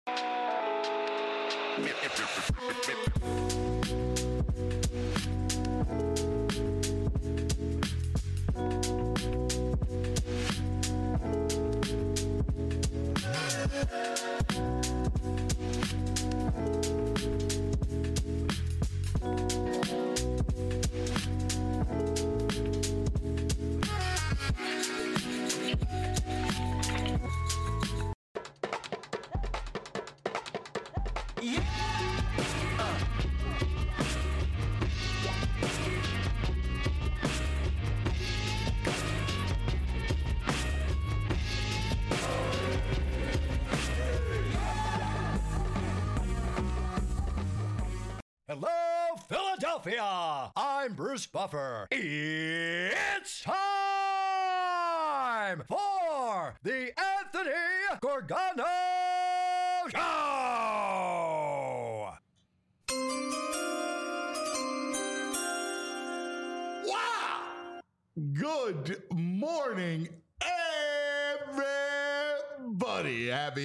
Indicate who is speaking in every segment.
Speaker 1: Hello, Philadelphia! I'm Bruce Buffer. It's time for the Anthony Gorgano Show!
Speaker 2: Wow! Good morning, everybody. Happy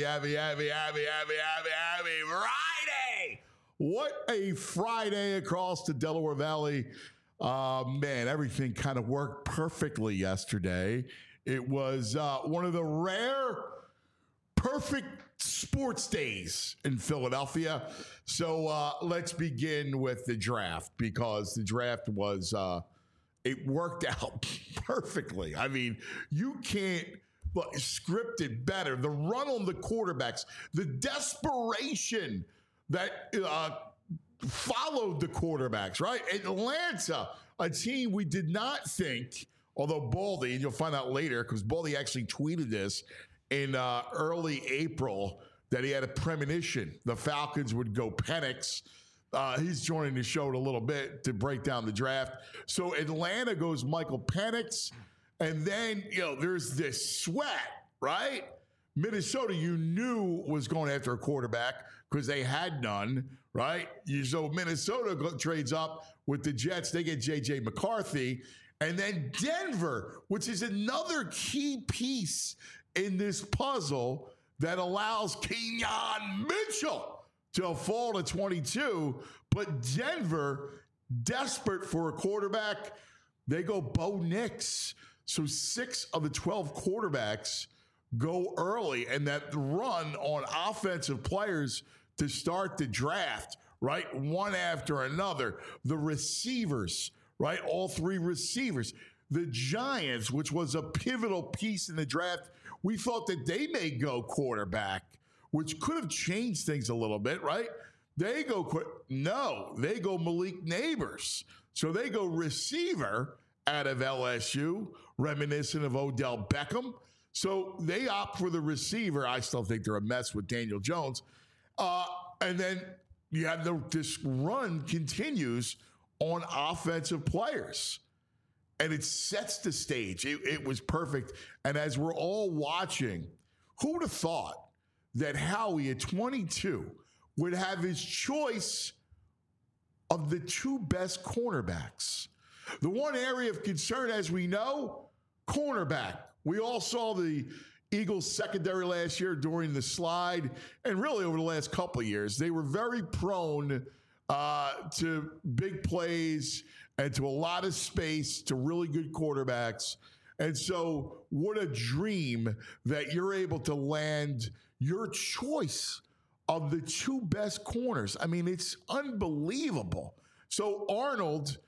Speaker 2: Friday! What a Friday across the Delaware Valley. Man, everything kind of worked perfectly yesterday. It was one of the rare perfect sports days in Philadelphia. So let's begin with the draft, because the draft was, it worked out perfectly. I mean, you can't script it better. The run on the quarterbacks, the desperation that followed the quarterbacks, right? Atlanta, a team we did not think, although Baldy, and you'll find out later, because Baldy actually tweeted this in early April, that he had a premonition the Falcons would go Penix. He's joining the show in a little bit to break down the draft. So Atlanta goes Michael Penix, and then, there's this sweat, right? Minnesota, you knew, was going after a quarterback because they had none, right? So Minnesota trades up with the Jets. They get J.J. McCarthy. And then Denver, which is another key piece in this puzzle that allows Kenyon Mitchell to fall to 22. But Denver, desperate for a quarterback, they go Bo Nix. So 6 of the 12 quarterbacks go early, and that run on offensive players to start the draft, right? One after another. The receivers, right? All 3 receivers. The Giants, which was a pivotal piece in the draft, we thought that they may go quarterback, which could have changed things a little bit, right? They go Malik Neighbors. So they go receiver out of LSU, reminiscent of Odell Beckham. So they opt for the receiver. I still think they're a mess with Daniel Jones. And then you have this run continues on offensive players. And it sets the stage. It was perfect. And as we're all watching, who would have thought that Howie at 22 would have his choice of the 2 best cornerbacks? The one area of concern, as we know, cornerback. We all saw the Eagles secondary last year during the slide, and really over the last couple of years. They were very prone to big plays and to a lot of space, to really good quarterbacks. And so what a dream that you're able to land your choice of the 2 best corners. I mean, it's unbelievable. So Arnold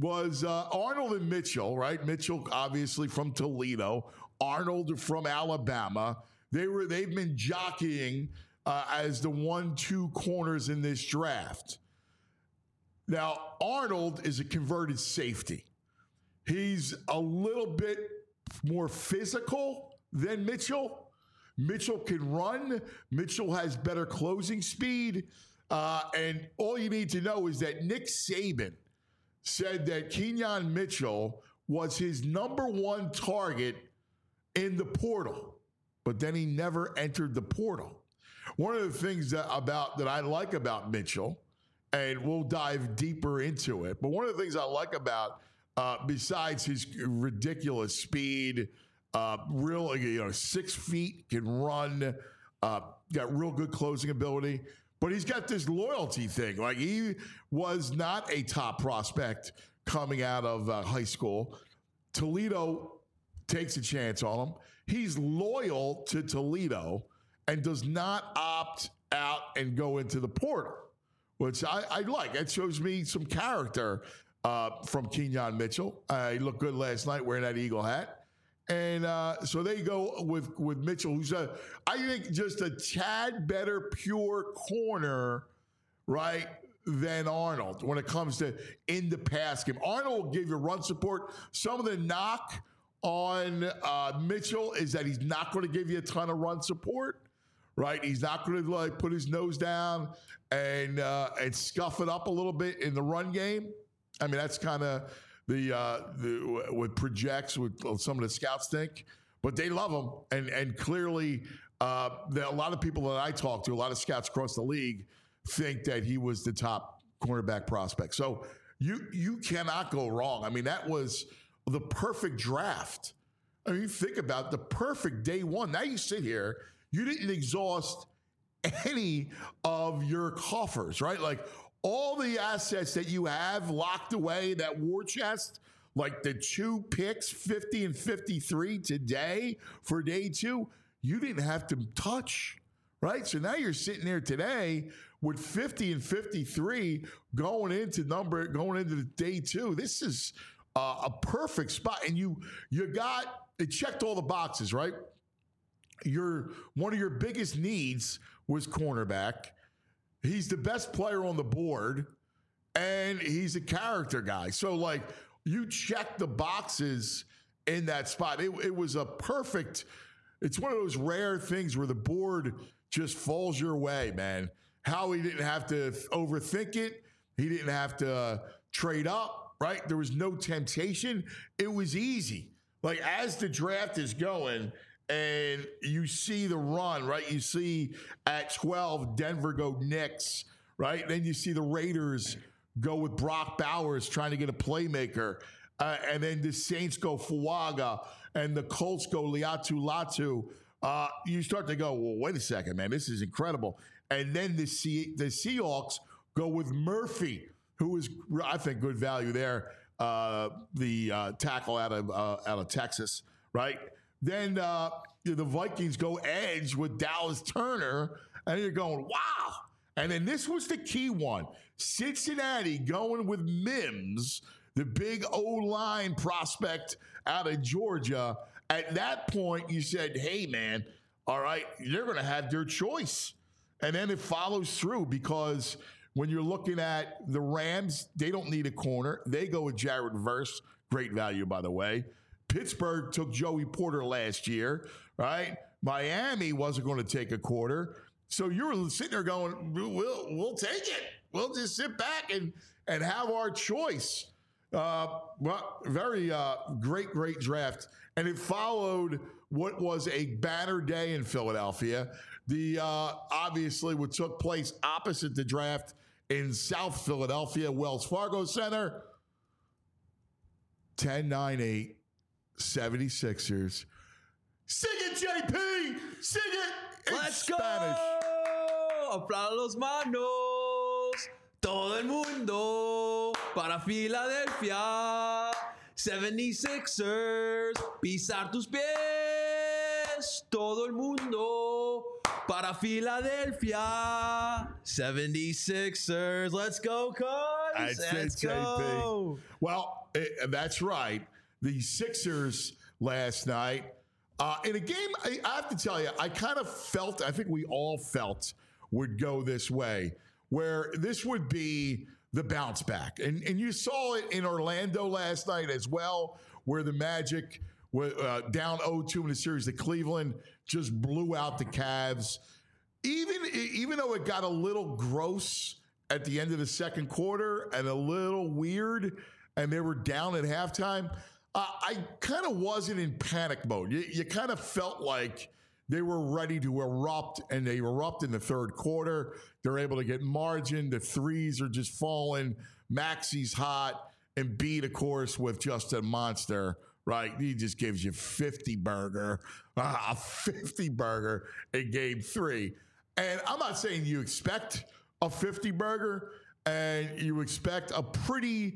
Speaker 2: and Mitchell, right? Mitchell, obviously from Toledo. Arnold from Alabama. They've been jockeying as the 1-2 corners in this draft. Now, Arnold is a converted safety. He's a little bit more physical than Mitchell. Mitchell can run. Mitchell has better closing speed. And all you need to know is that Nick Saban said that Kenyon Mitchell was his number 1 target in the portal, but then he never entered the portal. One of the things that I like about Mitchell, and we'll dive deeper into it, but one of the things I like about, besides his ridiculous speed, 6 feet, can run, got real good closing ability, but he's got this loyalty thing. Like, he was not a top prospect coming out of high school. Toledo takes a chance on him. He's loyal to Toledo and does not opt out and go into the portal, which I like. It shows me some character from Kenyon Mitchell. He looked good last night wearing that Eagle hat. And so they go with Mitchell, who's I think just a tad better pure corner, right, than Arnold when it comes to in the pass game. Arnold will give you run support. Some of the knock on Mitchell is that he's not going to give you a ton of run support, right? He's not going to like put his nose down and scuff it up a little bit in the run game. I mean, that's kind of the what projects what some of the scouts think, but they love him, and clearly a lot of people that I talk to, a lot of scouts across the league, think that he was the top cornerback prospect. So you cannot go wrong. I mean, that was the perfect draft. I mean, you think about the perfect day one. Now you sit here, you didn't exhaust any of your coffers, right? Like, all the assets that you have locked away, that war chest, like the 2 picks, 50 and 53 today for day 2, you didn't have to touch, right? So now you're sitting there today with 50 and 53 going into the day 2. This is a perfect spot. And it checked all the boxes, right? One of your biggest needs was cornerback. He's the best player on the board, and he's a character guy. So, like, you check the boxes in that spot. It was a perfect – it's one of those rare things where the board just falls your way, man. Howie didn't have to overthink it. He didn't have to trade up, right? There was no temptation. It was easy. Like, as the draft is going – and you see the run, right? You see at 12, Denver go Knicks, right? Then you see the Raiders go with Brock Bowers trying to get a playmaker. And then the Saints go Fuaga, and the Colts go Latu. You start to go, well, wait a second, man. This is incredible. And then the Seahawks go with Murphy, who is, I think, good value there, the tackle out of Texas, right? Then the Vikings go edge with Dallas Turner, and you're going, wow. And then this was the key one. Cincinnati going with Mims, the big O-line prospect out of Georgia. At that point, you said, hey, man, all right, they're going to have their choice. And then it follows through, because when you're looking at the Rams, they don't need a corner. They go with Jared Verse. Great value, by the way. Pittsburgh took Joey Porter last year, right? Miami wasn't going to take a quarter. So you're sitting there going, we'll take it. We'll just sit back and have our choice. Well, very great draft. And it followed what was a banner day in Philadelphia. Obviously what took place opposite the draft in South Philadelphia, Wells Fargo Center. 10-9-8. 76ers. Sing it, JP! Sing it in
Speaker 3: Let's
Speaker 2: Spanish.
Speaker 3: Go! Aplaudan los manos. Todo el mundo para Filadelfia. 76ers. Pisar tus pies. Todo el mundo para Filadelfia. 76ers. Let's go, Cubs. Let's go.
Speaker 2: Well, that's right. The Sixers last night, in a game, I have to tell you, I kind of felt, I think we all felt would go this way, where this would be the bounce back. And you saw it in Orlando last night as well, where the Magic were down 0-2 in the series to Cleveland, just blew out the Cavs. Even though it got a little gross at the end of the second quarter and a little weird, and they were down at halftime, I kind of wasn't in panic mode. You kind of felt like they were ready to erupt, and they erupt in the third quarter. They're able to get margin. The threes are just falling. Maxi's hot. And Embiid, of course, with just a monster, right? He just gives you 50 burger in game 3. And I'm not saying you expect a 50 burger and you expect a pretty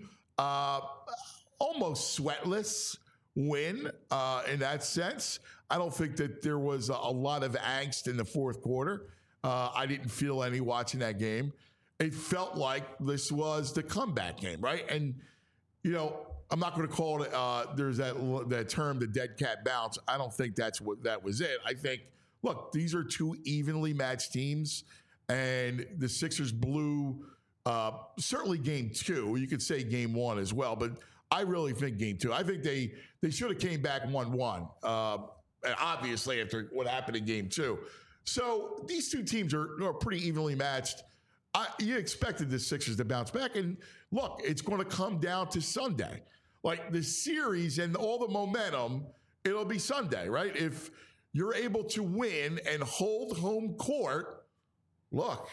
Speaker 2: almost sweatless win in that sense. I don't think that there was a lot of angst in the fourth quarter. I didn't feel any watching that game. It felt like this was the comeback game, right? And, you know, I'm not going to call it, there's that term, the dead cat bounce. I don't think that was it. I think, look, these are two evenly matched teams, and the Sixers blew certainly game two. You could say game one as well, but I really think game two. I think they should have came back 1-1, obviously, after what happened in game two. So these two teams are pretty evenly matched. You expected the Sixers to bounce back. And look, it's going to come down to Sunday. Like the series and all the momentum, it'll be Sunday, right? If you're able to win and hold home court, look,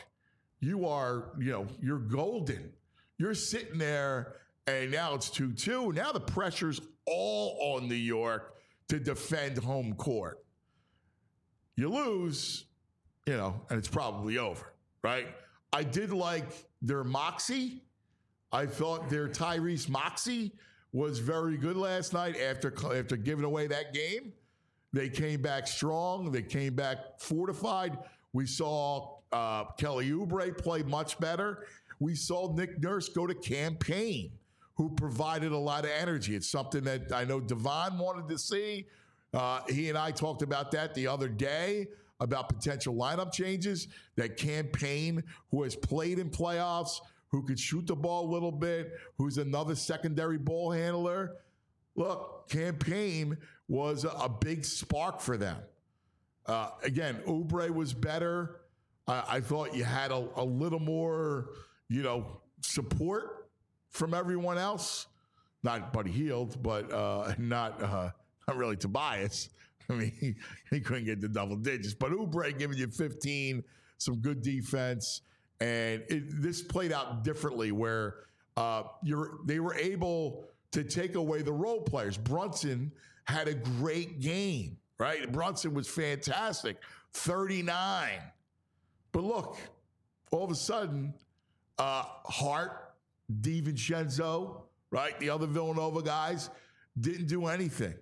Speaker 2: you're golden. You're sitting there, and now it's 2-2. Now the pressure's all on New York to defend home court. You lose, and it's probably over, right? I did like their moxie. I thought their Tyrese Moxie was very good last night after giving away that game. They came back strong. They came back fortified. We saw Kelly Oubre play much better. We saw Nick Nurse go to campaign, who provided a lot of energy. It's something that I know Devon wanted to see. He and I talked about that the other day, about potential lineup changes. That campaign, who has played in playoffs, who could shoot the ball a little bit, who's another secondary ball handler. Look, campaign was a big spark for them. Again, Oubre was better. I thought you had a little more, support from everyone else. Not Buddy Hield, but not really Tobias. I mean, he couldn't get the double digits. But Oubre giving you 15, some good defense. And this played out differently where they were able to take away the role players. Brunson had a great game, right? Brunson was fantastic, 39. But look, all of a sudden, Hart, DiVincenzo, right? The other Villanova guys didn't do anything.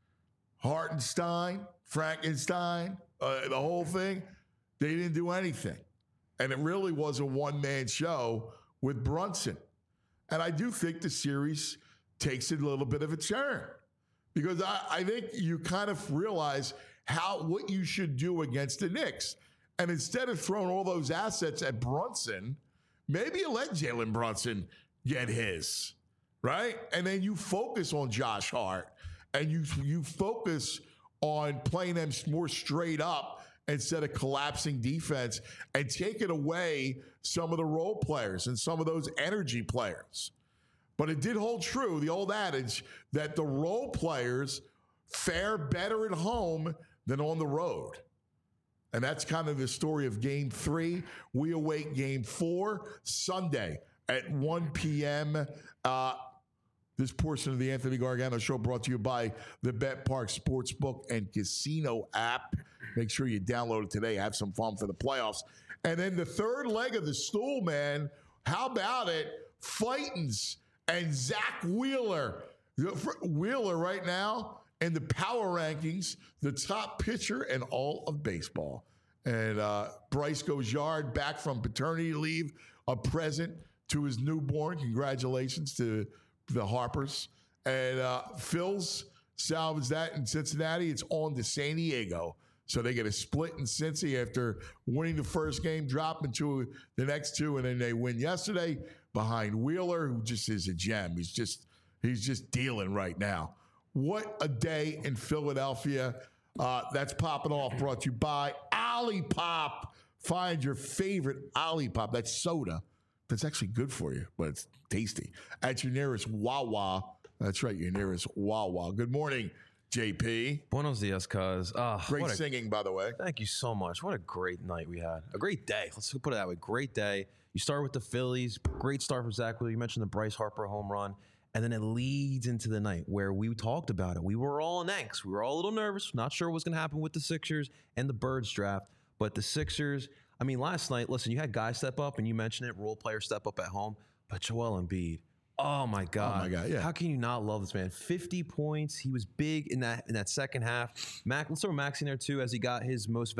Speaker 2: Hartenstein, Frankenstein, the whole thing, they didn't do anything. And it really was a one-man show with Brunson. And I do think the series takes a little bit of a turn, because I think you kind of realize what you should do against the Knicks. And instead of throwing all those assets at Brunson, maybe you let Jalen Brunson get his, right? And then you focus on Josh Hart, and you focus on playing them more straight up instead of collapsing defense, and taking away some of the role players and some of those energy players. But it did hold true, the old adage, that the role players fare better at home than on the road. And that's kind of the story of Game 3. We await Game 4 Sunday at 1 p.m. This portion of the Anthony Gargano Show brought to you by the BetPark Sportsbook and Casino app. Make sure you download it today. Have some fun for the playoffs. And then the third leg of the stool, man, how about it? Fightins and Zach Wheeler. Wheeler right now in the power rankings, the top pitcher in all of baseball. And Bryce Gojard back from paternity leave, a present to his newborn. Congratulations to the Harpers. And Phil's salvaged that in Cincinnati. It's on to San Diego. So they get a split in Cincy after winning the first game, dropping to the next two, and then they win yesterday behind Wheeler, who just is a gem. He's just dealing right now. What a day in Philadelphia. That's popping off, brought to you by Olipop. Find your favorite Olipop. That's soda. That's actually good for you, but it's tasty. At your nearest Wawa. That's right, your nearest Wawa. Good morning, JP.
Speaker 3: Buenos dias, cuz.
Speaker 2: Great singing, by the way.
Speaker 3: Thank you so much. What a great night we had. A great day. Let's put it that way. Great day. You start with the Phillies. Great start for Zach Wheeler. You mentioned the Bryce Harper home run. And then it leads into the night where we talked about it. We were all in angst. We were all a little nervous. Not sure what's going to happen with the Sixers and the Birds draft. But the Sixers, I mean, last night, listen, you had guys step up, and you mentioned it, role players step up at home, but Joel Embiid, oh my God,
Speaker 2: yeah.
Speaker 3: How can you not love this man? 50 points. He was big in that second half. Let's throw Maxey in there too, as he got his most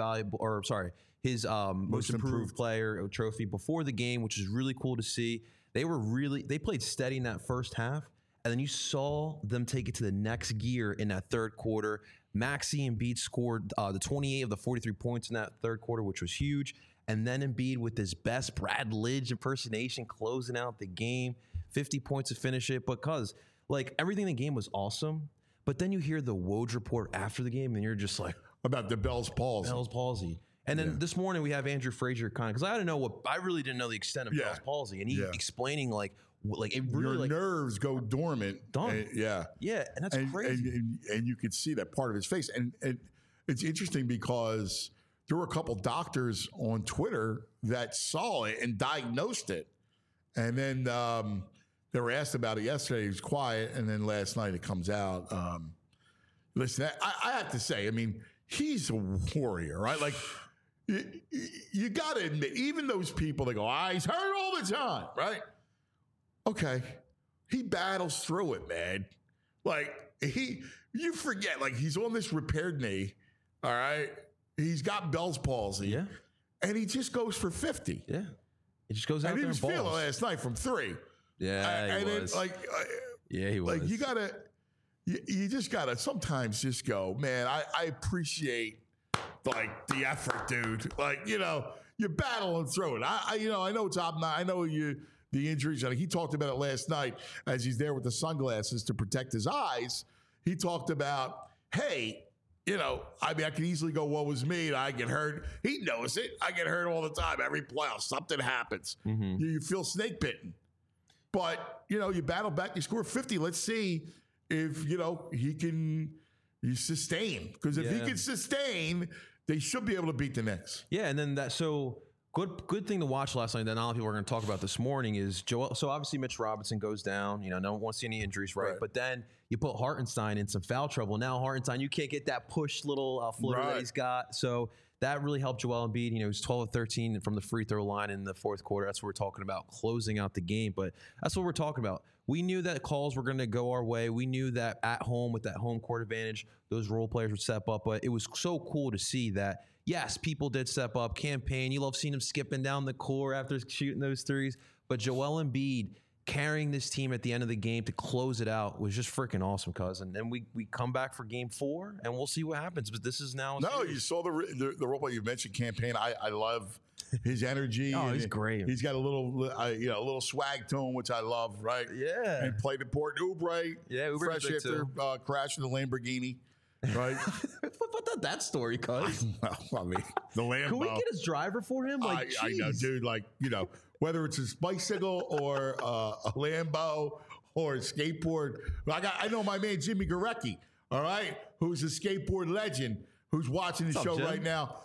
Speaker 3: improved player trophy before the game, which is really cool to see. They played steady in that first half, and then you saw them take it to the next gear in that third quarter. Maxey and Embiid scored the 28 of the 43 points in that third quarter, which was huge. And then Embiid with his best Brad Lidge impersonation closing out the game, 50 points to finish it. Because everything in the game was awesome, but then you hear the Woj report after the game, and you're just like,
Speaker 2: about the Bell's palsy.
Speaker 3: And then this morning we have Andrew Frazier because I really didn't know the extent of Bell's palsy, and he explaining it really
Speaker 2: your nerves go dormant.
Speaker 3: Done.
Speaker 2: Yeah,
Speaker 3: and that's crazy.
Speaker 2: And you could see that part of his face, and it's interesting because there were a couple doctors on Twitter that saw it and diagnosed it, and then they were asked about it yesterday. He was quiet, and then last night it comes out. Listen, I have to say, I mean, he's a warrior, right? Like. You got to admit, even those people that go, he's hurt all the time, right? Okay. He battles through it, man. You forget, he's on this repaired knee, all right? He's got Bell's palsy.
Speaker 3: Yeah.
Speaker 2: And he just goes for 50.
Speaker 3: Yeah. He just goes out there and balls.
Speaker 2: And he was feeling last night from 3.
Speaker 3: Yeah, he was. Yeah, he was.
Speaker 2: You just got to sometimes just go, man, I appreciate the effort, dude. You're battling through it. I know it's I know the injuries. He talked about it last night as he's there with the sunglasses to protect his eyes. He talked about, hey, I can easily go, what was me? I get hurt. He knows it. I get hurt all the time. Every playoff, something happens. Mm-hmm. You feel snake bitten. But, you battle back, you score 50. Let's see if, he can sustain. Because if he can sustain, they should be able to beat the Knicks.
Speaker 3: Yeah, and then good thing to watch last night that not a lot of people are going to talk about this morning is Joel. So obviously Mitch Robinson goes down. No one wants to see any injuries, right? But then you put Hartenstein in some foul trouble. Now Hartenstein, you can't get that push little floater that he's got. So that really helped Joel Embiid. He was 12 of 13 from the free throw line in the fourth quarter. That's what we're talking about, closing out the game. But that's what we're talking about. We knew that calls were going to go our way. We knew that at home with that home court advantage, those role players would step up. But it was so cool to see that, yes, people did step up. Campaign, you love seeing him skipping down the court after shooting those threes. But Joel Embiid carrying this team at the end of the game to close it out was just freaking awesome, cousin. And we come back for game 4, and we'll see what happens. But this is now.
Speaker 2: No, you saw the role play you mentioned, Campaign. I love his energy.
Speaker 3: Oh, he's great.
Speaker 2: He's got a little swag to him, which I love, right?
Speaker 3: Yeah.
Speaker 2: And played in Port Oubre.
Speaker 3: Yeah, Oubre's
Speaker 2: fresh after crashing the Lamborghini. Right?
Speaker 3: What that story, cuz?
Speaker 2: I mean, the Lambo.
Speaker 3: Can we get his driver for him?
Speaker 2: I know, dude. Whether it's his bicycle or a Lambo or a skateboard. I know my man Jimmy Garecki, all right, who's a skateboard legend, who's watching the show right now.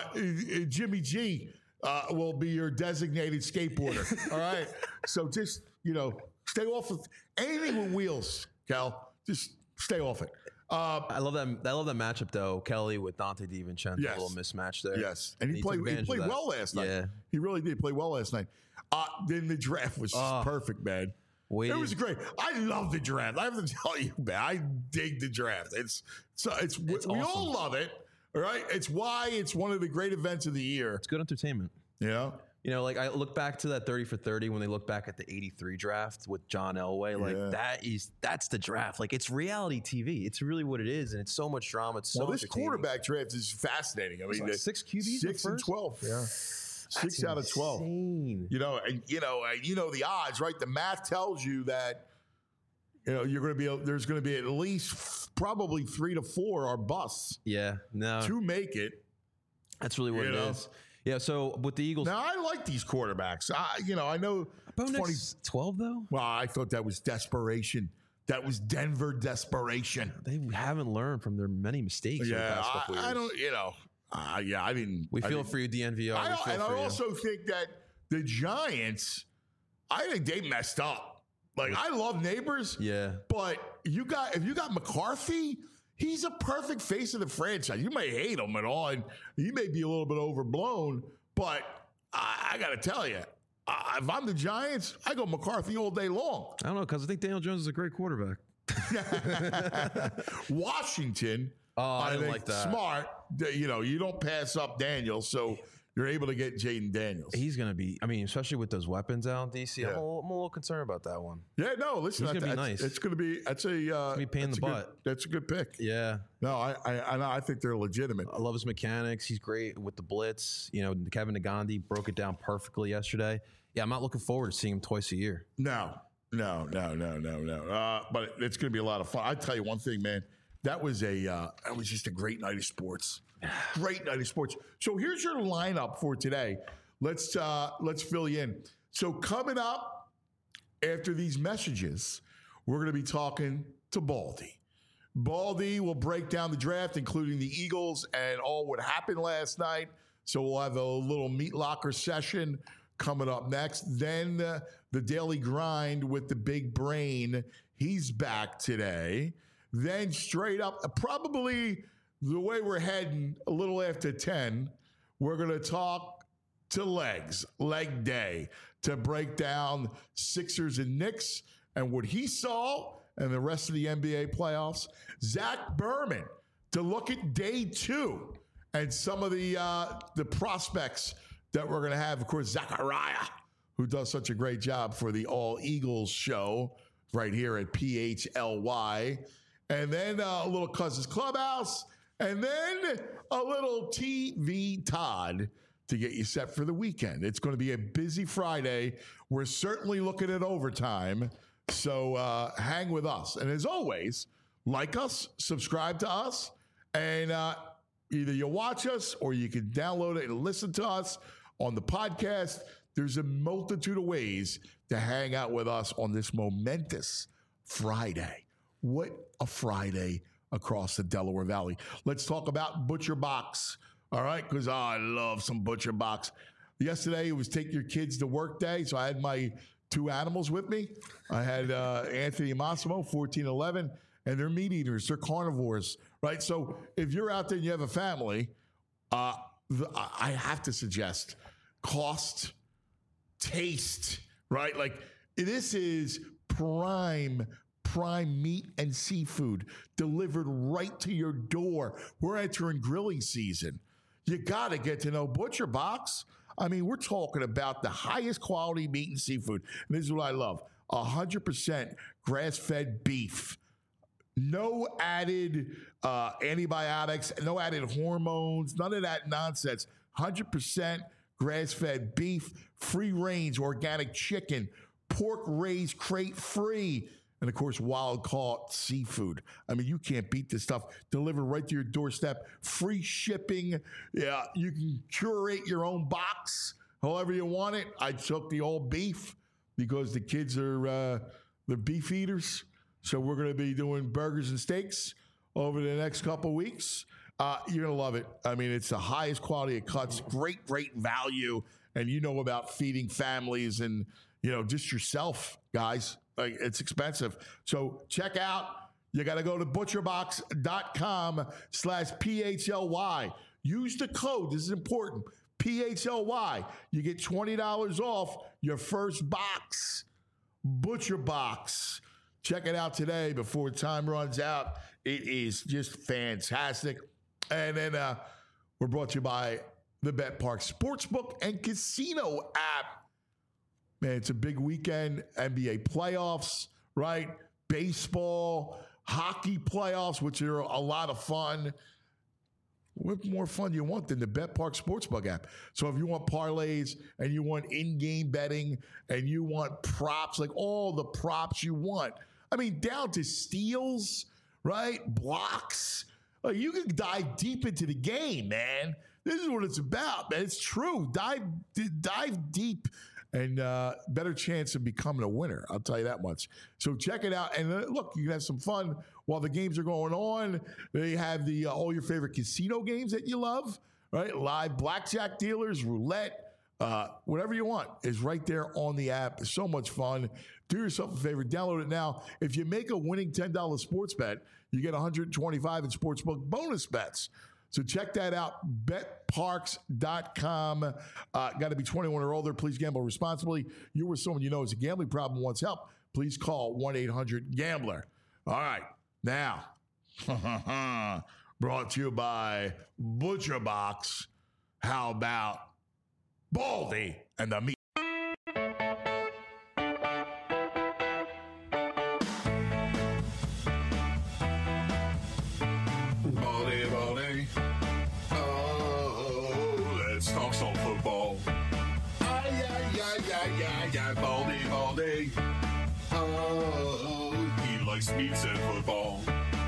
Speaker 2: Jimmy G will be your designated skateboarder, all right? So just, stay off of anything with wheels, Cal. Just stay off it.
Speaker 3: I love that matchup though, Kelly with Dante DiVincenzo, a little mismatch there.
Speaker 2: Yes, and he played well last night. Yeah, he really did play well last night. Then the draft was perfect, man. It was great. I love the draft. I have to tell you, man, I dig the draft. It's we awesome. All love it, right? It's why it's one of the great events of the year.
Speaker 3: It's good entertainment.
Speaker 2: Yeah.
Speaker 3: I look back to that 30 for 30 when they look back at the 83 draft with John Elway. That's the draft. It's reality TV. It's really what it is, and it's so much drama. It's so
Speaker 2: this quarterback draft is fascinating. I mean,
Speaker 3: 6 QBs,
Speaker 2: 6 and 12. Yeah, 6 out of 12.
Speaker 3: Insane.
Speaker 2: The odds, right? The math tells you that you're going to be there's going to be at least probably 3 to 4 are busts.
Speaker 3: Yeah, no,
Speaker 2: to make it.
Speaker 3: That's really what it is. Yeah, so with the Eagles.
Speaker 2: Now, I like these quarterbacks. I know.
Speaker 3: Bo Nix 12, though?
Speaker 2: Well, I thought that was desperation. That was Denver desperation.
Speaker 3: They haven't learned from their many mistakes in the past couple years.
Speaker 2: I don't, I didn't.
Speaker 3: We feel for you, DNVR.
Speaker 2: I also think that the Giants, I think they messed up. I love Neighbors.
Speaker 3: Yeah.
Speaker 2: But if you got McCarthy, he's a perfect face of the franchise. You may hate him and all, and he may be a little bit overblown, But I got to tell you, if I'm the Giants, I go McCarthy all day long.
Speaker 3: I don't know, because I think Daniel Jones is a great quarterback.
Speaker 2: Washington,
Speaker 3: I didn't
Speaker 2: think
Speaker 3: like that.
Speaker 2: Smart. You don't pass up Daniels, so you're able to get Jaden Daniels.
Speaker 3: He's going to be, especially with those weapons out in DC, I'm a little concerned about that one.
Speaker 2: Yeah, no, listen,
Speaker 3: He's gonna be nice.
Speaker 2: It's going to be, that's a
Speaker 3: pain in the butt.
Speaker 2: That's a good pick.
Speaker 3: Yeah.
Speaker 2: No, I think they're legitimate.
Speaker 3: I love his mechanics. He's great with the blitz. Kevin Nagandi broke it down perfectly yesterday. Yeah, I'm not looking forward to seeing him twice a year.
Speaker 2: No. But it's going to be a lot of fun. I tell you one thing, man. That was just a great night of sports. Great night of sports. So here's your lineup for today. Let's fill you in. So coming up after these messages, we're going to be talking to Baldy. Baldy will break down the draft, including the Eagles and all what happened last night. So we'll have a little meat locker session coming up next. Then the Daily Grind with the big brain. He's back today. Then straight up, probably the way we're heading a little after 10, we're going to talk to Leg Day, to break down Sixers and Knicks and what he saw and the rest of the NBA playoffs. Zach Berman to look at day 2 and some of the prospects that we're going to have. Of course, Zachariah, who does such a great job for the All Eagles show right here at PHLY. And then a little Cousins Clubhouse. And then a little TV Todd to get you set for the weekend. It's going to be a busy Friday. We're certainly looking at overtime. So hang with us. And as always, like us, subscribe to us, and either you watch us or you can download it and listen to us on the podcast. There's a multitude of ways to hang out with us on this momentous Friday. What a Friday across the Delaware Valley. Let's talk about Butcher Box. All right, because I love some Butcher Box. Yesterday, it was take your kids to work day, so I had my 2 animals with me. I had Anthony and Massimo, 14 and 11, and they're meat eaters. They're carnivores, right? So if you're out there and you have a family, I have to suggest cost, taste, right? Like, this is prime meat and seafood delivered right to your door. We're entering grilling season. You got to get to know Butcher Box. I mean, we're talking about the highest quality meat and seafood. And this is what I love. 100% grass-fed beef. No added antibiotics, no added hormones, none of that nonsense. 100% grass-fed beef, free-range organic chicken, pork raised crate-free, and, of course, wild-caught seafood. I mean, you can't beat this stuff. Delivered right to your doorstep. Free shipping. Yeah, you can curate your own box however you want it. I took the all beef because the kids are the beef eaters. So we're going to be doing burgers and steaks over the next couple weeks. You're going to love it. I mean, it's the highest quality of cuts. Great value. And you know about feeding families and, just yourself, guys. Like, it's expensive. So check out. You got to go to butcherbox.com/PHLY. Use the code. This is important. PHLY. You get $20 off your first box. Butcher Box. Check it out today before time runs out. It is just fantastic. And then we're brought to you by the Bet Park Sportsbook and Casino app. Man, it's a big weekend. NBA playoffs, right? Baseball, hockey playoffs, which are a lot of fun. What more fun do you want than the Bet Park Sportsbook app? So if you want parlays and you want in-game betting and you want props, like all the props you want. I mean, down to steals, right? Blocks. Like, you can dive deep into the game, man. This is what it's about, man. It's true. Dive deep. And better chance of becoming a winner. I'll tell you that much. So check it out. And look, you can have some fun while the games are going on. They have the all your favorite casino games that you love, right? Live blackjack dealers, roulette, whatever you want is right there on the app. It's so much fun. Do yourself a favor. Download it now. If you make a winning $10 sports bet, you get $125 in sportsbook bonus bets. So check that out, betparks.com. Got to be 21 or older. Please gamble responsibly. You or someone you know has a gambling problem wants help. Please call 1-800-GAMBLER. All right, now, brought to you by Butcher Box. How about Baldy and the meat? Baldy. Oh, let's talk some football. Baldy. Oh, he likes meats and football.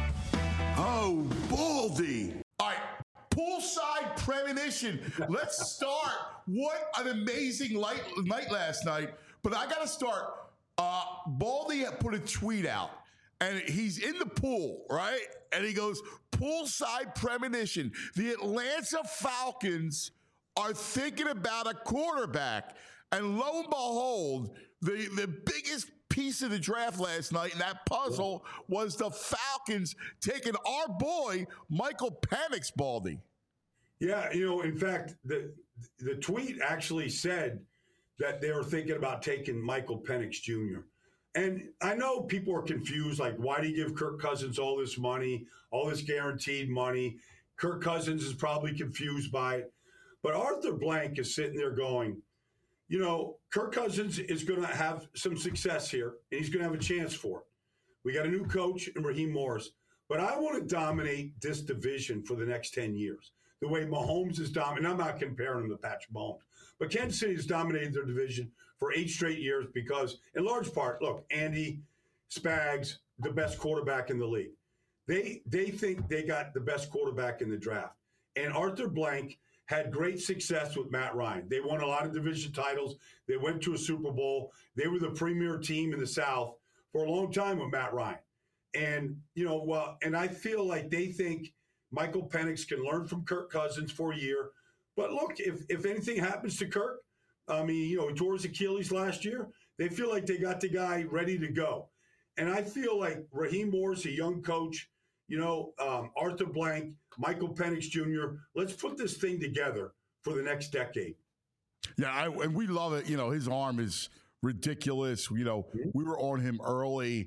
Speaker 2: Oh, Baldy. All right, poolside premonition. Let's start. What an amazing night last night. But I got to start. Baldy put a tweet out, and he's in the pool, right? And he goes, poolside premonition. The Atlanta Falcons are thinking about a quarterback. And lo and behold, the biggest piece of the draft last night in that puzzle was the Falcons taking our boy, Michael Penix, Baldy.
Speaker 4: Yeah, in fact, the tweet actually said that they were thinking about taking Michael Penix Jr. And I know people are confused, like, why do you give Kirk Cousins all this money, all this guaranteed money? Kirk Cousins is probably confused by it. But Arthur Blank is sitting there going, Kirk Cousins is going to have some success here, and he's going to have a chance for it. We got a new coach in Raheem Morris. But I want to dominate this division for the next 10 years. The way Mahomes is dominating, I'm not comparing him to Patrick Mahomes, but Kansas City has dominated their division for 8 straight years because, in large part, look, Andy Spags, the best quarterback in the league. They think they got the best quarterback in the draft. And Arthur Blank had great success with Matt Ryan. They won a lot of division titles. They went to a Super Bowl. They were the premier team in the South for a long time with Matt Ryan. And, and I feel like they think Michael Penix can learn from Kirk Cousins for a year. But look, if anything happens to Kirk, he tore his Achilles last year. They feel like they got the guy ready to go. And I feel like Raheem Morris, a young coach, Arthur Blank, Michael Penix Jr., let's put this thing together for the next decade.
Speaker 2: Yeah, and we love it. His arm is ridiculous. We were on him early.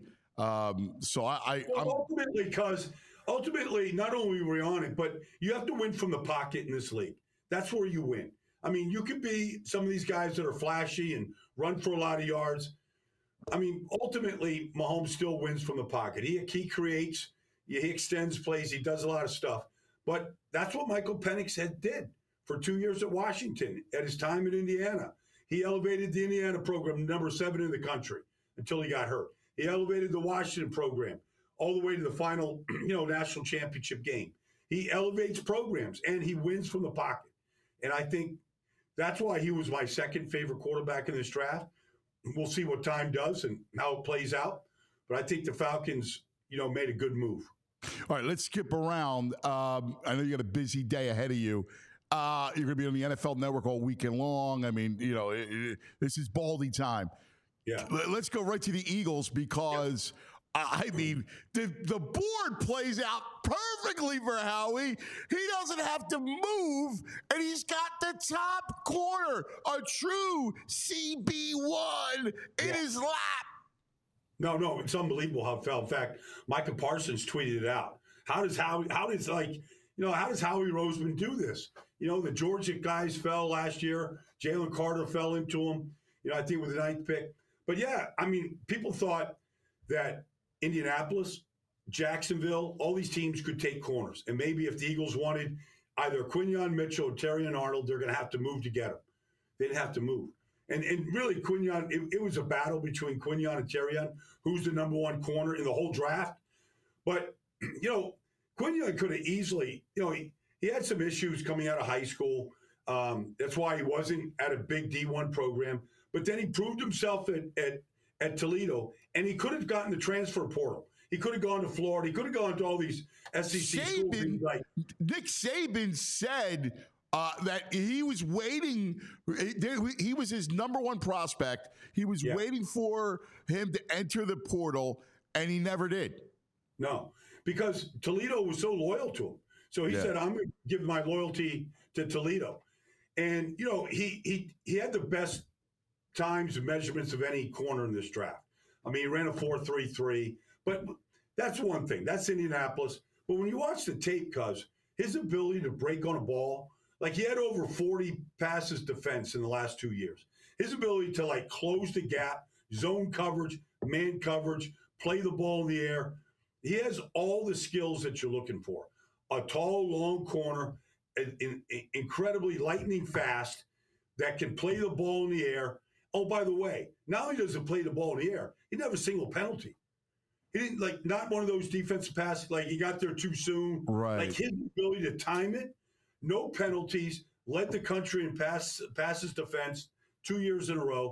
Speaker 4: Ultimately, not only were we on it, but you have to win from the pocket in this league. That's where you win. You could be some of these guys that are flashy and run for a lot of yards. Ultimately, Mahomes still wins from the pocket. He creates, he extends plays, he does a lot of stuff. But that's what Michael Penix did for 2 years at Washington at his time in Indiana. He elevated the Indiana program number 7 in the country until he got hurt. He elevated the Washington program all the way to the final, national championship game. He elevates programs, and he wins from the pocket. And I think that's why he was my second favorite quarterback in this draft. We'll see what time does and how it plays out. But I think the Falcons, made a good move.
Speaker 2: All right, let's skip around. I know you got a busy day ahead of you. You're going to be on the NFL Network all weekend long. This is Baldy time.
Speaker 4: Yeah.
Speaker 2: Let's go right to the Eagles because, the board plays out perfectly for Howie. He doesn't have to move, and he's got the top corner, a true CB1 in his lap.
Speaker 4: No, it's unbelievable how it fell. In fact, Micah Parsons tweeted it out. How does Howie Roseman do this? The Georgia guys fell last year. Jalen Carter fell into him, I think with the 9th pick. But yeah, people thought that Indianapolis, Jacksonville, all these teams could take corners. And maybe if the Eagles wanted either Quinyon Mitchell or Terrion Arnold, they're going to have to move to get them. They'd have to move. And really, Quinyon, it was a battle between Quinyon and Terrion, who's the number 1 corner in the whole draft. But, Quinyon could have easily, he had some issues coming out of high school. That's why he wasn't at a big D1 program. But then he proved himself at Toledo, and he could have gotten the transfer portal. He could have gone to Florida. He could have gone to all these SEC schools.
Speaker 2: Nick Saban said that he was waiting. He was his number 1 prospect. He was waiting for him to enter the portal, and he never did.
Speaker 4: No, because Toledo was so loyal to him. So he said, I'm going to give my loyalty to Toledo. And, you know, he had the best times and measurements of any corner in this draft. I mean, he ran a 4.33, but that's one thing. That's Indianapolis. But when you watch the tape, Cuz, his ability to break on a ball, like he had over 40 passes defense in the last 2 years. His ability to like close the gap, zone coverage, man coverage, play the ball in the air. He has all the skills that you're looking for. A tall, long corner, incredibly lightning fast, that can play the ball in the air. Oh, by the way, not only does he play the ball in the air, he didn't have a single penalty. He didn't, like, not one of those defensive passes, like he got there too soon.
Speaker 2: Right.
Speaker 4: Like his ability to time it, no penalties, led the country in passes defense 2 years in a row.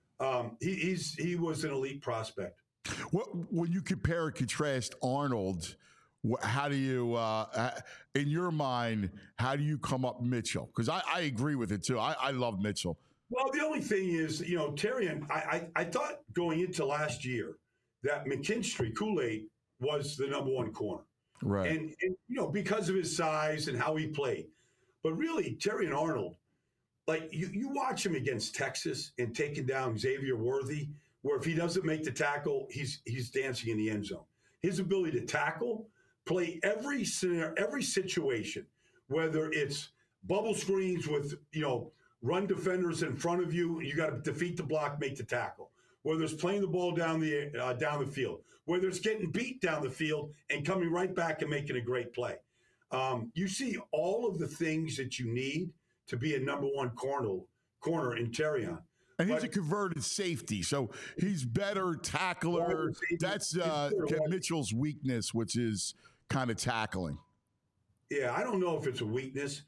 Speaker 4: He was an elite prospect.
Speaker 2: When you compare and contrast Arnold, how do you, in your mind, how do you come up Mitchell? Because I agree with it too. I love Mitchell.
Speaker 4: Well, the only thing is, you know, Terrian, I thought going into last year that McKinstry, Kool-Aid, was the number one corner.
Speaker 2: Right.
Speaker 4: And, you know, because of his size and how he played. But really, Terrian Arnold, like you watch him against Texas and taking down Xavier Worthy, where if he doesn't make the tackle, he's dancing in the end zone. His ability to tackle, play every scenario, every situation, whether it's bubble screens with, you know, run defenders in front of you, you got to defeat the block, make the tackle. Whether it's playing the ball down the field, whether it's getting beat down the field and coming right back and making a great play. You see all of the things that you need to be a number one corner in Terrion.
Speaker 2: And he's a converted safety, so he's better tackler. That's Mitchell's weakness, which is kind of tackling.
Speaker 4: Yeah, I don't know if it's a weakness.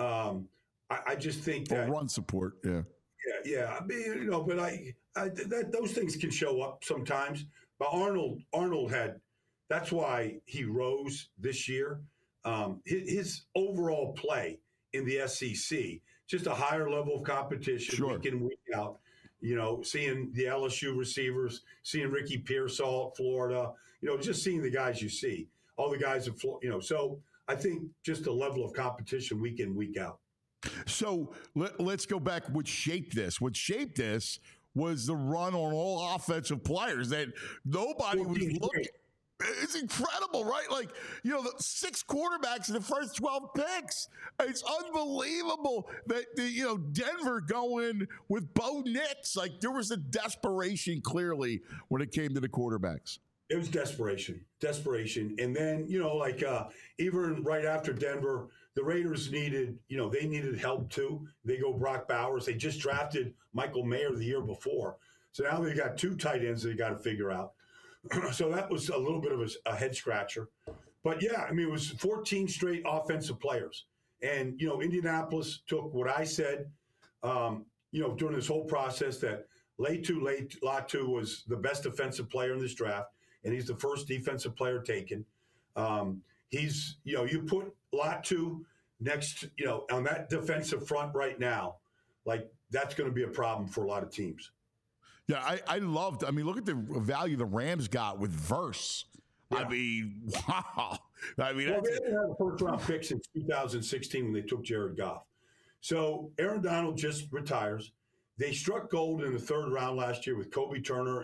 Speaker 4: I just think that
Speaker 2: run support.
Speaker 4: Yeah. I mean, you know, but those things can show up sometimes. But Arnold had. That's why he rose this year. His overall play in the SEC, just a higher level of competition week in, week out. You know, seeing the LSU receivers, seeing Ricky Pearsall at Florida, you know, just seeing the guys you see, all the guys at Florida, you know. So I think just a level of competition week in, week out.
Speaker 2: So let's go back. What shaped this? What shaped this was the run on all offensive players that nobody was looking. It's incredible, right? Like, you know, the 6 quarterbacks in the first 12 picks. It's unbelievable that, you know, Denver going with Bo Nix. Like, there was a desperation clearly when it came to the quarterbacks.
Speaker 4: It was desperation. And then, you know, like even right after Denver, the Raiders needed help too. They go Brock Bowers. They just drafted Michael Mayer the year before. So now they got 2 tight ends they got to figure out. So that was a little bit of a head scratcher. But yeah, I mean, it was 14 straight offensive players. And, you know, Indianapolis took what I said, you know, during this whole process, that Latu was the best defensive player in this draft, and he's the first defensive player taken. He's, you know, you put Latu next, you know, on that defensive front right now, like that's going to be a problem for a lot of teams.
Speaker 2: Yeah, I loved. I mean, look at the value the Rams got with Verse. Yeah. I mean, wow. I mean,
Speaker 4: well, they didn't have a first-round pick since 2016 when they took Jared Goff. So Aaron Donald just retires. They struck gold in the 3rd round last year with Kobe Turner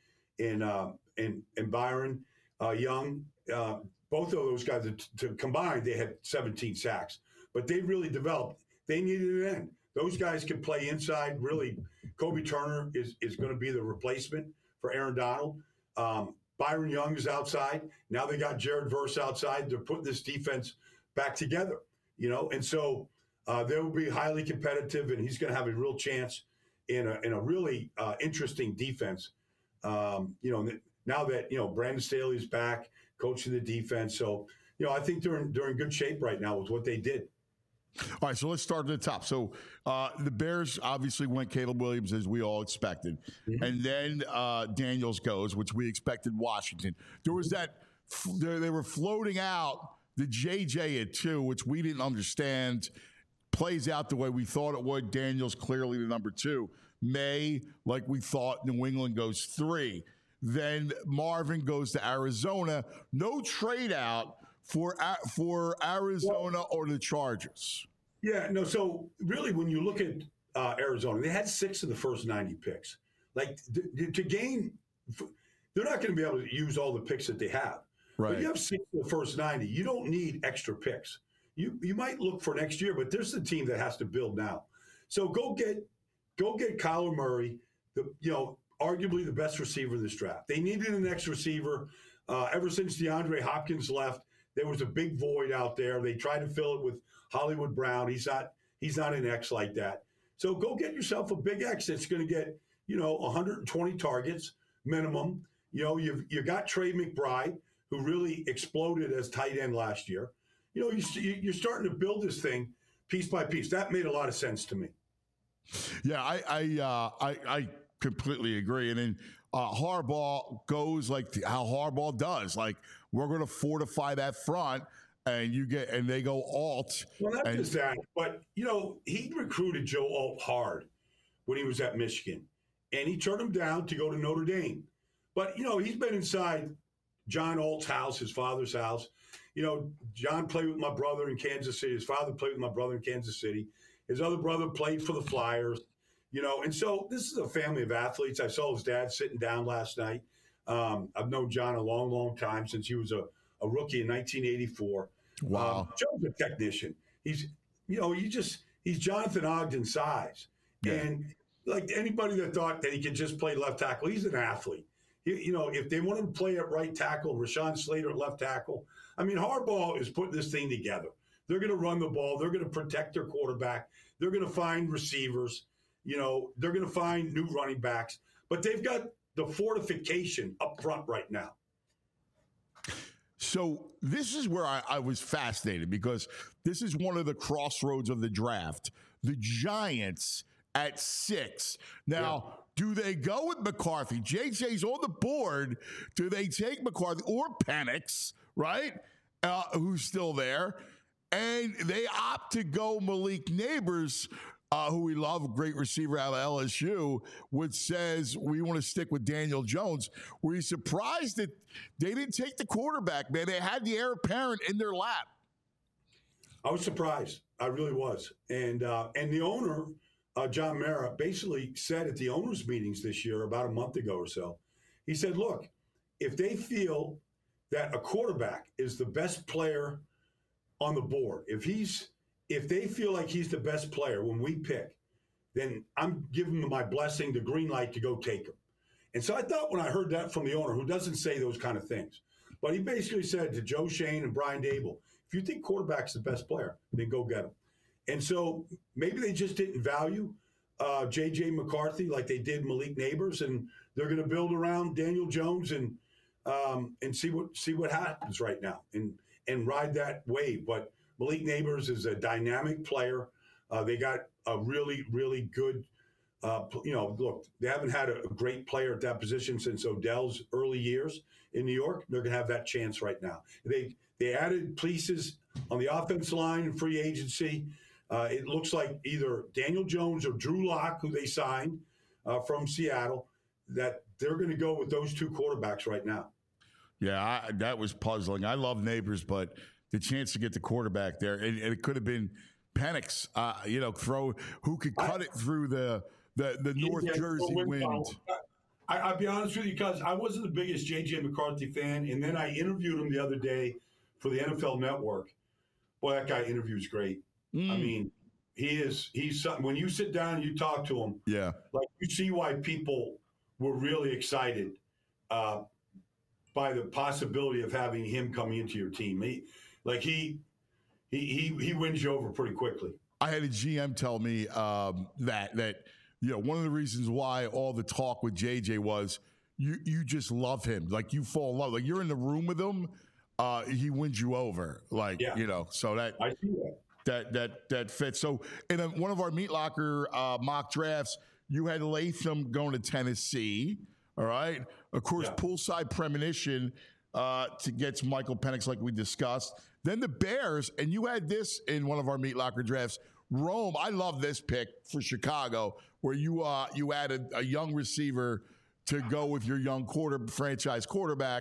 Speaker 4: and Byron Young. Both of those guys, combined, they had 17 sacks. But they really developed. They needed an end. Those guys can play inside. Really, Kobe Turner is going to be the replacement for Aaron Donald. Byron Young is outside. Now they got Jared Verse outside. They're putting this defense back together, you know. And so they will be highly competitive, and he's going to have a real chance in a really interesting defense. You know, now that, you know, Brandon Staley's back coaching the defense. So, you know, I think they're in good shape right now with what they did.
Speaker 2: All right, so let's start at the top. So the Bears obviously went Caleb Williams, as we all expected. Mm-hmm. And then Daniels goes, which we expected Washington. There was that they were floating out the JJ at 2, which we didn't understand. Plays out the way we thought it would. Daniels clearly the number 2. May, like we thought, New England goes 3. Then Marvin goes to Arizona. No trade out, for Arizona or the Chargers?
Speaker 4: Yeah, no. So really, when you look at Arizona, they had 6 of the first 90 picks. Like to gain, they're not going to be able to use all the picks that they have.
Speaker 2: Right.
Speaker 4: But you have 6 of the first 90. You don't need extra picks. You might look for next year, but there's a team that has to build now. So go get Kyler Murray, arguably the best receiver in this draft. They needed an X receiver. Ever since DeAndre Hopkins left, there was a big void out there. They tried to fill it with Hollywood Brown. He's not an X like that. So go get yourself a big X that's going to get 120 targets minimum. You got Trey McBride, who really exploded as tight end last year. You're starting to build this thing piece by piece. That made a lot of sense to me.
Speaker 2: Yeah, I completely agree. And then Harbaugh goes like how Harbaugh does. Like, we're going to fortify that front, and they go alt.
Speaker 4: Well, not just that, but he recruited Joe Alt hard when he was at Michigan, and he turned him down to go to Notre Dame. But he's been inside John Alt's house, his father's house. John played with my brother in Kansas City. His father played with my brother in Kansas City. His other brother played for the Flyers. And so this is a family of athletes. I saw his dad sitting down last night. I've known John a long, long time, since he was a rookie in 1984.
Speaker 2: Wow.
Speaker 4: Joe's a technician. He's Jonathan Ogden size.
Speaker 2: Yeah.
Speaker 4: And like anybody that thought that he could just play left tackle, he's an athlete. If they want him to play at right tackle, Rashawn Slater at left tackle, Harbaugh is putting this thing together. They're going to run the ball. They're going to protect their quarterback. They're going to find receivers. They're going to find new running backs. But they've got the fortification up front right now.
Speaker 2: So this is where I was fascinated, because this is one of the crossroads of the draft. The Giants at 6. Now, do they go with McCarthy? JJ's on the board. Do they take McCarthy or Penix, right? Who's still there? And they opt to go Malik Neighbors, who we love, great receiver out of LSU, which says we want to stick with Daniel Jones. Were you surprised that they didn't take the quarterback, man? They had the heir apparent in their lap.
Speaker 4: I was surprised. I really was. And the owner, John Mara, basically said at the owners' meetings this year, about a month ago or so, he said, look, if they feel that a quarterback is the best player on the board, if they feel like he's the best player when we pick, then I'm giving them my blessing, the green light to go take him. And so I thought, when I heard that from the owner, who doesn't say those kind of things, but he basically said to Joe Schoen and Brian Dable, if you think quarterback's the best player, then go get him. And so maybe they just didn't value J.J. McCarthy like they did Malik Neighbors, and they're going to build around Daniel Jones and see what happens right now and ride that wave. But Malik Neighbors is a dynamic player. They got a really, really good, look, they haven't had a great player at that position since Odell's early years in New York. They're going to have that chance right now. They added pieces on the offensive line in free agency. It looks like either Daniel Jones or Drew Lock, who they signed from Seattle, that they're going to go with those two quarterbacks right now.
Speaker 2: Yeah, that was puzzling. I love Neighbors, but the chance to get the quarterback there, and it could have been Penix, who could cut it through the North Jersey wind.
Speaker 4: I'll be honest with you, because I wasn't the biggest J.J. McCarthy fan, and then I interviewed him the other day for the NFL Network. Boy, that guy interviews great. He's something. When you sit down and you talk to him, like, you see why people were really excited by the possibility of having him coming into your team. He wins you over pretty quickly.
Speaker 2: I had a GM tell me that one of the reasons why all the talk with JJ was you just love him, like you fall in love, like you're in the room with him, he wins you over, so that
Speaker 4: I see
Speaker 2: that fits. So in one of our Meat Locker mock drafts, you had Latham going to Tennessee. All right. Of course, poolside premonition to get Michael Penix, like we discussed. Then the Bears, and you had this in one of our Meat Locker drafts. Rome, I love this pick for Chicago, where you added a young receiver to go with your young franchise quarterback.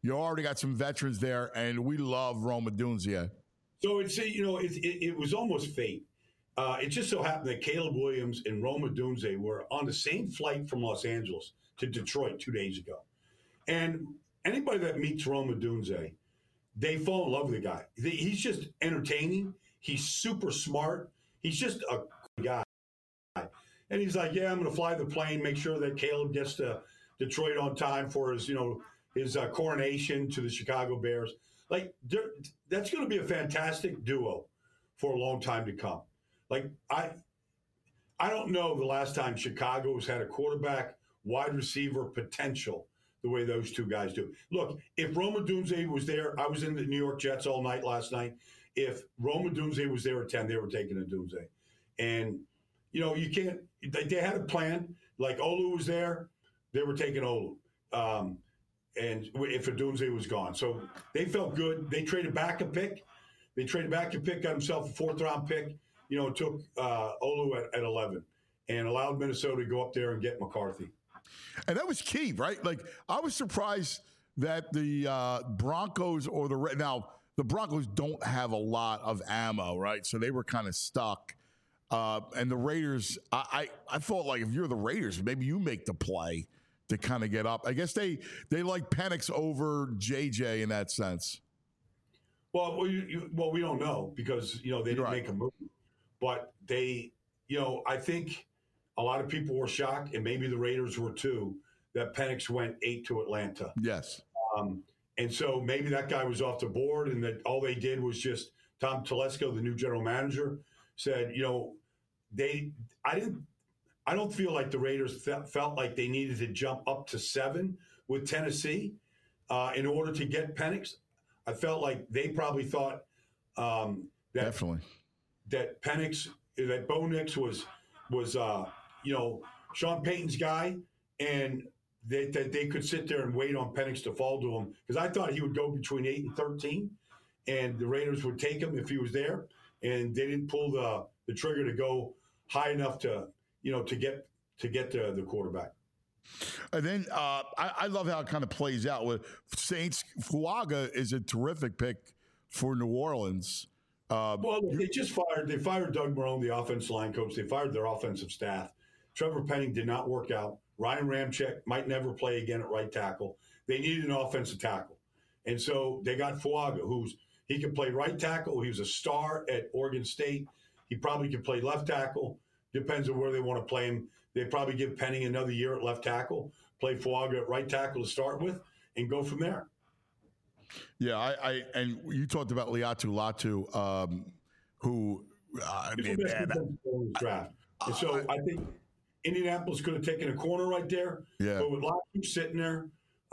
Speaker 2: You already got some veterans there, and we love Rome Odunze.
Speaker 4: So it was almost fate. It just so happened that Caleb Williams and Rome Odunze were on the same flight from Los Angeles to Detroit 2 days ago. And anybody that meets Rome Odunze, they fall in love with the guy. He's just entertaining. He's super smart. He's just a guy. And he's like, yeah, I'm going to fly the plane, make sure that Caleb gets to Detroit on time for his coronation to the Chicago Bears. Like, that's going to be a fantastic duo for a long time to come. Like, I don't know the last time Chicago has had a quarterback, wide receiver potential the way those two guys do. Look, if Rome Odunze was there, I was in the New York Jets all night last night. If Rome Odunze was there at 10, they were taking Odunze. And, you can't – they had a plan. Like, Olu was there, they were taking Olu. And if Odunze was gone. So they felt good. They traded back a pick. Got himself a fourth-round pick. Took Olu at 11 and allowed Minnesota to go up there and get McCarthy.
Speaker 2: And that was key, right? Like, I was surprised that the Broncos now, the Broncos don't have a lot of ammo, right? So they were kind of stuck. And the Raiders, I thought, like, if you're the Raiders, maybe you make the play to kind of get up. I guess they like Penix over JJ in that sense.
Speaker 4: Well, we don't know because, they didn't make a move. But they, I think a lot of people were shocked, and maybe the Raiders were too, that Penix went 8 to Atlanta.
Speaker 2: Yes.
Speaker 4: And so maybe that guy was off the board, and that all they did was just Tom Telesco, the new general manager, said, I don't feel like the Raiders felt like they needed to jump up to 7 with Tennessee in order to get Penix. I felt like they probably thought
Speaker 2: definitely
Speaker 4: that Penix, that Bo Nix was Sean Payton's guy, and that they could sit there and wait on Penix to fall to him, because I thought he would go between 8 and 13, and the Raiders would take him if he was there, and they didn't pull the trigger to go high enough to get the quarterback.
Speaker 2: And then I love how it kind of plays out with Saints. Fuaga is a terrific pick for New Orleans.
Speaker 4: Well, they fired Doug Marrone, the offensive line coach. They fired their offensive staff. Trevor Penning did not work out. Ryan Ramczyk might never play again at right tackle. They needed an offensive tackle. And so they got Fuaga, he could play right tackle. He was a star at Oregon State. He probably could play left tackle. Depends on where they want to play him. They probably give Penning another year at left tackle, play Fuaga at right tackle to start with, and go from there.
Speaker 2: Yeah, and you talked about Liatu Latu, who
Speaker 4: draft. And so I think Indianapolis could have taken a corner right there.
Speaker 2: Yeah.
Speaker 4: But with Latu sitting there,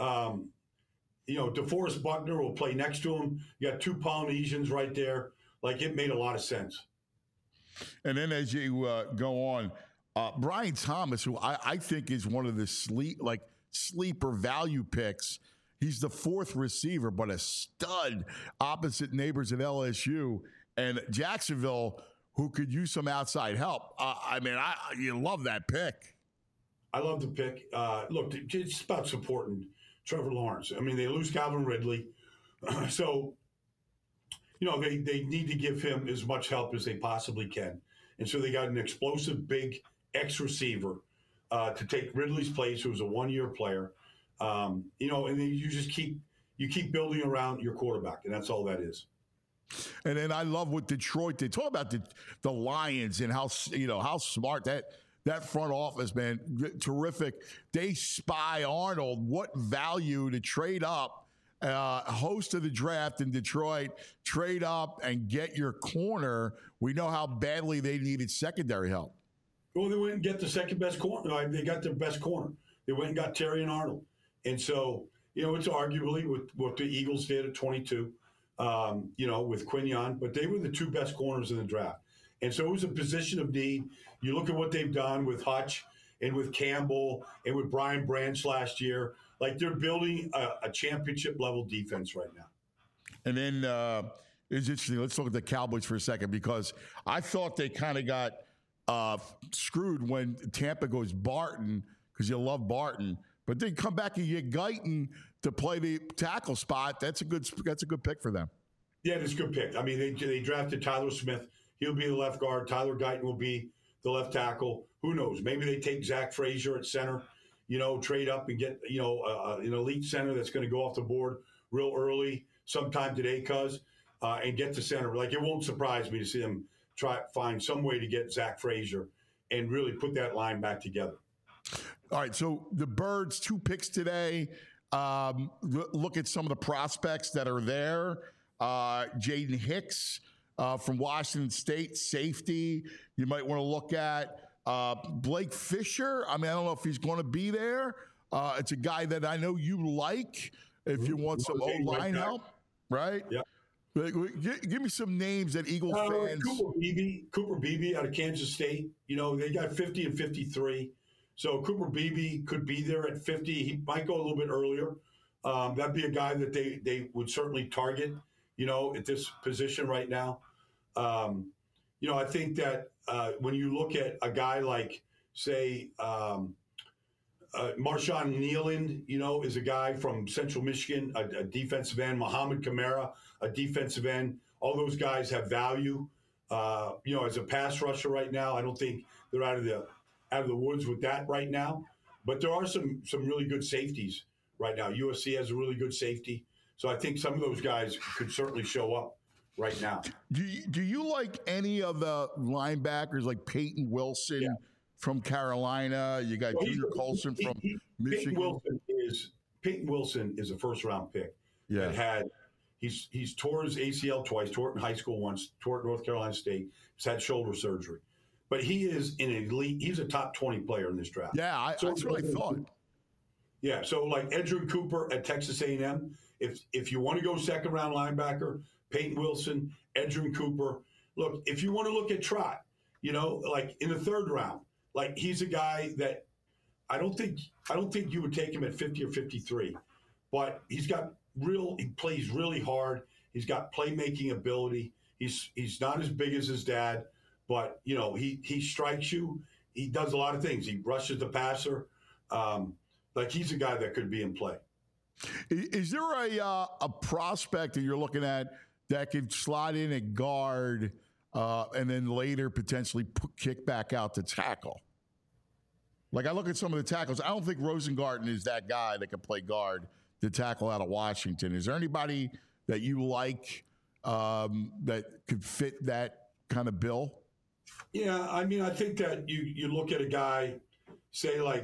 Speaker 4: DeForest Buckner will play next to him. You got two Polynesians right there. Like, it made a lot of sense.
Speaker 2: And then as you go on, Brian Thomas, who I think is one of the sleeper value picks. He's the fourth receiver, but a stud opposite neighbors at LSU and Jacksonville, who could use some outside help. You love that pick.
Speaker 4: I love the pick. Look, it's about supporting Trevor Lawrence. I mean, they lose Calvin Ridley. So, they need to give him as much help as they possibly can. And so they got an explosive, big ex-receiver to take Ridley's place, who was a one-year player. And then you just keep building around your quarterback, and that's all that is.
Speaker 2: And then I love what Detroit did. Talk about the Lions and how smart that front office, man, terrific. They spy Arnold. What value to trade up, host of the draft in Detroit, trade up and get your corner. We know how badly they needed secondary help.
Speaker 4: Well, they went and get the second best corner. They got their best corner. They went and got Terry and Arnold. And so, it's arguably with what the Eagles did at 22, with Quinion, but they were the two best corners in the draft. And so it was a position of need. You look at what they've done with Hutch and with Campbell and with Brian Branch last year. Like, they're building a championship-level defense right now.
Speaker 2: And then it's interesting. Let's look at the Cowboys for a second, because I thought they kind of got screwed when Tampa goes Barton, because you love Barton. But then come back and get Guyton to play the tackle spot. That's a good pick for them.
Speaker 4: Yeah, that's a good pick. I mean, they drafted Tyler Smith. He'll be the left guard. Tyler Guyton will be the left tackle. Who knows? Maybe they take Zach Frazier at center, trade up and get, an elite center that's going to go off the board real early sometime today, and get to center. Like, it won't surprise me to see them find some way to get Zach Frazier and really put that line back together.
Speaker 2: All right, so the Birds, 2 picks today. Look at some of the prospects that are there. Jaden Hicks from Washington State, safety. You might want to look at Blake Fisher. I mean, I don't know if he's going to be there. It's a guy that I know you like if you want some O-line help, right?
Speaker 4: Yeah.
Speaker 2: Give me some names that Eagle fans.
Speaker 4: Cooper Beebe out of Kansas State. They got 50 and 53. So Cooper Beebe could be there at 50. He might go a little bit earlier. That'd be a guy that they would certainly target, at this position right now. I think that when you look at a guy like, say, Marshawn Nealand, is a guy from Central Michigan, a defensive end. Muhammad Kamara, a defensive end. All those guys have value. As a pass rusher right now, I don't think they're out of the woods with that right now. But there are some really good safeties right now. USC has a really good safety. So I think some of those guys could certainly show up right now.
Speaker 2: Do you like any of the linebackers like Peyton Wilson from Carolina? You got Junior Colson from Michigan.
Speaker 4: Peyton Wilson is a first-round pick.
Speaker 2: Yeah.
Speaker 4: He's tore his ACL twice, tore it in high school once, tore it at North Carolina State. He's had shoulder surgery. But he is an elite. He's a top 20 player in this draft.
Speaker 2: Yeah, that's what I thought.
Speaker 4: Yeah, so like Edgerrin Cooper at Texas A&M, if you want to go second-round linebacker, Peyton Wilson, Edgerrin Cooper. Look, if you want to look at Trot, like in the third round, like he's a guy that I don't think you would take him at 50 or 53, but he plays really hard. He's got playmaking ability. He's not as big as his dad, but he strikes you. He does a lot of things. He rushes the passer. He's a guy that could be in play.
Speaker 2: Is there a prospect that you're looking at that could slide in at guard and then later potentially kick back out to tackle? Like, I look at some of the tackles. I don't think Rosengarten is that guy that can play guard to tackle out of Washington. Is there anybody that you like that could fit that kind of bill?
Speaker 4: Yeah, I mean, I think that you look at a guy, say like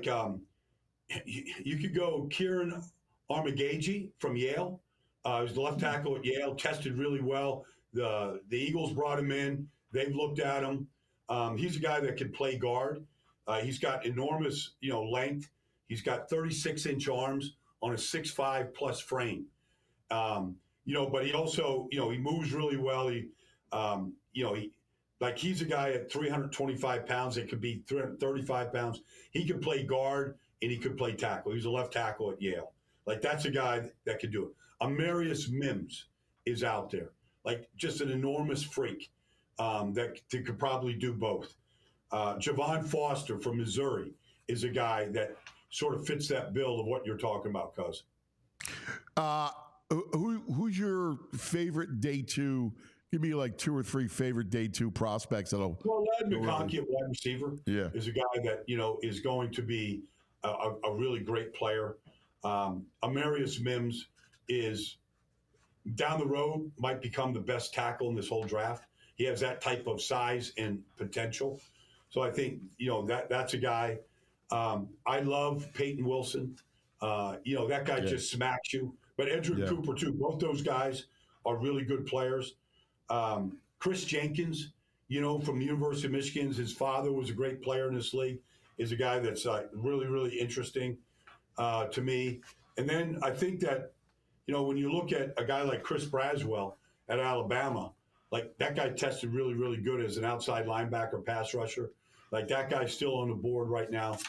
Speaker 4: you could go Kieran Armagagi from Yale. He was the left tackle at Yale, tested really well. The Eagles brought him in. They've looked at him. He's a guy that can play guard. He's got enormous, length. He's got 36-inch arms on a 6'5" plus frame. But he also, he moves really well. He's a guy at 325 pounds. It could be 335 pounds. He could play guard and he could play tackle. He's a left tackle at Yale. Like, that's a guy that could do it. Amarius Mims is out there. Like, just an enormous freak that could probably do both. Javon Foster from Missouri is a guy that sort of fits that bill of what you're talking about, Cuz.
Speaker 2: Who's your favorite day two? Give me like 2 or 3 favorite day 2 prospects.
Speaker 4: Ladd McConkey at wide receiver is a guy that, is going to be a really great player. Amarius Mims is down the road, might become the best tackle in this whole draft. He has that type of size and potential. So I think, that's a guy. I love Peyton Wilson. That guy just smacks you. But Edgerrin Cooper, too. Both those guys are really good players. Chris Jenkins, from the University of Michigan, his father was a great player in this league, is a guy that's really, really interesting to me. And then I think that, when you look at a guy like Chris Braswell at Alabama, like that guy tested really, really good as an outside linebacker, pass rusher. Like that guy's still on the board right now.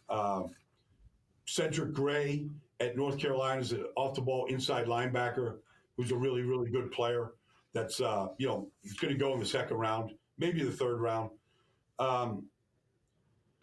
Speaker 4: Cedric Gray at North Carolina is an off-the-ball inside linebacker who's a really, really good player. That's, he's going to go in the second round, maybe the third round.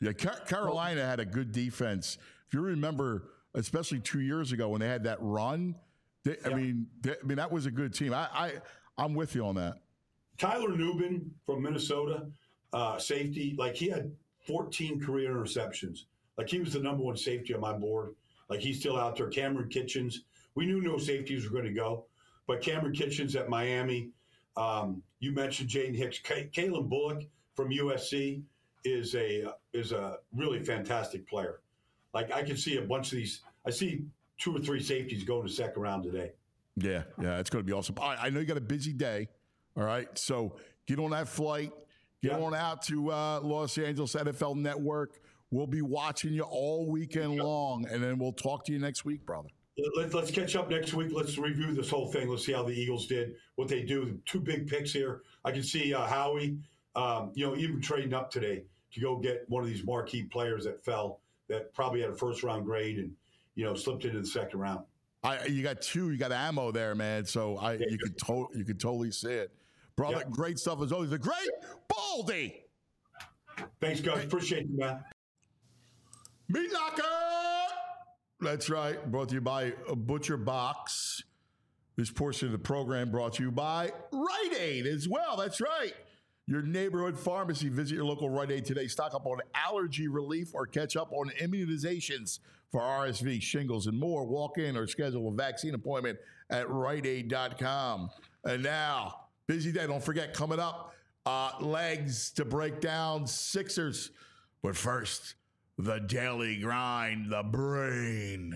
Speaker 2: Yeah, Carolina had a good defense. If you remember, especially 2 years ago when they had that run, I mean, that was a good team. I'm with you on that.
Speaker 4: Tyler Nubin from Minnesota, safety, like he had 14 career interceptions. Like he was the number one safety on my board. Like he's still out there. Cameron Kitchens. We knew no safeties were going to go, but Cameron Kitchens at Miami. You mentioned Jaden Hicks. Kalen Bullock from USC is a really fantastic player. Like I can see a bunch of these. I see 2 or 3 safeties going to second round today.
Speaker 2: Yeah, it's going to be awesome. I know you got a busy day. All right, so get on that flight. Get on out to Los Angeles NFL Network. We'll be watching you all weekend long, and then we'll talk to you next week, brother.
Speaker 4: Let's catch up next week. Let's review this whole thing. Let's see how the Eagles did, what they do. 2 big picks here. I can see Howie, even trading up today to go get one of these marquee players that fell, that probably had a first-round grade and, slipped into the second round.
Speaker 2: You got 2. You got ammo there, man. So you could totally see it. Brother, great stuff as always. The great Baldy.
Speaker 4: Thanks, guys. Appreciate you, man.
Speaker 2: Meat Locker. That's right. Brought to you by Butcher Box. This portion of the program brought to you by Rite Aid as well. That's right. Your neighborhood pharmacy. Visit your local Rite Aid today. Stock up on allergy relief or catch up on immunizations for RSV, shingles, and more. Walk in or schedule a vaccine appointment at riteaid.com. And now, busy day. Don't forget, coming up, legs to break down Sixers. But first, the daily grind, the brain.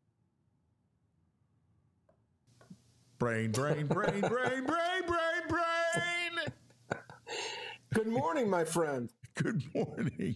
Speaker 2: Brain.
Speaker 5: Good morning, my friend.
Speaker 2: Good morning.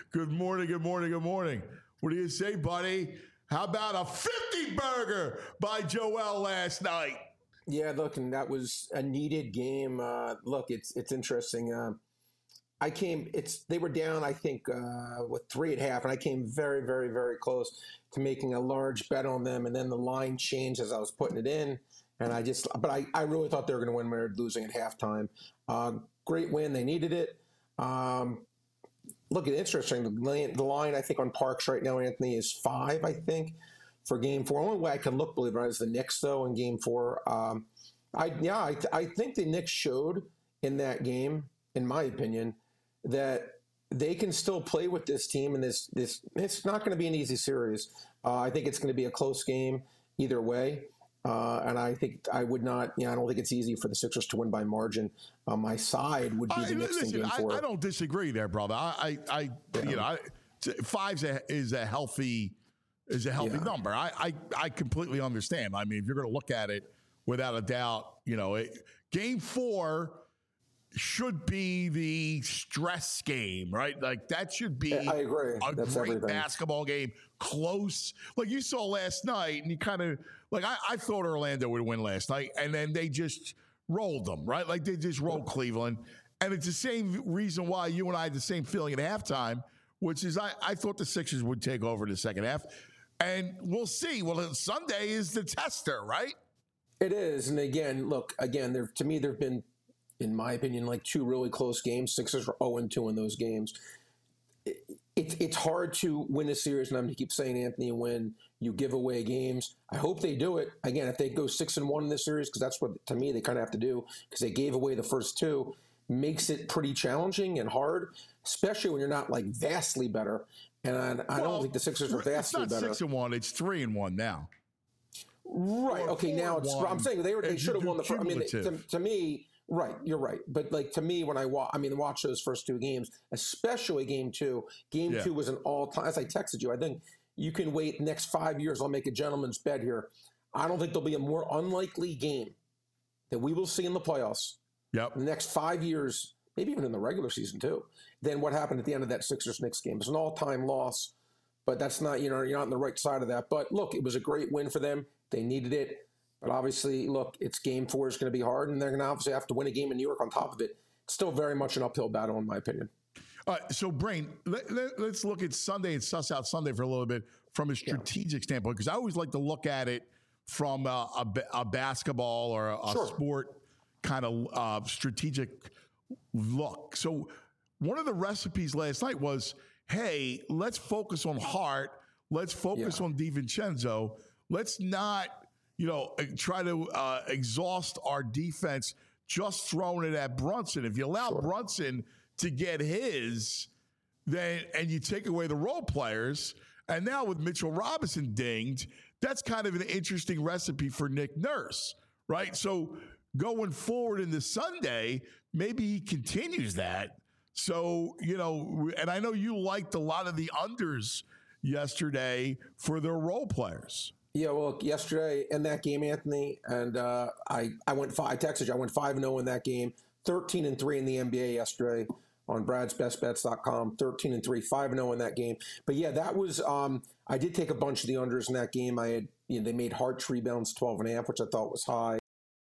Speaker 2: What do you say, buddy? How about a 50 burger by Joel last night?
Speaker 5: Yeah, look, and that was a needed game. Look, it's interesting. They were down, I think, with 3 at half, and I came very, very, very close to making a large bet on them, and then the line changed as I was putting it in, and I really thought they were going to win when they were losing at halftime. Great win. They needed it. Look, it's interesting. The line, I think, on Parks right now, Anthony, is 5, I think, for Game 4. The only way I can look, believe it or not, is the Knicks, though, in Game 4. I think the Knicks showed in that game, in my opinion, that they can still play with this team, and this it's not going to be an easy series. I think it's going to be a close game either way. And I think I don't think it's easy for the Sixers to win by margin. My side would be the Knicks in Game 4.
Speaker 2: I don't disagree there, brother. 5 is a healthy number. I completely understand. I mean, if you're going to look at it, without a doubt, Game 4 should be the stress game, right? Like that should be
Speaker 5: I agree.
Speaker 2: That's great everything. Basketball game, close. Like you saw last night, and you kind of like I thought Orlando would win last night, and then they just rolled them, right? Like they just rolled Cleveland. And it's the same reason why you and I had the same feeling at halftime, which is I thought the Sixers would take over the second half. And we'll see. Well, Sunday is the tester, right?
Speaker 5: It is. And again, to me, there have been, in my opinion, like 2 really close games. Sixers were 0-2 in those games. It's hard to win a series, and I'm going to keep saying, Anthony, when you give away games. I hope they do it. Again, if they go 6-1 in this series, because that's what, to me, they kind of have to do, because they gave away the first 2, makes it pretty challenging and hard, especially when you're not, like, vastly better. And I don't think the Sixers are vastly better.
Speaker 2: It's not 6-1. It's 3-1 now.
Speaker 5: Right. Okay, now I'm saying they should have won the first. I mean, to me... Right, you're right. But like to me, when I watch those first 2 games, especially Game 2. Game 2 was an all-time. As I texted you, I think you can wait the next 5 years. I'll make a gentleman's bet here. I don't think there'll be a more unlikely game that we will see in the playoffs.
Speaker 2: Yep.
Speaker 5: In the next 5 years, maybe even in the regular season too, than what happened at the end of that Sixers-Knicks game. It's an all-time loss, but that's not you're not on the right side of that. But look, it was a great win for them. They needed it. But obviously, look, it's Game 4 is going to be hard, and they're going to obviously have to win a game in New York on top of it. It's still very much an uphill battle, in my opinion.
Speaker 2: So, Brain, let's look at Sunday and suss out Sunday for a little bit from a strategic standpoint, because I always like to look at it from a basketball or a sport kind of strategic look. So one of the recipes last night was hey, let's focus on Hart. Let's focus on DiVincenzo. Let's not, try to exhaust our defense just throwing it at Brunson. If you allow Brunson to get his, and you take away the role players, and now with Mitchell Robinson dinged, that's kind of an interesting recipe for Nick Nurse, right? So going forward into Sunday, maybe he continues that. So, and I know you liked a lot of the unders yesterday for their role players.
Speaker 5: Yeah, well, yesterday in that game, Anthony, and I texted you, I went 5-0 in that game, 13-3 in the NBA yesterday on bradsbestbets.com, 13-3, 5-0 in that game. But yeah, that was, I did take a bunch of the unders in that game. I had, they made Hart's rebounds 12.5, which I thought was high.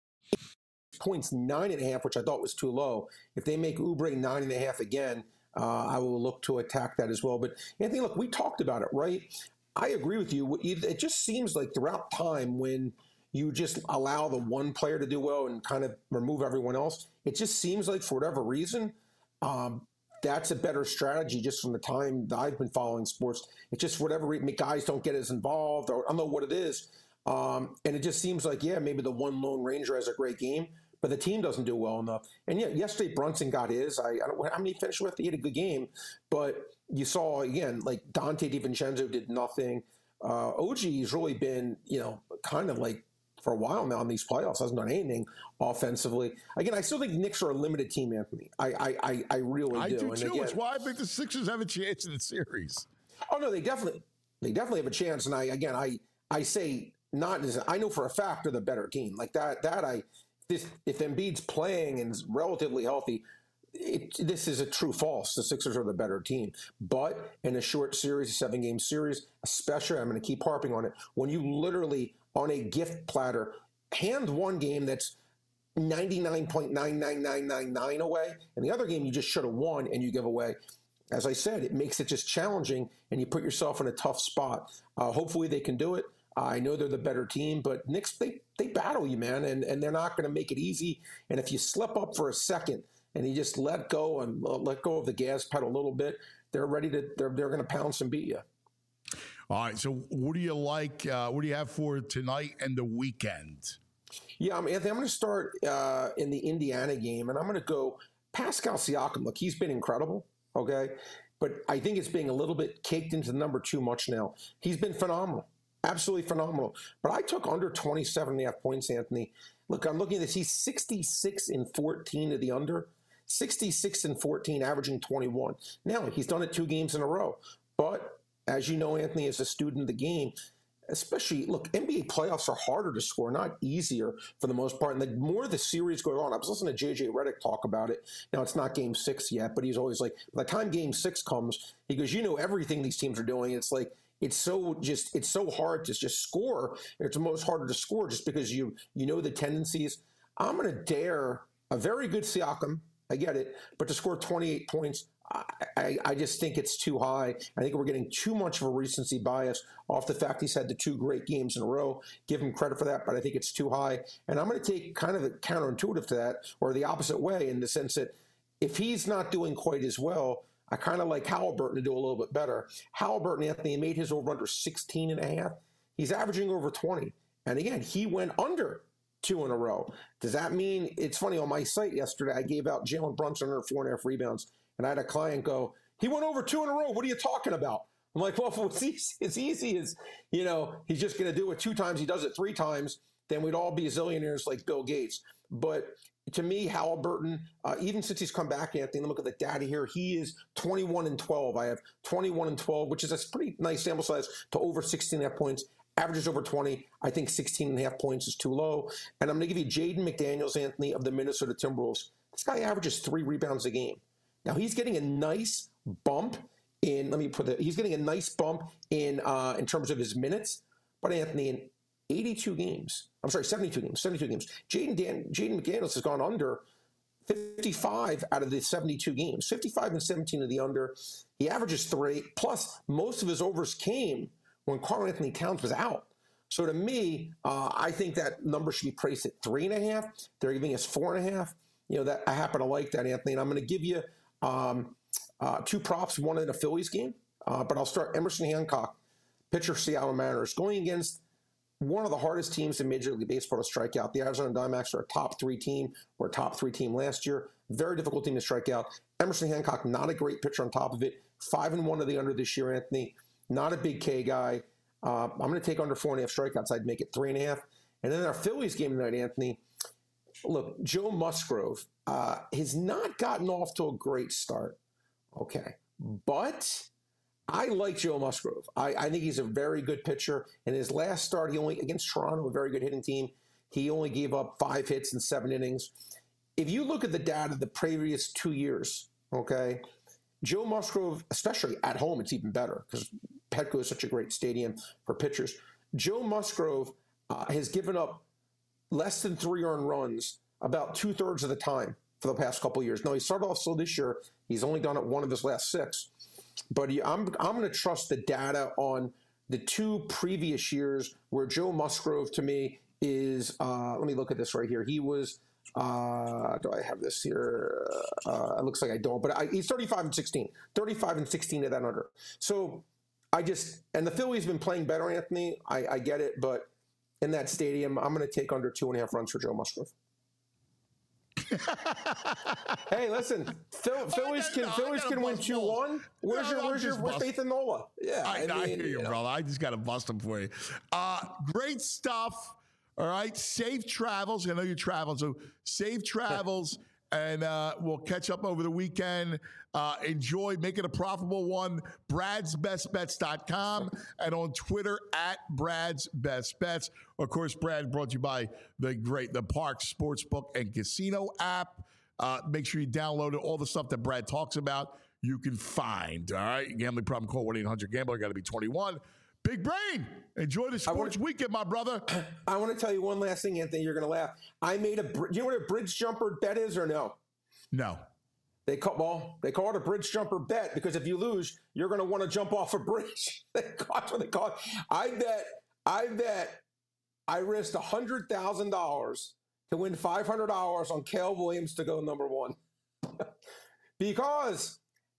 Speaker 5: Points 9.5, which I thought was too low. If they make Oubre 9.5 again, I will look to attack that as well. But Anthony, look, we talked about it, right? I agree with you. It just seems like throughout time when you just allow the one player to do well and kind of remove everyone else, it just seems like for whatever reason, that's a better strategy just from the time that I've been following sports. It's just whatever reason, guys don't get as involved, or I don't know what it is. And it just seems like, maybe the one Lone Ranger has a great game, but the team doesn't do well enough. And yesterday Brunson got his. I don't know how many he finished with. He had a good game, but you saw again, like Dante DiVincenzo did nothing. OG's really been, kind of like for a while now in these playoffs, hasn't done anything offensively. Again, I still think Knicks are a limited team, Anthony. I really do.
Speaker 2: I do
Speaker 5: and
Speaker 2: too.
Speaker 5: again,
Speaker 2: it's why I think the Sixers have a chance in the series.
Speaker 5: Oh no, they definitely have a chance. And I say not as I know for a fact they're the better team. Like if Embiid's playing and is relatively healthy, this is a true false. The Sixers are the better team. But in a short series, a 7-game series, especially, I'm going to keep harping on it, when you literally, on a gift platter, hand one game that's 99.99999 away, and the other game you just should have won and you give away. As I said, it makes it just challenging, and you put yourself in a tough spot. Hopefully they can do it. I know they're the better team, but Knicks, they battle you, man, and they're not going to make it easy. And if you slip up for a second and you just let go of the gas pedal a little bit, they're going to pounce and beat you.
Speaker 2: All right. So what do you like? What do you have for tonight and the weekend?
Speaker 5: Yeah, Anthony, I'm going to start in the Indiana game, and I'm going to go Pascal Siakam. Look, he's been incredible, okay? But I think it's being a little bit caked into the number too much now. He's been phenomenal. Absolutely phenomenal. But I took under 27.5 points, Anthony. Look, I'm looking at this. He's 66-14 to the under, 66-14, averaging 21. Now, he's done it 2 games in a row. But as you know, Anthony, as a student of the game, especially, look, NBA playoffs are harder to score, not easier for the most part. And the more the series goes on, I was listening to JJ Redick talk about it. Now, it's not game 6 yet, but he's always like, by the time game 6 comes, he goes, everything these teams are doing. It's like, it's so hard to just score. It's almost harder to score just because you know the tendencies. I'm going to dare a very good Siakam. I get it, but to score 28 points, I just think it's too high. I think we're getting too much of a recency bias off the fact he's had the 2 great games in a row. Give him credit for that, but I think it's too high. And I'm going to take kind of a counterintuitive to that, or the opposite way, in the sense that if he's not doing quite as well, I kind of like Halliburton to do a little bit better. Halliburton, Anthony, made his over-under 16.5. He's averaging over 20. And again, he went under 2 in a row. Does that mean, it's funny, on my site yesterday, I gave out Jalen Brunson under 4.5 rebounds. And I had a client go, he went over 2 in a row. What are you talking about? I'm like, well, if it's easy as, he's just going to do it 2 times. He does it 3 times. Then we'd all be zillionaires like Bill Gates. But to me, Halliburton, even since he's come back, Anthony, look at the data here. He is 21-12. I have 21-12, which is a pretty nice sample size, to over 16.5 points. Averages over 20. I think 16.5 points is too low. And I'm going to give you Jaden McDaniels, Anthony, of the Minnesota Timberwolves. This guy averages 3 rebounds a game. Now he's getting a nice bump in. He's getting a nice bump in terms of his minutes. But Anthony, in 72 games, Jaden McDaniels has gone under 55 out of the 72 games, 55 and 17 of the under. He averages 3, plus most of his overs came when Karl-Anthony Towns was out. So to me, I think that number should be priced at 3.5. They're giving us 4.5. That I happen to like that, Anthony. And I'm going to give you two props, one in a Phillies game. But I'll start Emerson Hancock, pitcher Seattle Mariners, going against one of the hardest teams in Major League Baseball to strike out. The Arizona Diamondbacks are a top 3 team. We're a top 3 team last year. Very difficult team to strike out. Emerson Hancock, not a great pitcher on top of it. 5-1 of the under this year, Anthony. Not a big K guy. I'm going to take under 4.5 strikeouts. I'd make it 3.5. And then our Phillies game tonight, Anthony. Look, Joe Musgrove has not gotten off to a great start. Okay. But I like Joe Musgrove. I think he's a very good pitcher. In his last start, he only, against Toronto, a very good hitting team, he only gave up 5 hits in 7 innings. If you look at the data the previous 2 years, okay, Joe Musgrove, especially at home, it's even better because Petco is such a great stadium for pitchers. Joe Musgrove has given up less than 3 earned runs about 2/3 of the time for the past couple of years. Now, he started off slow this year. He's only done it 1 of his last 6. But I'm going to trust the data on the 2 previous years where Joe Musgrove, to me, is let me look at this right here. He was, do I have this here? It looks like I don't, but he's 35-16. 35-16 of that under. So and the Phillies have been playing better, Anthony. I get it, but in that stadium, I'm going to take under 2.5 runs for Joe Musgrove. Hey, listen, Phillies can win 2-1. Where's your faith in Nola? Yeah,
Speaker 2: I hear you, brother. I just got to bust them for you. Great stuff. All right, safe travels. I know you're traveling, so safe travels, and we'll catch up over the weekend. Enjoy, make it a profitable one. Brad'sBestBets.com and on Twitter at Brad's Best Bets. Of course, Brad brought to you by the Parx Sportsbook and Casino app. Make sure you download it. All the stuff that Brad talks about, you can find. All right, gambling problem, call 1-800-GAMBLER. Got to be 21. Big Brain, enjoy the sports weekend, my brother.
Speaker 5: I want to tell you one last thing, Anthony. You're going to laugh. I made do you know what a bridge jumper bet is or no?
Speaker 2: No.
Speaker 5: They call it a bridge jumper bet because if you lose, you're going to want to jump off a bridge. That's what they call it. I bet I risked $100,000 to win $500 on Cale Williams to go number 1 because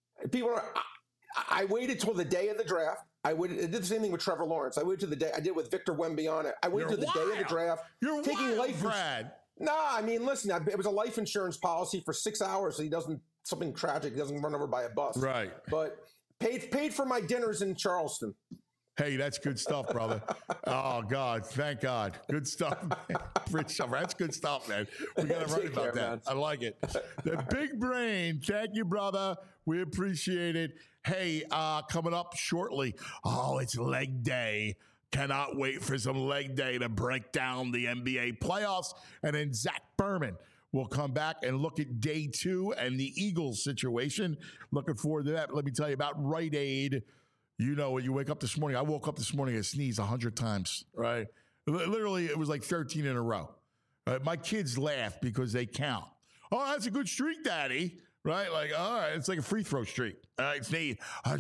Speaker 5: I waited till the day of the draft. I did the same thing with Trevor Lawrence. I waited to the day. I did with Victor Wembanyama. I waited to the day of the draft.
Speaker 2: You're taking life, Brad.
Speaker 5: Nah, I mean, listen. It was a life insurance policy for 6 hours, so he doesn't something tragic. He doesn't run over by a bus.
Speaker 2: Right.
Speaker 5: But paid for my dinners in Charleston.
Speaker 2: Hey, that's good stuff, brother. Oh, God. Thank God. Good stuff. Rich, that's good stuff, man. We got to write about that. Man. I like it. The Big Brain. Thank you, brother. We appreciate it. Hey, coming up shortly. Oh, it's leg day. Cannot wait for some leg day to break down the NBA playoffs. And then Zach Berman will come back and look at day 2 and the Eagles situation. Looking forward to that. Let me tell you about Rite Aid. You know, when you wake up this morning, I woke up this morning and sneezed 100 times, right? Literally, it was like 13 in a row. My kids laugh because they count. Oh, that's a good streak, Daddy. Right? Like, all right, it's like a free throw streak. All right, sneeze,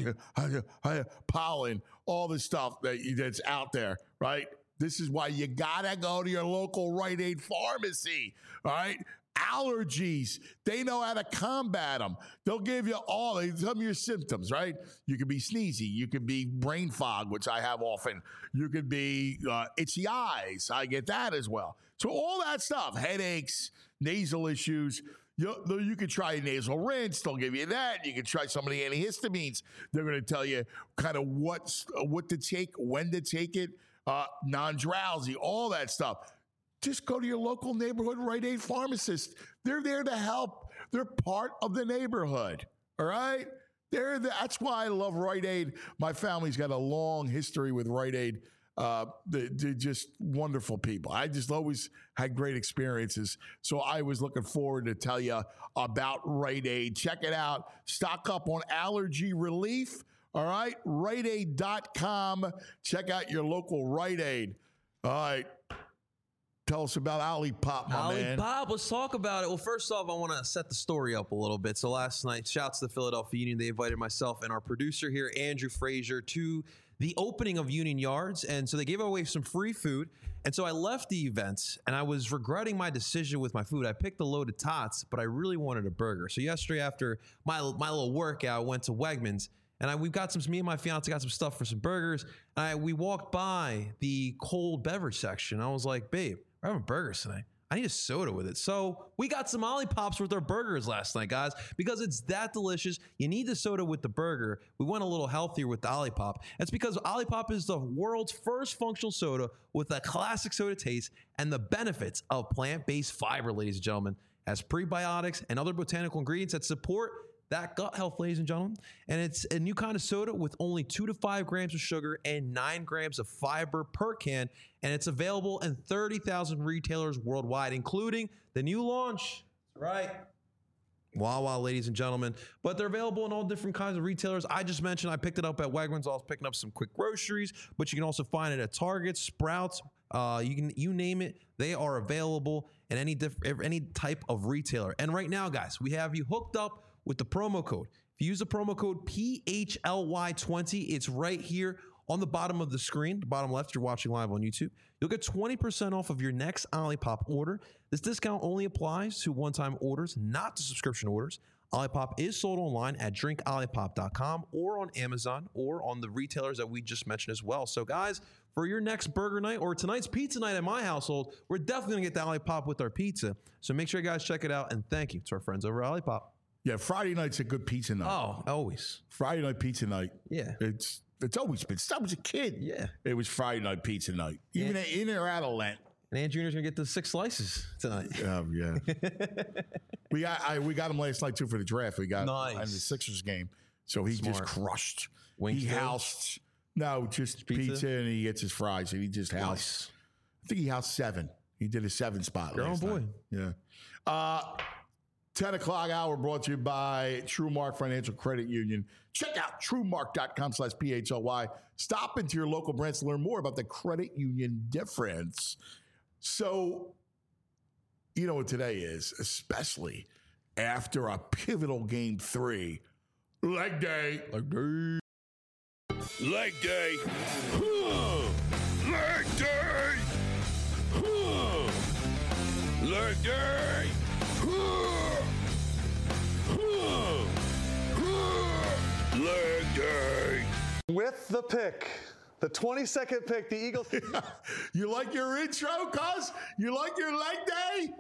Speaker 2: pollen, all this stuff that's out there, right? This is why you got to go to your local Rite Aid pharmacy, all right? Allergies, they know how to combat them. They'll give you some of your symptoms, right? You could be sneezy. You could be brain fog, which I have often. You could be itchy eyes. I get that as well. So all that stuff, headaches, nasal issues, you could try a nasal rinse. They'll give you that. You can try some of the antihistamines. They're going to tell you kind of what to take, when to take it, non-drowsy, all that stuff. Just go to your local neighborhood Rite Aid pharmacist. They're there to help. They're part of the neighborhood, all right? That's why I love Rite Aid. My family's got a long history with Rite Aid. They're just wonderful people. I just always had great experiences. So I was looking forward to tell you about Rite Aid. Check it out. Stock up on allergy relief. All right. RiteAid.com. Check out your local Rite Aid. All right. Tell us about Olipop, my man.
Speaker 3: Olipop, let's talk about it. Well, first off, I want to set the story up a little bit. So last night, shouts to the Philadelphia Union. They invited myself and our producer here, Andrew Frazier, to the opening of Union Yards. And so they gave away some free food. And so I left the event and I was regretting my decision with my food. I picked a load of tots, but I really wanted a burger. So yesterday after my little workout, I went to Wegmans and me and my fiance got some stuff for some burgers. And we walked by the cold beverage section. I was like, babe, we're having burgers tonight. I need a soda with it. So we got some Ollipops with our burgers last night, guys, because it's that delicious. You need the soda with the burger. We went a little healthier with the Ollipop. That's because Ollipop is the world's first functional soda with a classic soda taste and the benefits of plant-based fiber, ladies and gentlemen, as prebiotics and other botanical ingredients that support that gut health, ladies and gentlemen. And it's a new kind of soda with only 2 to 5 grams of sugar and 9 grams of fiber per can. And it's available in 30,000 retailers worldwide, including the new launch. Right. Wawa, ladies and gentlemen. But they're available in all different kinds of retailers. I just mentioned I picked it up at Wegmans. I was picking up some quick groceries, but you can also find it at Target, Sprouts. You name it. They are available in any type of retailer. And right now, guys, we have you hooked up with the promo code. If you use the promo code PHLY20, it's right here on the bottom of the screen, the bottom left, you're watching live on YouTube. You'll get 20% off of your next Ollipop order. This discount only applies to one-time orders, not to subscription orders. Ollipop is sold online at drinkollipop.com or on Amazon or on the retailers that we just mentioned as well. So guys, for your next burger night or tonight's pizza night at my household, we're definitely going to get the Ollipop with our pizza. So make sure you guys check it out, and thank you to our friends over at Ollipop.
Speaker 2: Yeah, Friday night's a good pizza night.
Speaker 3: Oh, always.
Speaker 2: Friday night pizza night.
Speaker 3: Yeah.
Speaker 2: It's always been. Since I was a kid.
Speaker 3: Yeah.
Speaker 2: It was Friday night pizza night. Even in or out of Lent.
Speaker 3: And Ant Jr.'s going to get the 6 slices tonight.
Speaker 2: Yeah. we got him last night, too, for the draft. We got
Speaker 3: nice.
Speaker 2: In the Sixers game. So he just crushed.
Speaker 3: Wings
Speaker 2: he housed. No, just pizza, and he gets his fries, and he just housed.
Speaker 3: Nice.
Speaker 2: I think he housed 7. He did a 7 spot last night. Yeah. 10 o'clock hour brought to you by TrueMark Financial Credit Union. Check out TrueMark.com/PHLY. Stop into your local branch to learn more about the credit union difference. So, you know what today is, especially after a pivotal game 3. Leg day. Leg day.
Speaker 6: Leg day. Leg day. Leg day. Leg day.
Speaker 1: With the pick, the 22nd pick, the Eagles.
Speaker 2: You like your intro, cuz? You like your leg day?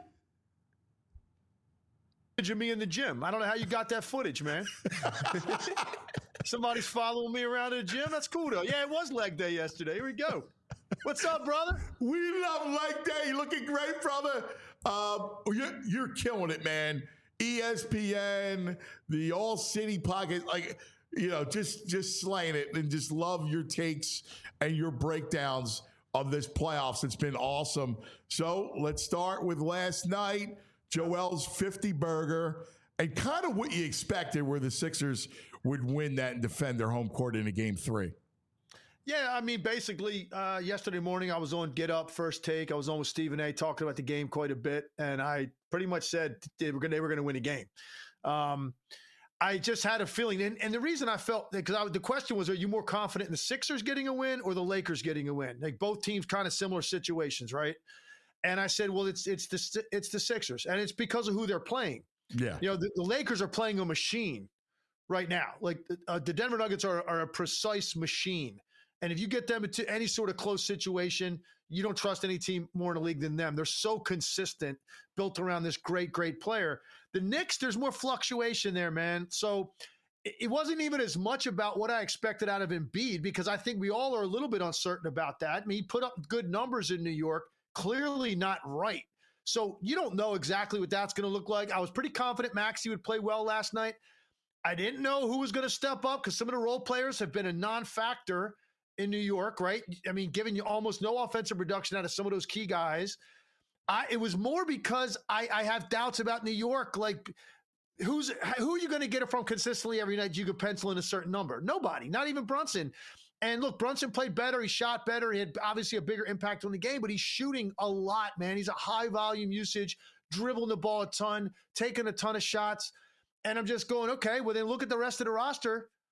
Speaker 7: Of me in the gym. I don't know how you got that footage, man. Somebody's following me around in the gym. That's cool, though. Yeah, it was leg day yesterday. Here we go. What's up, brother?
Speaker 2: We love leg day. You're looking great, brother. You're killing it, man. ESPN, the All City Pocket, just slaying it, and just love your takes and your breakdowns of this playoffs. It's been awesome. So let's start with last night, Joel's 50 burger, and kind of what you expected, where the Sixers would win that and defend their home court in a game 3.
Speaker 7: Yeah, I mean, basically, yesterday morning I was on Get Up, First Take. I was on with Stephen A. talking about the game quite a bit, and I pretty much said they were going to win a game. I just had a feeling, and the reason I felt, because the question was, are you more confident in the Sixers getting a win or the Lakers getting a win? Like both teams, kind of similar situations, right? And I said, well, it's the Sixers, and it's because of who they're playing.
Speaker 2: Yeah,
Speaker 7: the Lakers are playing a machine right now. Like the Denver Nuggets are a precise machine. And if you get them into any sort of close situation, you don't trust any team more in the league than them. They're so consistent, built around this great, great player. The Knicks, there's more fluctuation there, man. So it wasn't even as much about what I expected out of Embiid, because I think we all are a little bit uncertain about that. I mean, he put up good numbers in New York, clearly not right. So you don't know exactly what that's going to look like. I was pretty confident Maxey would play well last night. I didn't know who was going to step up, because some of the role players have been a non-factor in New York, right? I mean, giving you almost no offensive production out of some of those key guys. It was more because I have doubts about New York. Like, who are you going to get it from consistently every night? You could pencil in a certain number. Nobody, not even Brunson. And look, Brunson played better. He shot better. He had obviously a bigger impact on the game, but he's shooting a lot, man. He's a high volume usage, dribbling the ball a ton, taking a ton of shots. And I'm just going, okay, well then look at the rest of the roster.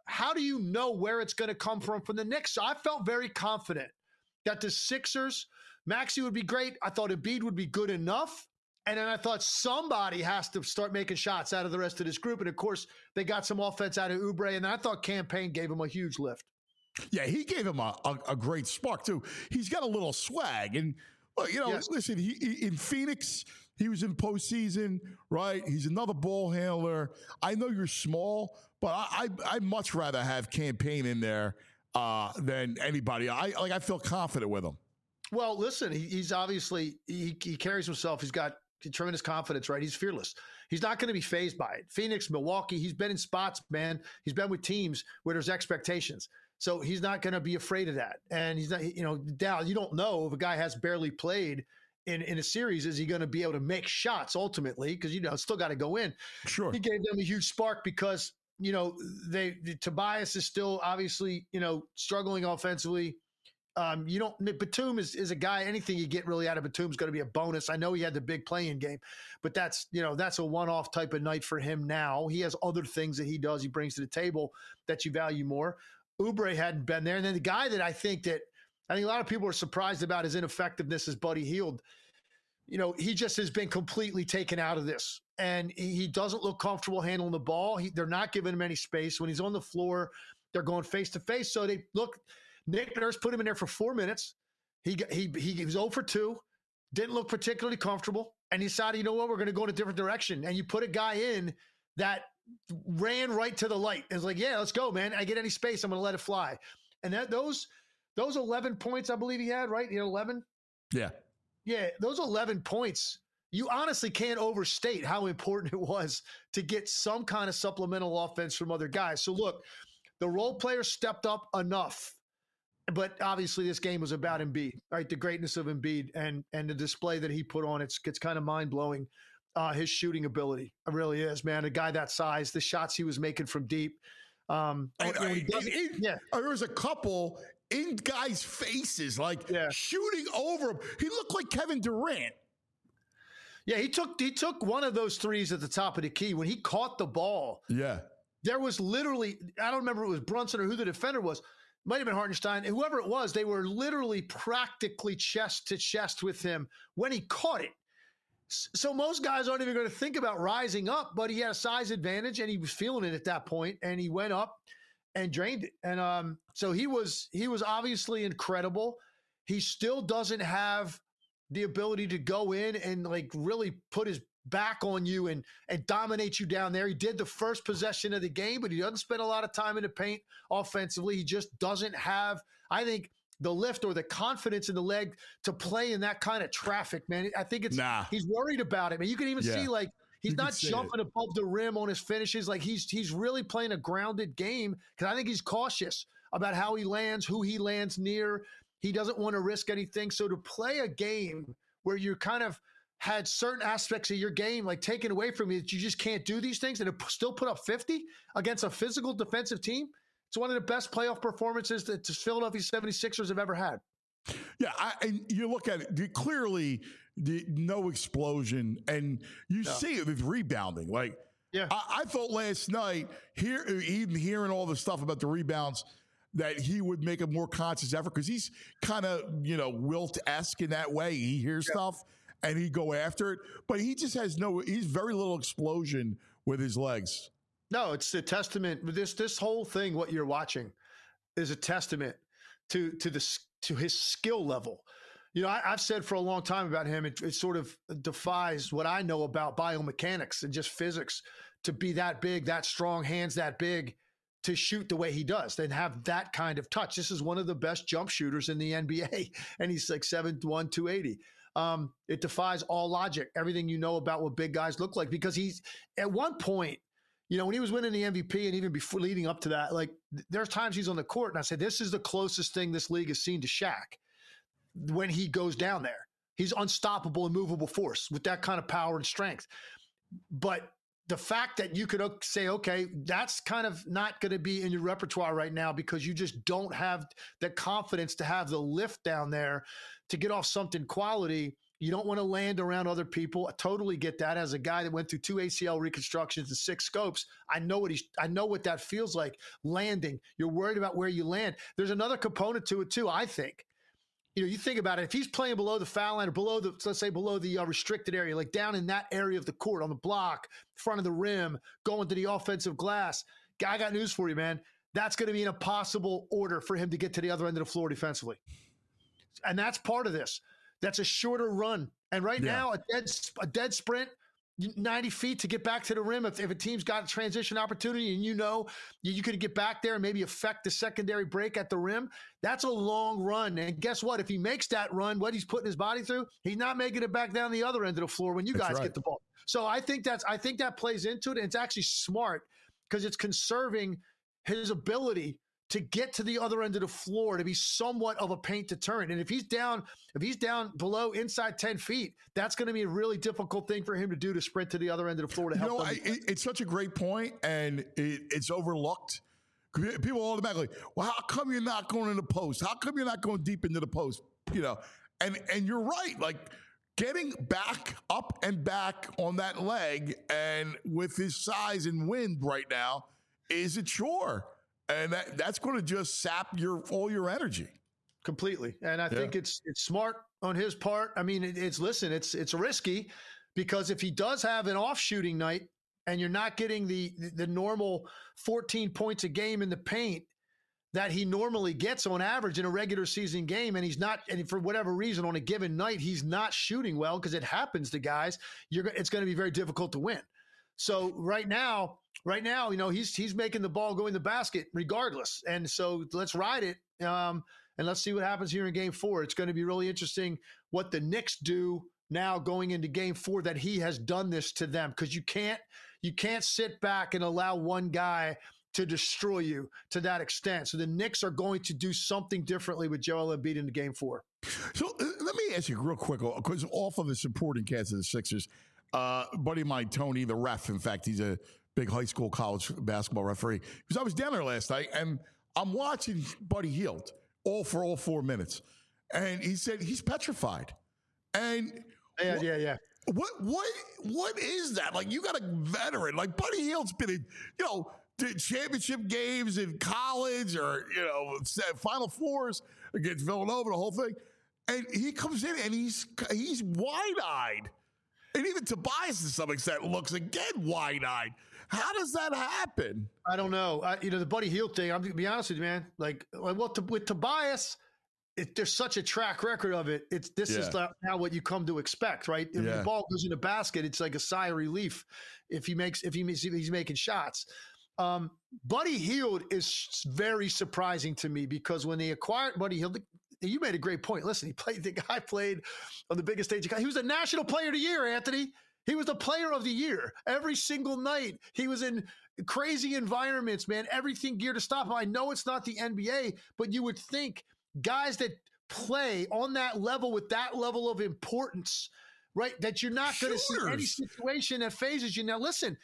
Speaker 7: how do you know where it's going to come from the Knicks? So I felt very confident that the Sixers, Maxey would be great. I thought Embiid would be good enough. And then I thought somebody has to start making shots out of the rest of this group. And of course, they got some offense out of Oubre. And I thought Cam Payne gave him a huge lift.
Speaker 2: Yeah, he gave him a great spark, too. He's got a little swag. And, well,
Speaker 7: Yes.
Speaker 2: listen, he in Phoenix, he was in postseason, right? He's another ball handler. I know you're small, but I'd much rather have Cam Payne in there than anybody. I feel confident with him.
Speaker 7: Well, listen, he's obviously, he carries himself. He's got tremendous confidence, right? He's fearless. He's not going to be fazed by it. Phoenix, Milwaukee, he's been in spots, man. He's been with teams where there's expectations. So he's not going to be afraid of that. And he's not, Dal, you don't know if a guy has barely played in a series, is he going to be able to make shots ultimately? Because, it's still got to go in.
Speaker 2: Sure.
Speaker 7: He gave them a huge spark because, Tobias is still obviously, struggling offensively. Batum is a guy, anything you get really out of Batum is going to be a bonus. I know he had the big play-in game, but that's a one-off type of night for him now. He has other things that he does, he brings to the table that you value more. Oubre hadn't been there. And then the guy that I think a lot of people are surprised about his ineffectiveness is Buddy Hield. He just has been completely taken out of this. And he doesn't look comfortable handling the ball. They're not giving him any space. When he's on the floor, they're going face-to-face. So Nick Nurse put him in there for 4 minutes. He was 0 for 2, didn't look particularly comfortable, and he decided, we're going to go in a different direction. And you put a guy in that ran right to the light. It's like, yeah, let's go, man. I get any space, I'm going to let it fly. And those 11 points, I believe he had, right? He had 11?
Speaker 2: Yeah.
Speaker 7: Yeah, those 11 points, you honestly can't overstate how important it was to get some kind of supplemental offense from other guys. So look, the role players stepped up enough. But obviously, this game was about Embiid, right? The greatness of Embiid and the display that he put on. It's kind of mind blowing. His shooting ability, it really is, man. A guy that size, the shots he was making from deep.
Speaker 2: There was a couple in guys' faces, shooting over him. He looked like Kevin Durant.
Speaker 7: Yeah, he took one of those threes at the top of the key when he caught the ball.
Speaker 2: Yeah,
Speaker 7: there was literally, I don't remember if it was Brunson or who the defender was. Might have been Hartenstein. Whoever it was, they were literally practically chest to chest with him when he caught it. So most guys aren't even going to think about rising up, but he had a size advantage and he was feeling it at that point, and he went up and drained it. And so he was obviously incredible. He still doesn't have the ability to go in and really put his back on you and dominate you down there. He did the first possession of the game, but he doesn't spend a lot of time in the paint offensively. He just doesn't have, I think, the lift or the confidence in the leg to play in that kind of traffic, man. I think he's worried about it, man. You can even see he's not jumping above the rim on his finishes. He's really playing a grounded game because I think he's cautious about how he lands, who he lands near. He doesn't want to risk anything. So to play a game where you're kind of had certain aspects of your game taken away from you that you just can't do these things and still put up 50 against a physical defensive team. It's one of the best playoff performances that the Philadelphia 76ers have ever had.
Speaker 2: Yeah, and you look at it, clearly no explosion, and you see it with rebounding. I thought last night, even hearing all the stuff about the rebounds, that he would make a more conscious effort because he's kind of, Wilt-esque in that way. He hears stuff and he'd go after it, but he just has he's very little explosion with his legs.
Speaker 7: No, it's a testament. This whole thing, what you're watching, is a testament to his skill level. I've said for a long time about him, it sort of defies what I know about biomechanics and just physics to be that big, that strong, hands that big, to shoot the way he does and have that kind of touch. This is one of the best jump shooters in the NBA, and he's 6'1", 280. It defies all logic, everything you know about what big guys look like, because he's at one point, when he was winning the MVP and even before leading up to that, there's times he's on the court and I said, this is the closest thing this league has seen to Shaq when he goes down there. He's unstoppable and movable force with that kind of power and strength. But the fact that you could say, okay, that's kind of not going to be in your repertoire right now because you just don't have the confidence to have the lift down there to get off something quality. You don't want to land around other people. I totally get that. As a guy that went through 2 ACL reconstructions and 6 scopes, I know what that feels like, landing. You're worried about where you land. There's another component to it too, I think. You think about it. If he's playing below the foul line or below the restricted area, like down in that area of the court, on the block, front of the rim, going to the offensive glass, I got news for you, man. That's going to be an impossible order for him to get to the other end of the floor defensively. And that's part of this. That's a shorter run. And right now, a dead sprint, 90 feet to get back to the rim. If a team's got a transition opportunity and you could get back there and maybe affect the secondary break at the rim, that's a long run. And guess what? If he makes that run, what he's putting his body through, he's not making it back down the other end of the floor when you guys get the ball. So I think that plays into it. And it's actually smart because it's conserving his ability to get to the other end of the floor, to be somewhat of a paint deterrent. And if he's down below inside 10 feet, that's going to be a really difficult thing for him to do, to sprint to the other end of the floor to help them.
Speaker 2: It's such a great point, and it's overlooked. People automatically, well, how come you're not going in the post? How come you're not going deep into the post? And you're right. Like, getting up and back on that leg, and with his size and wind right now, is a chore. And that's going to just sap all your energy
Speaker 7: completely. And I think it's smart on his part. I mean, it's risky, because if he does have an off shooting night and you're not getting the normal 14 points a game in the paint that he normally gets on average in a regular season game, and for whatever reason on a given night he's not shooting well, because it happens to guys, it's going to be very difficult to win. So right now, he's making the ball go in the basket regardless. And so let's ride it. And let's see what happens here in Game 4. It's going to be really interesting what the Knicks do now going into Game 4, that he has done this to them, because you can't sit back and allow one guy to destroy you to that extent. So the Knicks are going to do something differently with Joel Embiid in Game 4.
Speaker 2: So let me ask you real quick, because off of the supporting cast of the Sixers, buddy of mine, Tony, the ref, in fact, he's a big high school, college basketball referee. Because I was down there last night, and I'm watching Buddy Hield all 4 minutes, and he said he's petrified. And
Speaker 7: yeah.
Speaker 2: What is that? Like, you got a veteran like Buddy Hield's been in, the championship games in college, or Final Fours against Villanova, the whole thing, and he comes in and he's wide-eyed. And even Tobias, to some extent, looks again wide-eyed. How does that happen?
Speaker 7: I don't know. The Buddy Hield thing, I'm going to be honest with you, man. With Tobias, there's such a track record of it. This is now what you come to expect, right? If the ball goes in the basket, it's like a sigh of relief if he's making shots. Buddy Hield is very surprising to me, because when they acquired Buddy Hield, you made a great point. Listen, the guy played on the biggest stage. He was the National Player of the Year, Anthony. He was the Player of the Year every single night. He was in crazy environments, man. Everything geared to stop him. I know it's not the NBA, but you would think guys that play on that level with that level of importance, right, that you're not going to see any situation that phases you. Now, listen,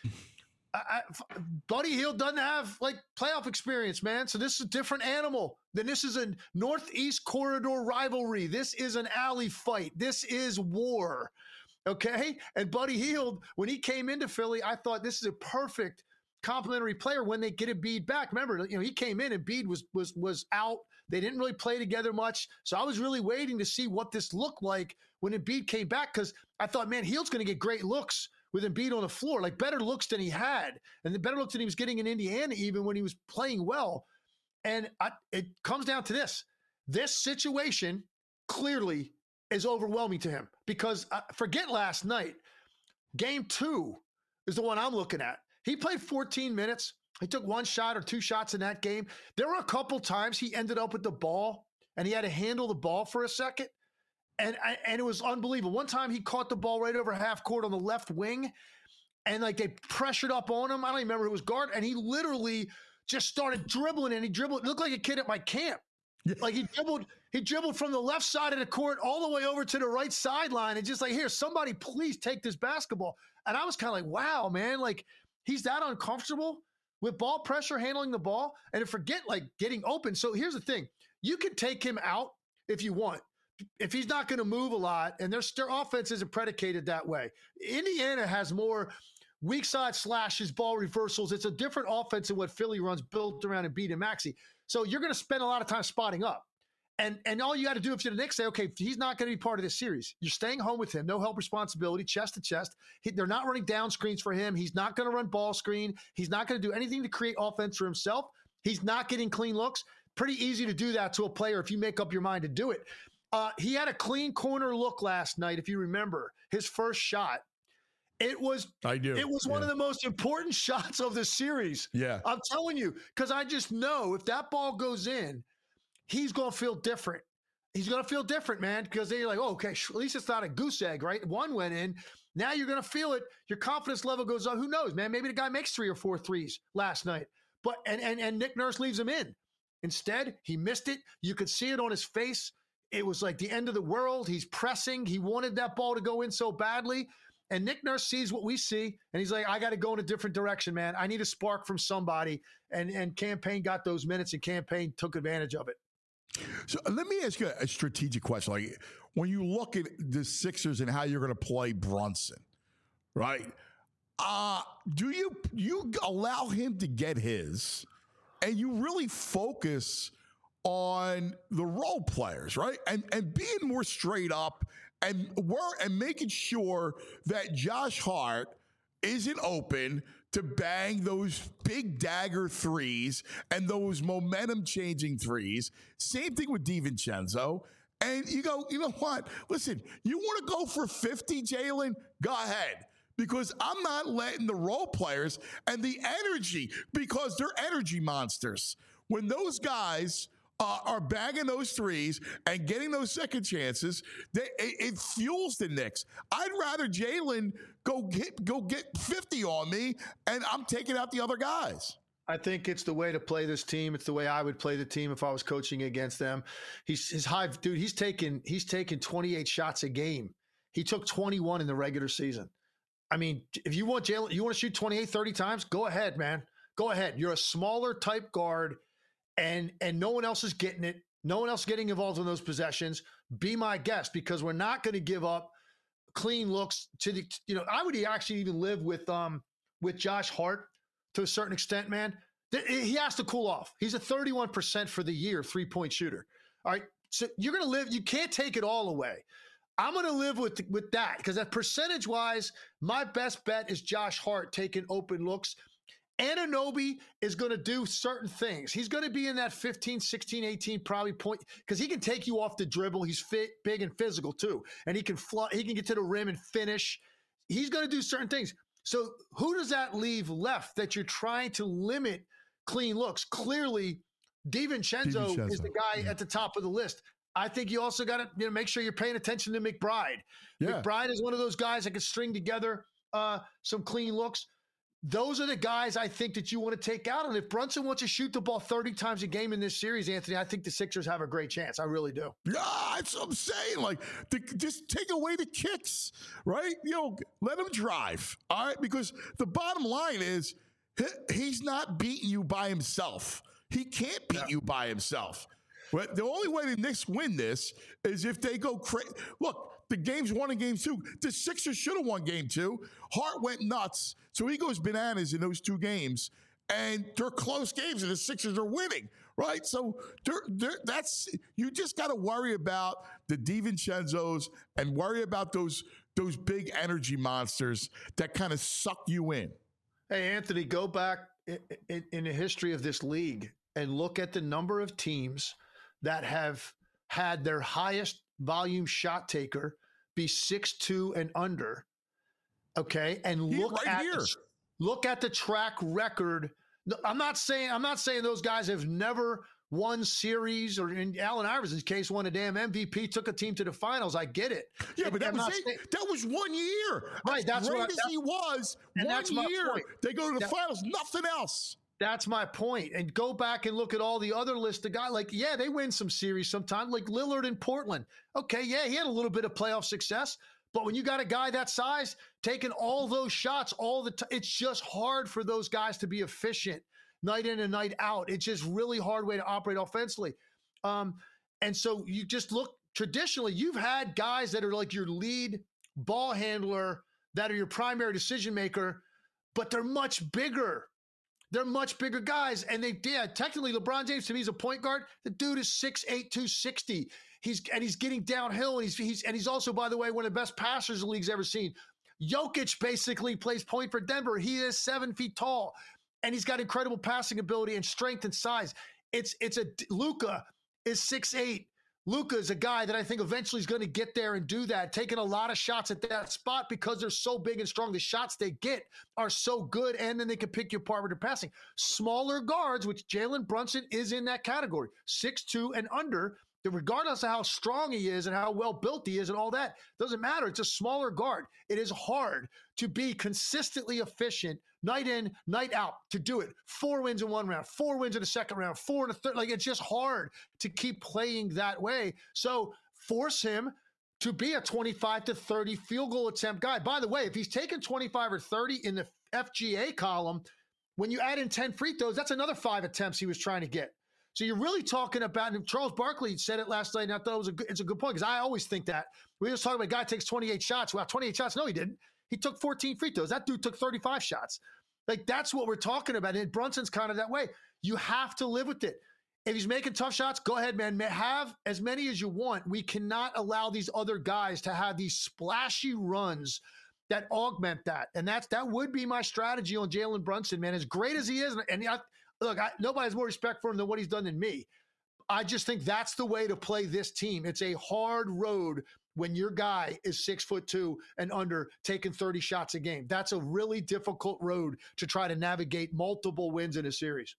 Speaker 7: Buddy Hield doesn't have playoff experience, man. So this is a different animal. This is a Northeast corridor rivalry. This is an alley fight. This is war. Okay. And Buddy Hield, when he came into Philly, I thought this is a perfect complementary player when they get Embiid back. Remember, he came in and Embiid was out. They didn't really play together much. So I was really waiting to see what this looked like when Embiid came back, because I thought, man, Hield's going to get great looks with Embiid on the floor, better looks than he had, and the better looks than he was getting in Indiana even when he was playing well. And it comes down to this. This situation clearly is overwhelming to him, because forget last night. Game 2 is the one I'm looking at. He played 14 minutes. He took 1 shot or 2 shots in that game. There were a couple times he ended up with the ball and he had to handle the ball for a second. And it was unbelievable. One time he caught the ball right over half court on the left wing, and they pressured up on him. I don't even remember who was guard, and he literally just started dribbling, and he dribbled. It looked like a kid at my camp. Like he dribbled from the left side of the court all the way over to the right sideline, and just here, somebody please take this basketball. And I was kind of like, wow, man, he's that uncomfortable with ball pressure, handling the ball, and to forget getting open. So here's the thing: you can take him out if you want, if he's not going to move a lot, and their offense isn't predicated that way. Indiana has more weak side slashes, ball reversals. It's a different offense than what Philly runs, built around Embiid and Maxey. So you're going to spend a lot of time spotting up. And all you got to do if you're the Knicks, say, okay, he's not going to be part of this series. You're staying home with him, no help responsibility, chest to chest. They're not running down screens for him. He's not going to run ball screen. He's not going to do anything to create offense for himself. He's not getting clean looks. Pretty easy to do that to a player if you make up your mind to do it. He had a clean corner look last night, if you remember, his first shot. It was one of the most important shots of the series.
Speaker 2: Yeah.
Speaker 7: I'm telling you, because I just know if that ball goes in, he's going to feel different. He's going to feel different, man, because then you're like, oh, okay, at least it's not a goose egg, right? One went in. Now you're going to feel it. Your confidence level goes up. Who knows, man? Maybe the guy makes 3 or 4 threes last night. But and Nick Nurse leaves him in. Instead, he missed it. You could see it on his face. It was like the end of the world. He's pressing. He wanted that ball to go in so badly. And Nick Nurse sees what we see, and he's like, I got to go in a different direction, man. I need a spark from somebody. And Campaign got those minutes, and Campaign took advantage of it.
Speaker 2: So let me ask you a strategic question. Like, when you look at the Sixers and how you're going to play Brunson, right? Do you allow him to get his, and you really focus on the role players, right? And being more straight up and making sure that Josh Hart isn't open to bang those big dagger threes and those momentum changing threes. Same thing with DiVincenzo. And you go, you know what? Listen, you want to go for 50, Jalen? Go ahead. Because I'm not letting the role players and the energy, because they're energy monsters. When those guys are bagging those threes and getting those second chances, it fuels the Knicks. I'd rather Jalen go get 50 on me, and I'm taking out the other guys.
Speaker 7: I think it's the way to play this team. It's the way I would play the team if I was coaching against them. He's taking 28 shots a game. He took 21 in the regular season. I mean, if you want Jalen, you want to shoot 28, 30 times, go ahead, man. Go ahead. You're a smaller type guard. And no one else is getting it. No one else getting involved in those possessions. Be my guest, because we're not going to give up clean looks to the. I would actually even live with Josh Hart to a certain extent, man. He has to cool off. He's a 31% for the year 3-point shooter. All right, so you're going to live. You can't take it all away. I'm going to live with that, because that percentage wise, my best bet is Josh Hart taking open looks. Anunoby is going to do certain things. He's going to be in that 15, 16, 18 probably point, because he can take you off the dribble. He's fit, big, and physical too. And he can get to the rim and finish. He's going to do certain things. So who does that leave left that you're trying to limit clean looks? Clearly, DiVincenzo is the guy at the top of the list. I think you also got to make sure you're paying attention to McBride. Yeah. McBride is one of those guys that can string together some clean looks. Those are the guys I think that you want to take out. And if Brunson wants to shoot the ball 30 times a game in this series, Anthony, I think the Sixers have a great chance. I really do.
Speaker 2: Yeah, that's what I'm saying. Like, just take away the kicks, right? Let him drive, all right? Because the bottom line is he's not beating you by himself. He can't beat you by himself. But the only way the Knicks win this is if they go crazy. Look, the game's 1 and game 2. The Sixers should have won game 2. Hart went nuts. So he goes bananas in those 2 games. And they're close games, and the Sixers are winning, right? So you just got to worry about the DiVincenzos and worry about those big energy monsters that kind of suck you in.
Speaker 7: Hey, Anthony, go back in the history of this league and look at the number of teams that have had their highest volume shot taker be 6'2" and under. Okay, and look at the track record. I'm not saying those guys have never won series, or in Allen Iverson's case, won a damn MVP, took a team to the finals. I get it.
Speaker 2: Yeah, but that was 1 year.
Speaker 7: Right, that's
Speaker 2: great as he was. 1 year, they go to the finals. Nothing else.
Speaker 7: That's my point. And go back and look at all the other list of guys. Like, yeah, they win some series sometimes, like Lillard in Portland. Okay, yeah, he had a little bit of playoff success. But when you got a guy that size taking all those shots all the time, it's just hard for those guys to be efficient night in and night out. It's just really hard way to operate offensively. And so you just look traditionally you've had guys that are like your lead ball handler, that are your primary decision maker, but they're much bigger. They're much bigger guys. And technically LeBron James to me is a point guard. The dude is 6'8", 260. He's getting downhill. And he's also, by the way, one of the best passers the league's ever seen. Jokic basically plays point for Denver. He is 7 feet tall, and he's got incredible passing ability and strength and size. Luka is 6'8". Luka is a guy that I think eventually is going to get there and do that, taking a lot of shots at that spot because they're so big and strong. The shots they get are so good, and then they can pick you apart with their passing. Smaller guards, which Jalen Brunson is in that category, 6'2" and under, that regardless of how strong he is and how well built he is and all that, doesn't matter. It's a smaller guard. It is hard to be consistently efficient night in, night out, to do it. 4 wins in one round, 4 wins in the second round, 4 in the third. Like, it's just hard to keep playing that way. So force him to be a 25 to 30 field goal attempt guy. By the way, if he's taking 25 or 30 in the FGA column, when you add in 10 free throws, that's another 5 attempts he was trying to get. So you're really talking about, and Charles Barkley said it last night, and I thought it's a good point, because I always think that. We were just talking about a guy takes 28 shots. Well, 28 shots. No, he didn't. He took 14 free throws. That dude took 35 shots. Like, that's what we're talking about. And Brunson's kind of that way. You have to live with it. If he's making tough shots, go ahead, man. Have as many as you want. We cannot allow these other guys to have these splashy runs that augment that. And that would be my strategy on Jalen Brunson, man. As great as he is, and nobody has more respect for him than what he's done than me. I just think that's the way to play this team. It's a hard road when your guy is 6'2" and under, taking 30 shots a game. That's a really difficult road to try to navigate multiple wins in a series.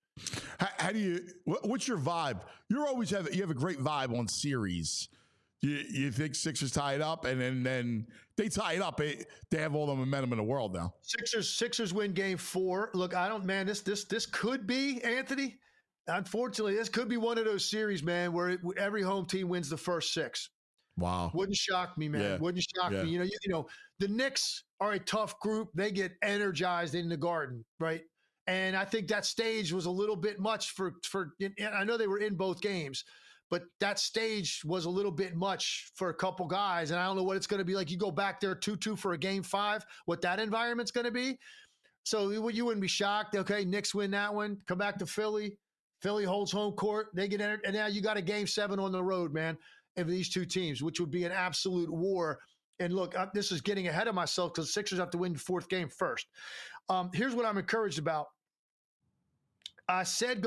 Speaker 2: What's your vibe? You have a great vibe on series. You think Sixers tie it up, and then they tie it up. They have all the momentum in the world now.
Speaker 7: Sixers win game 4. Look, this could be, Anthony. Unfortunately, this could be one of those series, man, where every home team wins the first 6.
Speaker 2: Wow.
Speaker 7: Wouldn't shock me, man. Yeah. Wouldn't shock me. You know, the Knicks are a tough group. They get energized in the Garden, right? And I think that stage was a little bit much for I know they were in both games, but that stage was a little bit much for a couple guys. And I don't know what it's going to be like. You go back there 2-2 for a game 5, what that environment's going to be. So you wouldn't be shocked. Okay, Knicks win that one. Come back to Philly. Philly holds home court. They get entered. And now you got a game 7 on the road, man, of these two teams, which would be an absolute war. And look, this is getting ahead of myself because the Sixers have to win the 4th game first. Here's what I'm encouraged about. I said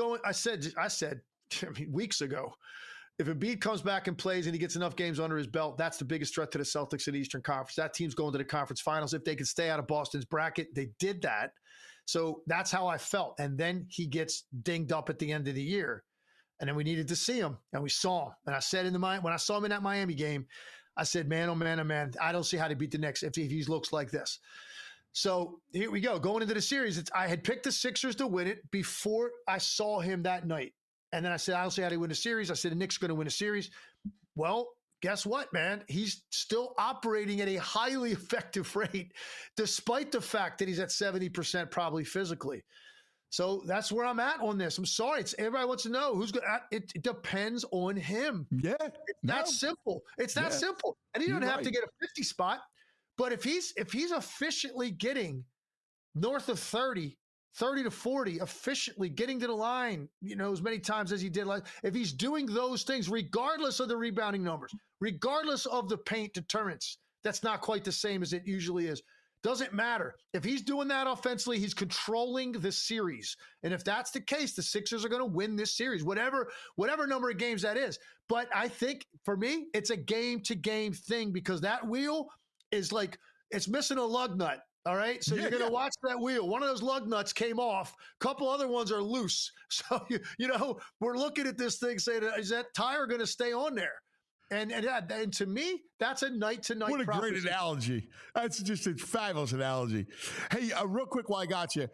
Speaker 7: weeks ago, if Embiid comes back and plays and he gets enough games under his belt, that's the biggest threat to the Celtics in the Eastern Conference. That team's going to the conference finals. If they can stay out of Boston's bracket, they did that. So that's how I felt. And then he gets dinged up at the end of the year. And then we needed to see him, and we saw him. And I said when I saw him in that Miami game, I said, man, oh, man, oh, man, I don't see how to beat the Knicks if he looks like this. So here we go. Going into the series, I had picked the Sixers to win it before I saw him that night. And then I said, I don't see how to win a series. I said, the Knicks are going to win a series. Well, guess what, man? He's still operating at a highly effective rate, despite the fact that he's at 70% probably physically. So that's where I'm at on this. I'm sorry. Everybody wants to know who's going to. It depends on him.
Speaker 2: Yeah.
Speaker 7: That's simple. It's that simple. And he doesn't have to get a 50 spot. But if he's efficiently getting north of 30 to 40, efficiently getting to the line, as many times as he did, if he's doing those things, regardless of the rebounding numbers, regardless of the paint deterrence, that's not quite the same as it usually is. Doesn't matter. If he's doing that offensively, he's controlling the series. And if that's the case, the Sixers are going to win this series, whatever number of games that is. But I think for me, it's a game-to-game thing because that wheel is like it's missing a lug nut. All right. So you're going to watch that wheel. One of those lug nuts came off. A couple other ones are loose. So, we're looking at this thing saying, is that tire going to stay on there? And to me, that's a night-to-night
Speaker 2: What a great analogy. That's just a fabulous analogy. Hey, real quick while I got you,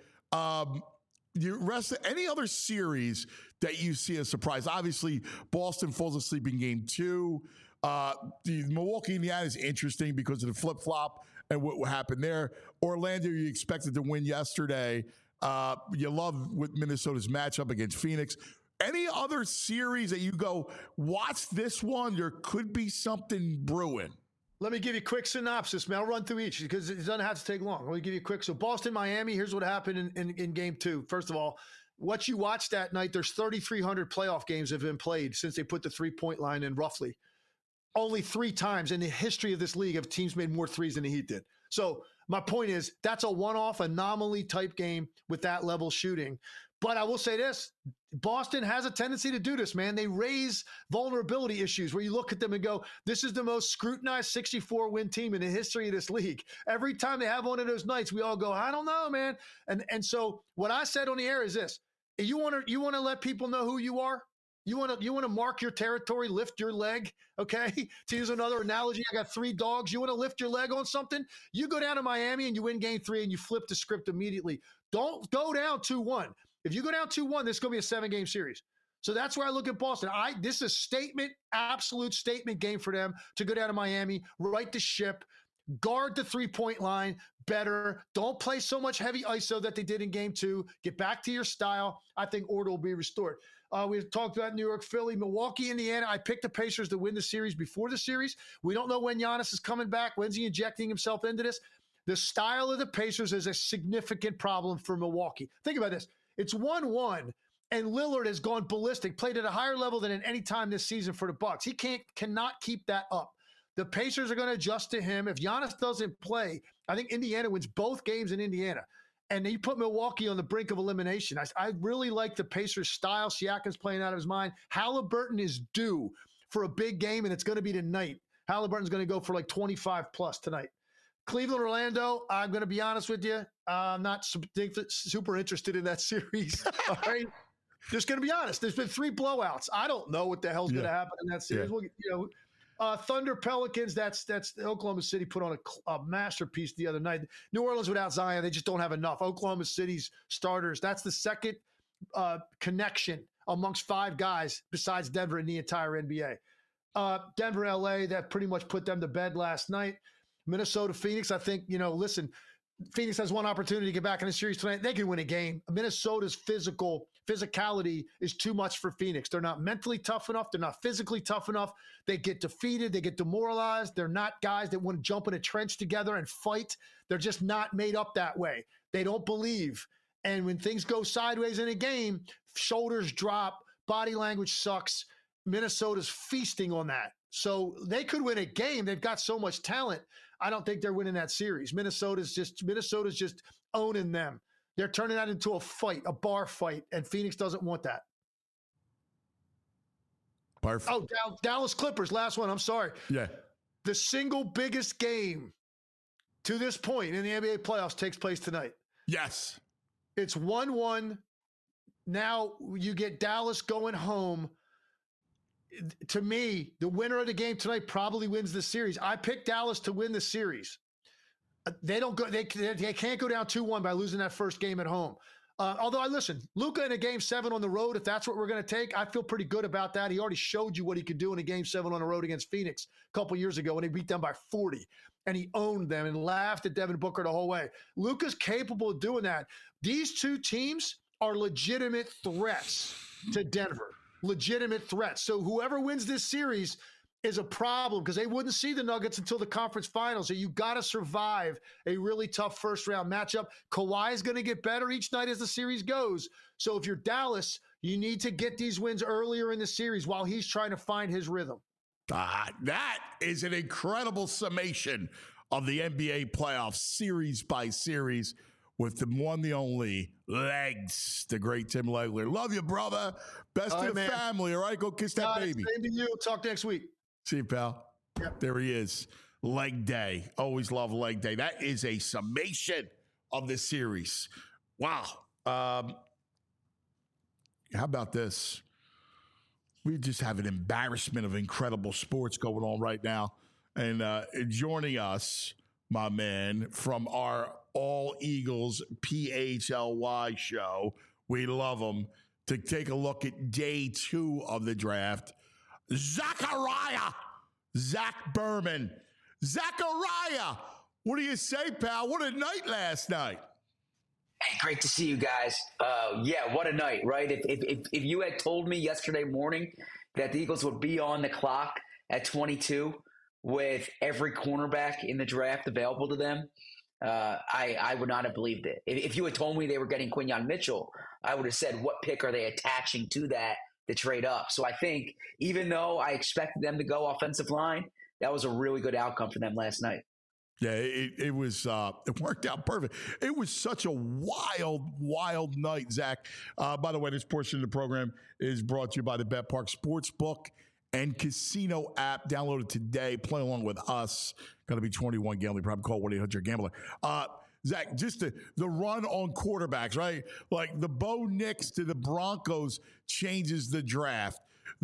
Speaker 2: any other series that you see as surprise? Obviously, Boston falls asleep in game 2. The Milwaukee, Indiana is interesting because of the flip-flop and what happened there. Orlando, you expected to win yesterday. You love with Minnesota's matchup against Phoenix. Any other series that you go, watch this one, there could be something brewing?
Speaker 7: Let me give you a quick synopsis, man. I'll run through each because it doesn't have to take long. Let me give you a quick. So Boston, Miami, here's what happened in game 2. First of all, what you watched that night, there's 3,300 playoff games have been played since they put the 3-point line in roughly. Only 3 times in the history of this league have teams made more threes than the Heat did. So my point is that's a one-off anomaly type game with that level shooting. But I will say this, Boston has a tendency to do this, man. They raise vulnerability issues where you look at them and go, this is the most scrutinized 64-win team in the history of this league. Every time they have one of those nights, we all go, I don't know, man. And so what I said on the air is this, you want to let people know who you are? You want to mark your territory, lift your leg, okay? To use another analogy, I got 3 dogs. You want to lift your leg on something? You go down to Miami and you win game 3 and you flip the script immediately. Don't go down 2-1. If you go down 2-1, this is going to be a 7-game series. So that's where I look at Boston. This is a statement, absolute statement game for them to go down to Miami, right the ship, guard the 3-point line better. Don't play so much heavy ISO that they did in game 2. Get back to your style. I think order will be restored. We've talked about New York, Philly, Milwaukee, Indiana. I picked the Pacers to win the series before the series. We don't know when Giannis is coming back. When's he injecting himself into this? The style of the Pacers is a significant problem for Milwaukee. Think about this. It's 1-1, and Lillard has gone ballistic, played at a higher level than at any time this season for the Bucks. He cannot keep that up. The Pacers are going to adjust to him. If Giannis doesn't play, I think Indiana wins both games in Indiana. And you put Milwaukee on the brink of elimination. I really like the Pacers' style. Siakam's playing out of his mind. Halliburton is due for a big game, and it's going to be tonight. Halliburton's going to go for like 25+ tonight. Cleveland, Orlando, I'm going to be honest with you. I'm not super interested in that series. All right. Just going to be honest. There's been 3 blowouts. I don't know what the hell's going to happen in that series.
Speaker 2: Yeah.
Speaker 7: Well, Thunder, Pelicans, that's Oklahoma City put on a masterpiece the other night. New Orleans without Zion, they just don't have enough. Oklahoma City's starters, that's the second connection amongst 5 guys besides Denver in the entire NBA. Denver, LA, that pretty much put them to bed last night. Minnesota, Phoenix, I think, listen, Phoenix has one opportunity to get back in the series tonight. They can win a game. Minnesota's physicality is too much for Phoenix. They're not mentally tough enough. They're not physically tough enough. They get defeated. They get demoralized. They're not guys that want to jump in a trench together and fight. They're just not made up that way. They don't believe. And when things go sideways in a game, shoulders drop, body language sucks. Minnesota's feasting on that. So they could win a game. They've got so much talent. I don't think they're winning that series. Minnesota's just owning them. They're turning that into a fight, a bar fight, and Phoenix doesn't want that.
Speaker 2: Perfect.
Speaker 7: Oh, Dallas Clippers, last one. I'm sorry.
Speaker 2: Yeah.
Speaker 7: The single biggest game to this point in the NBA playoffs takes place tonight.
Speaker 2: Yes.
Speaker 7: It's 1-1. Now you get Dallas going home. To me, the winner of the game tonight probably wins the series. I picked Dallas to win the series. They don't go. They can't go down 2-1 by losing that first game at home. Although Luka in a game 7 on the road, if that's what we're going to take, I feel pretty good about that. He already showed you what he could do in a game 7 on the road against Phoenix a couple years ago when he beat them by 40, and he owned them and laughed at Devin Booker the whole way. Luka's capable of doing that. These 2 teams are legitimate threats to Denver. Legitimate threats. So whoever wins this series is a problem because they wouldn't see the Nuggets until the conference finals. So you got to survive a really tough first round matchup. Kawhi is going to get better each night as the series goes. So if you're Dallas, you need to get these wins earlier in the series while he's trying to find his rhythm.
Speaker 2: That is an incredible summation of the NBA playoffs series by series with the one, the only Legs, the great Tim Legler. Love you, brother. Best to the family. All right, go kiss that baby.
Speaker 7: Same to you. Talk next week.
Speaker 2: See you, pal. Yep. There he is. Leg day. Always love leg day. That is a summation of the series. Wow. How about this? We just have an embarrassment of incredible sports going on right now. And joining us, my man, from our All Eagles PHLY show, we love him, to take a look at day 2 of the draft. Zach Berman. Zachariah, what do you say, pal? What a night last night.
Speaker 8: Hey, great to see you guys. Yeah, what a night, right? If you had told me yesterday morning that the Eagles would be on the clock at 22 with every cornerback in the draft available to them, I would not have believed it. If you had told me they were getting Quinyon Mitchell, I would have said, what pick are they attaching to that to trade up? So I think even though I expected them to go offensive line, that was a really good outcome for them last night.
Speaker 2: Yeah, it was. It worked out perfect. It was such a wild night, Zach. By the way, this portion of the program is brought to you by the Bet Park Sportsbook and Casino app. Download it today. Play along with us. Got to be 21 gambling. Probably call 1-800-GAMBLER. Zach, just the run on quarterbacks, right? Like the Bo Nix to the Broncos changes the draft.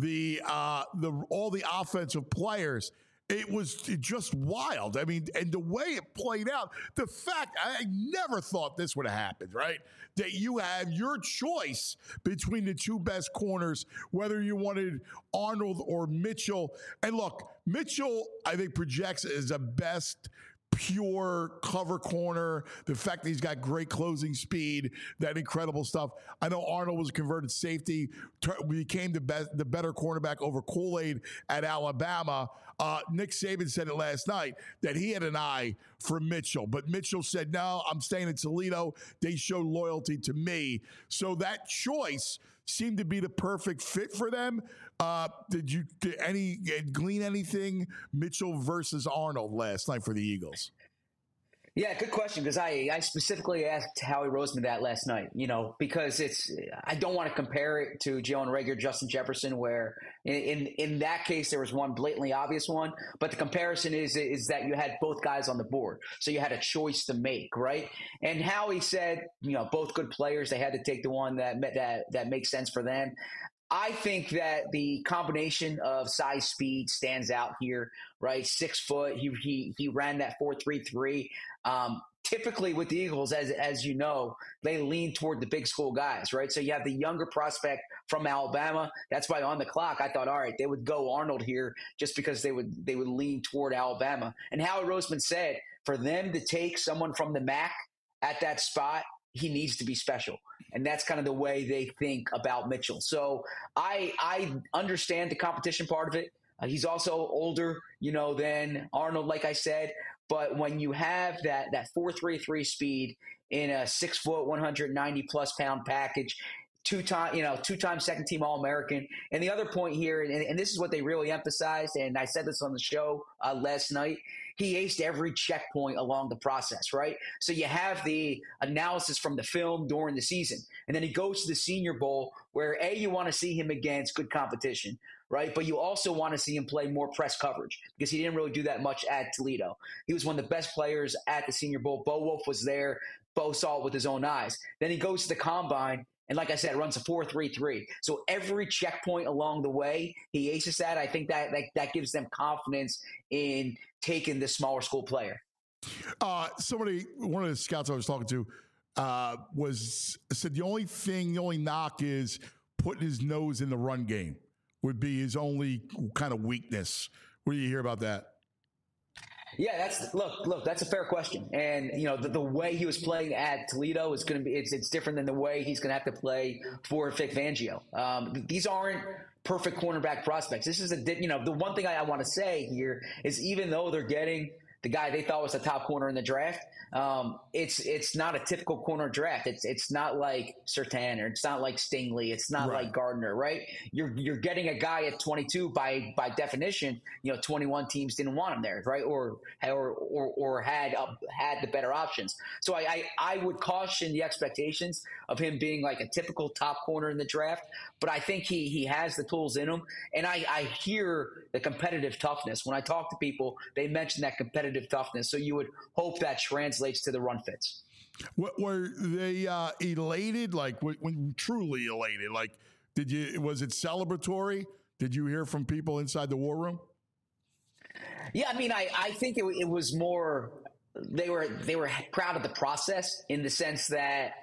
Speaker 2: All the offensive players. It was just wild. I mean, and the way it played out, the fact I never thought this would have happened, right? That you have your choice between the two best corners, whether you wanted Arnold or Mitchell. And look, Mitchell, I think, projects as the best pure cover corner, the fact that he's got great closing speed, that incredible stuff. I know Arnold was a converted safety, became the better cornerback over Kool-Aid at Alabama. Nick Saban said it last night that he had an eye for Mitchell, but Mitchell said, no, I'm staying in Toledo. They showed loyalty to me. So that choice seemed to be the perfect fit for them. Did you glean anything Mitchell versus Arnold last night for the Eagles?
Speaker 8: Yeah, good question, because I specifically asked Howie Roseman that last night, because I don't want to compare it to Jalen Reagor, Justin Jefferson, where in that case there was one blatantly obvious one, but the comparison is that you had both guys on the board, so you had a choice to make, right? And Howie said, both good players, they had to take the one that makes sense for them. I think that the combination of size, speed stands out here, right? 6 foot. He ran that 4.33. Typically with the Eagles, as you know, they lean toward the big school guys, right? So you have the younger prospect from Alabama. That's why on the clock I thought, all right, they would go Arnold here just because they would lean toward Alabama. And Howie Roseman said for them to take someone from the MAC at that spot, he needs to be special. And that's kind of the way they think about Mitchell. So I understand the competition part of it. He's also older, than Arnold, like I said. But when you have that 4.33 speed in a 6 foot, 190 plus pound package, two-time second team All-American. And the other point here, and this is what they really emphasized, and I said this on the show last night, he aced every checkpoint along the process, right? So you have the analysis from the film during the season, and then he goes to the Senior Bowl where, you want to see him against good competition, right? But you also want to see him play more press coverage because he didn't really do that much at Toledo. He was one of the best players at the Senior Bowl. Bo Wolf was there. Bo saw it with his own eyes. Then he goes to the Combine, and like I said, runs a 4.33. So every checkpoint along the way, he aces that. I think that gives them confidence in taking this smaller school player.
Speaker 2: One of the scouts I was talking to said the only knock is putting his nose in the run game would be his only kind of weakness. What do you hear about that?
Speaker 8: Yeah, that's a fair question. And, the way he was playing at Toledo is going to be, it's different than the way he's going to have to play for Vic Fangio. These aren't perfect cornerback prospects. This is the one thing I want to say here is even though they're getting the guy they thought was the top corner in the draft, it's not a typical corner draft. It's not like Surtain, or it's not like Stingley. It's not like Gardner, right? You're getting a guy at 22 by definition. 21 teams didn't want him there, right? Or had the better options. So I would caution the expectations of him being like a typical top corner in the draft. But I think he has the tools in him, and I hear the competitive toughness. When I talk to people, they mention that competitive toughness. So you would hope that translates to the run fits.
Speaker 2: Were they elated? Like when truly elated? Like was it celebratory? Did you hear from people inside the war room?
Speaker 8: Yeah, I mean, I think it was more. They were proud of the process in the sense that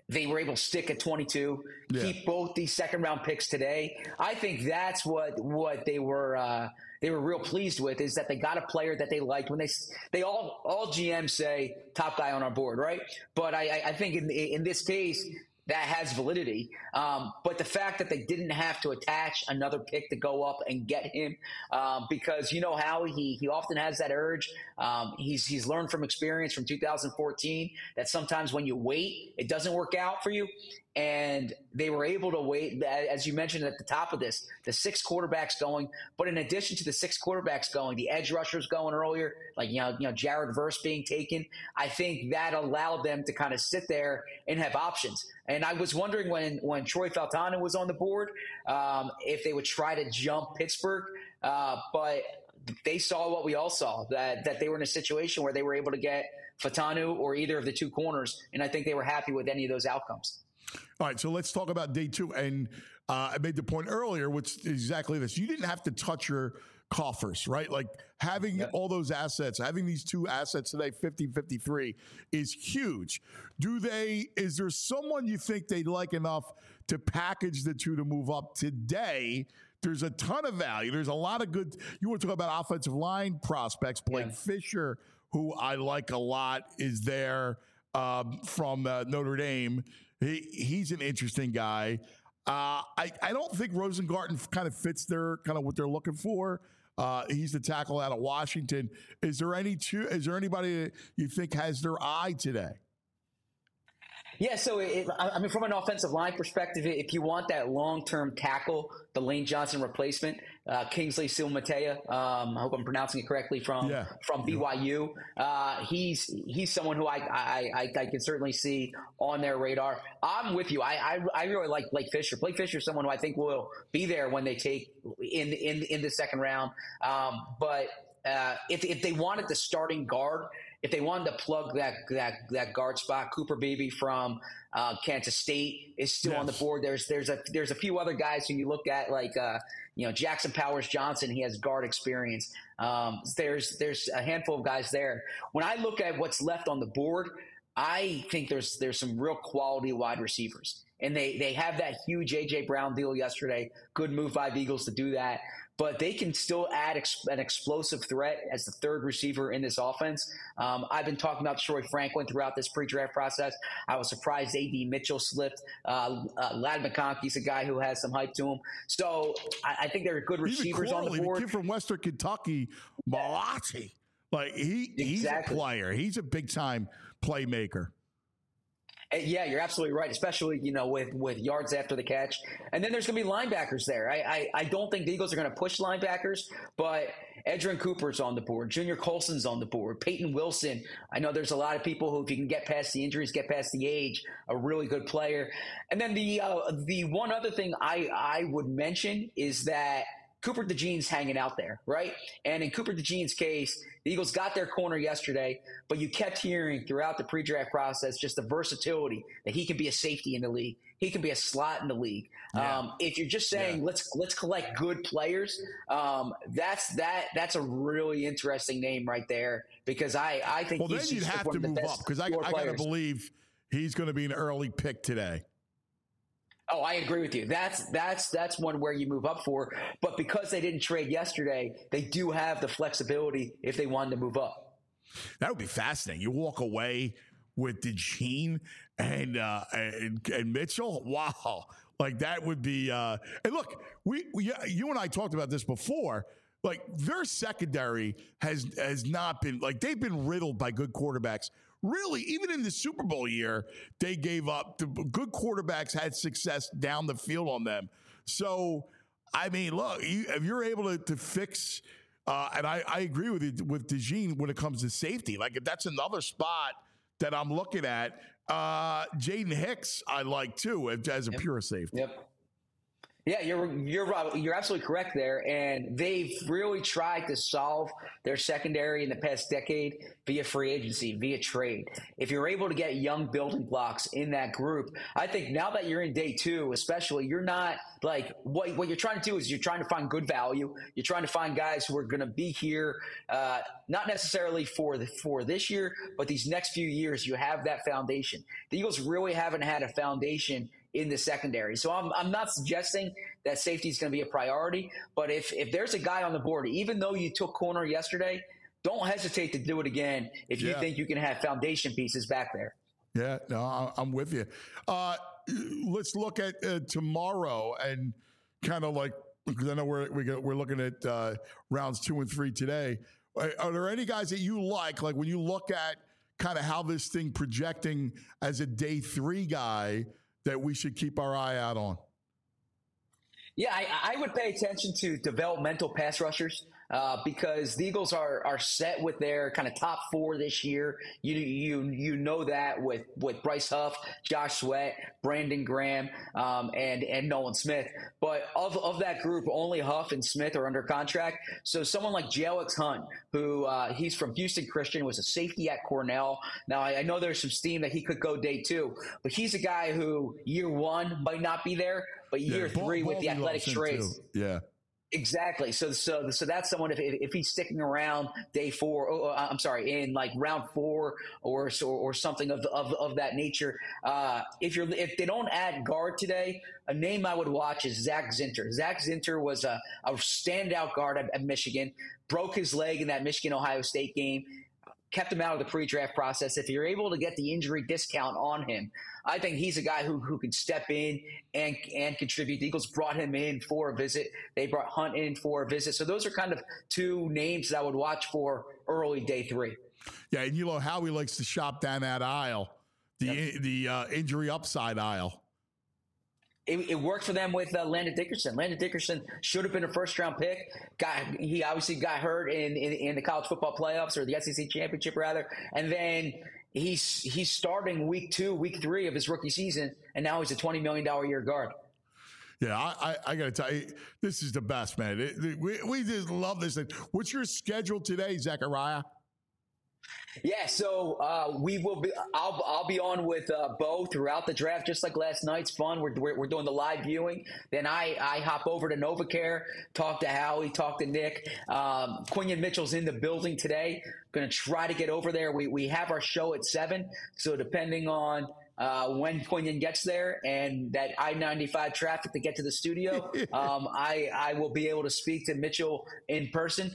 Speaker 8: they were able to stick at 22, keep both these second-round picks today. I think that's what they were real pleased with, is that they got a player that they liked. When they all GMs say top guy on our board, right? But I think in this case, that has validity. But the fact that they didn't have to attach another pick to go up and get him, because you know how he often has that urge. He's learned from experience from 2014 that sometimes when you wait, it doesn't work out for you. And they were able to wait, as you mentioned at the top of this, the 6 quarterbacks going. But in addition to the 6 quarterbacks going, the edge rushers going earlier, like you know Jared Verse being taken. I think that allowed them to kind of sit there and have options. And I was wondering when Troy Fautanu was on the board, if they would try to jump Pittsburgh, but they saw what we all saw, that they were in a situation where they were able to get Fautanu or either of the 2 corners, and I think they were happy with any of those outcomes.
Speaker 2: All right, so let's talk about day 2. And I made the point earlier, which is exactly this. You didn't have to touch your coffers, right? Like having all those assets, having these 2 assets today, 50-53, is huge. Is there someone you think they'd like enough to package the 2 to move up today? There's a ton of value. There's a lot of good. You want to talk about offensive line prospects. Blake Fisher, who I like a lot, is there from Notre Dame. He's an interesting guy. I don't think Rosengarten kind of fits their kind of what they're looking for. He's the tackle out of Washington. Is there anybody that you think has their eye today?
Speaker 8: Yeah, so I mean, from an offensive line perspective, if you want that long-term tackle, the Lane Johnson replacement, Kingsley Suamataia, I hope I'm pronouncing it correctly, from BYU. He's someone who I can certainly see on their radar. I'm with you. I really like Blake Fisher. Blake Fisher is someone who I think will be there when they take in the second round. But if they wanted the starting guard, if they wanted to plug that guard spot, Cooper Beebe from Kansas State is still on the board. There's a few other guys who you look at, like Jackson Powers Johnson. He has guard experience. There's a handful of guys there. When I look at what's left on the board, I think there's some real quality wide receivers, and they have that huge AJ Brown deal yesterday. Good move by the Eagles to do that. But they can still add an explosive threat as the 3rd receiver in this offense. I've been talking about Troy Franklin throughout this pre-draft process. I was surprised A.D. Mitchell slipped. Ladd McConkey's a guy who has some hype to him. So I think there are good receivers on the board.
Speaker 2: The kid from Western Kentucky, Malati, he's a player. He's a big-time playmaker.
Speaker 8: Yeah, you're absolutely right, especially, with yards after the catch. And then there's going to be linebackers there. I don't think the Eagles are going to push linebackers, but Edgerrin Cooper's on the board. Junior Colson's on the board. Peyton Wilson. I know there's a lot of people who, if you can get past the injuries, get past the age, a really good player. And then the one other thing I would mention is that Cooper DeJean's hanging out there, right? And in Cooper DeJean's case, the Eagles got their corner yesterday, but you kept hearing throughout the pre-draft process just the versatility that he can be a safety in the league. He can be a slot in the league. Yeah. If you're just saying let's collect good players, that's a really interesting name right there, because I think
Speaker 2: then you'd have to move up, because I got to believe he's going to be an early pick today.
Speaker 8: Oh, I agree with you. That's one where you move up for. But because they didn't trade yesterday, they do have the flexibility if they wanted to move up.
Speaker 2: That would be fascinating. You walk away with DeJean and Mitchell. Wow. Like that would be and look, you and I talked about this before. Like their secondary has not been, like, they've been riddled by good quarterbacks. Really, even in the Super Bowl year, they gave up. The good quarterbacks had success down the field on them. So, I mean, look, if you're able to fix, and I agree with you with DeJean when it comes to safety. Like, if that's another spot that I'm looking at, Jaden Hicks I like too as a pure safety.
Speaker 8: Yep. Yeah, you're right. You're absolutely correct there. And they've really tried to solve their secondary in the past decade via free agency, via trade. If you're able to get young building blocks in that group, I think now that you're in day two, especially, you're not like what you're trying to do is you're trying to find good value. You're trying to find guys who are going to be here, not necessarily for this year, but these next few years. You have that foundation. The Eagles really haven't had a foundation in the secondary. So I'm not suggesting that safety is going to be a priority, but if there's a guy on the board, even though you took corner yesterday, don't hesitate to do it again if you think you can have foundation pieces back there.
Speaker 2: Yeah, no, I'm with you. Let's look at tomorrow and kind of like, because I know we're looking at rounds 2 and 3 today. Are there any guys that you like when you look at kind of how this thing projecting as a day 3 guy that we should keep our eye out on?
Speaker 8: Yeah, I would pay attention to developmental pass rushers because the Eagles are set with their kind of top 4 this year. You know that with Bryce Huff, Josh Sweat, Brandon Graham, and Nolan Smith. But of that group, only Huff and Smith are under contract. So someone like Jalix Hunt, who he's from Houston Christian, was a safety at Cornell. Now I know there's some steam that he could go day 2, but he's a guy who year 1 might not be there, but year 3 with the athletic traits.
Speaker 2: Yeah.
Speaker 8: Exactly. So that's someone if he's sticking around day 4, in like round 4 or something of that nature. If they don't add guard today, a name I would watch is Zach Zinter. Zach Zinter was a standout guard at Michigan, broke his leg in that Michigan-Ohio State game, kept him out of the pre-draft process. If you're able to get the injury discount on him, I think he's a guy who can step in and contribute. The Eagles brought him in for a visit. They brought Hunt in for a visit. So those are kind of 2 names that I would watch for early day 3.
Speaker 2: Yeah, and you know how he likes to shop down that aisle, the injury upside aisle.
Speaker 8: It worked for them with Landon Dickerson. Landon Dickerson should have been a first-round pick. He obviously got hurt in the college football playoffs, or the SEC championship rather, and then he's starting week 2, week 3 of his rookie season, and now he's a $20 million a year guard.
Speaker 2: Yeah, I got to tell you, this is the best, man. We just love this thing. What's your schedule today, Zachariah?
Speaker 8: Yeah, so we will be. I'll be on with Bo throughout the draft, just like last night's fun. We're doing the live viewing. Then I hop over to NovaCare, talk to Howie, talk to Nick. Quinion Mitchell's in the building today. Going to try to get over there. We have our show at 7, so depending on when Quinion gets there and that I-95 traffic to get to the studio, I will be able to speak to Mitchell in person.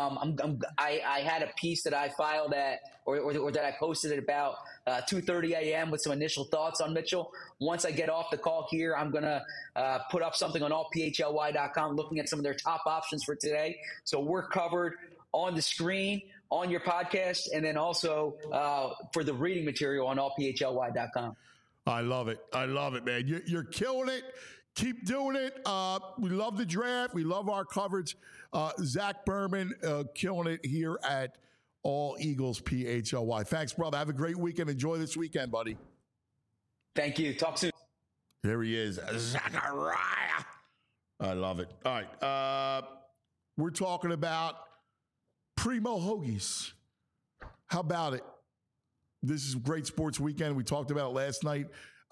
Speaker 8: I had a piece that I filed at or that I posted at about 2:30 a.m. with some initial thoughts on Mitchell. Once I get off the call here, I'm going to put up something on allphly.com looking at some of their top options for today. So we're covered on the screen, on your podcast, and then also for the reading material on allphly.com.
Speaker 2: I love it. I love it, man. You're killing it. Keep doing it. We love the draft. We love our coverage. Zach Berman killing it here at All Eagles PHLY. Thanks, brother. Have a great weekend. Enjoy this weekend, buddy.
Speaker 8: Thank you. Talk soon.
Speaker 2: There he is, Zachariah. I love it. All right. We're talking about Primo Hoagies. How about it? This is a great sports weekend. We talked about it last night.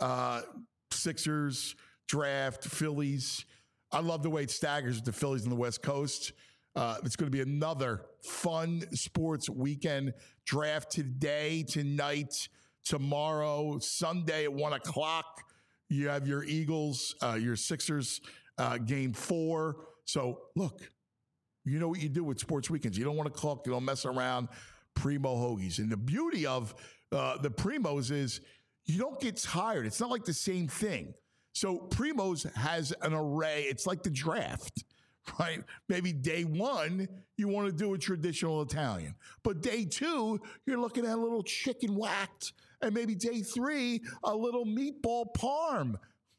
Speaker 2: Sixers, draft, Phillies. I love the way it staggers with the Phillies on the West Coast. It's going to be another fun sports weekend. Draft today, tonight, tomorrow, Sunday at 1 o'clock. You have your Eagles, your Sixers, game 4. So, look, you know what you do with sports weekends. You don't want to cook. You don't mess around. Primo Hoagies. And the beauty of the Primos is you don't get tired. It's not like the same thing. So Primos has an array. It's like the draft, right? Maybe day 1, you want to do a traditional Italian. But day 2, you're looking at a little chicken whacked. And maybe day 3, a little meatball parm.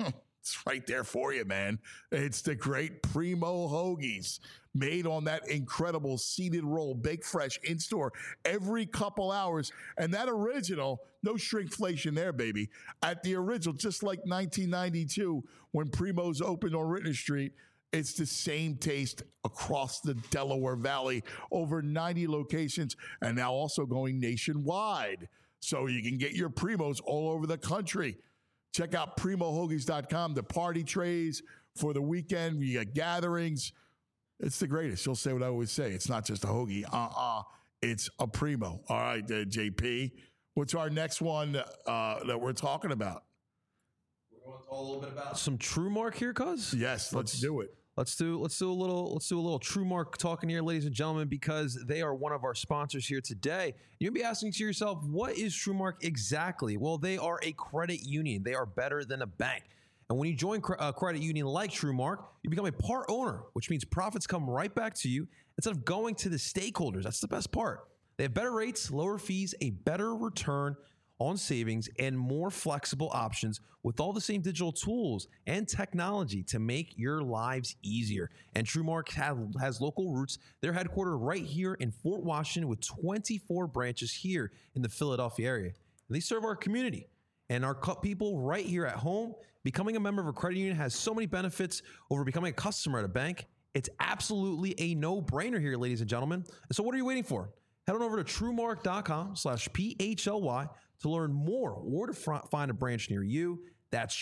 Speaker 2: It's right there for you, man. It's the great Primo Hoagies, made on that incredible seeded roll, baked fresh in store every couple hours. And that original, no shrinkflation there, baby. At the original, just like 1992 when Primo's opened on Rittner Street, it's the same taste across the Delaware Valley, over 90 locations, and now also going nationwide. So you can get your Primos all over the country. Check out PrimoHoagies.com, the party trays for the weekend. You got gatherings. It's the greatest. You'll say what I always say. It's not just a hoagie. It's a Primo. All right, JP. What's our next one that we're talking about?
Speaker 3: We're going to talk a little bit about some TrueMark here, cuz.
Speaker 2: Yes, let's do it.
Speaker 3: Let's do a little TrueMark talking here, ladies and gentlemen, because they are one of our sponsors here today. You'll be asking to yourself, what is TrueMark exactly? Well, they are a credit union. They are better than a bank. And when you join a credit union like TrueMark, you become a part owner, which means profits come right back to you instead of going to the stakeholders. That's the best part. They have better rates, lower fees, a better return on savings, and more flexible options with all the same digital tools and technology to make your lives easier. And TrueMark has local roots. They're headquartered right here in Fort Washington with 24 branches here in the Philadelphia area. And they serve our community and our people right here at home. Becoming a member of a credit union has so many benefits over becoming a customer at a bank. It's absolutely a no-brainer here, ladies and gentlemen. And so what are you waiting for? Head on over to TrueMark.com/PHLY to learn more or to find a branch near you. That's